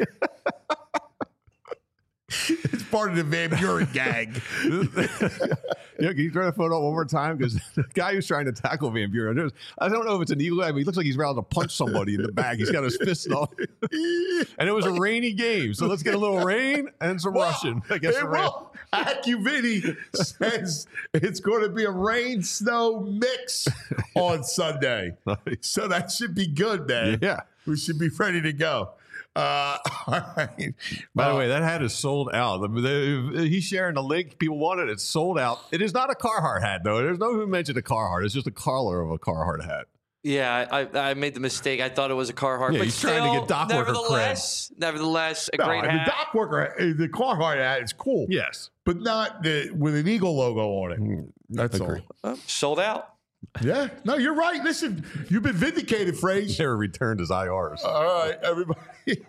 It's part of the Van Buren gag. Can you try to photo up one more time? Because the guy who's trying to tackle Van Buren, I don't know if it's an Eagle guy, but he looks like he's about to punch somebody in the back. He's got his fist on. And it was a rainy game, so let's get a little rain and some rushing. AccuViddy says it's going to be a rain-snow mix on Sunday. Nice. So that should be good, man. Yeah. We should be ready to go. All right. By the way, that hat is sold out. He's sharing the link. People want it. It's sold out. It is not a Carhartt hat, though. There's no who mentioned a Carhartt. It's just a collar of a Carhartt hat. Yeah, I made the mistake. I thought it was a Carhartt. Yeah, but he's still, trying to get dock worker nevertheless, a great hat. The dock worker, the Carhartt hat is cool. Yes. But not with an Eagle logo on it. That's all. Sold out. Yeah. No, you're right. Listen, you've been vindicated, Phrase. They were returned as IRs. All right, everybody.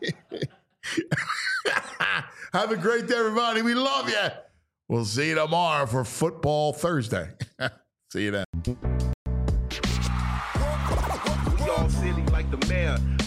Have a great day, everybody. We love you. We'll see you tomorrow for Football Thursday. See you then. We all silly like the mayor.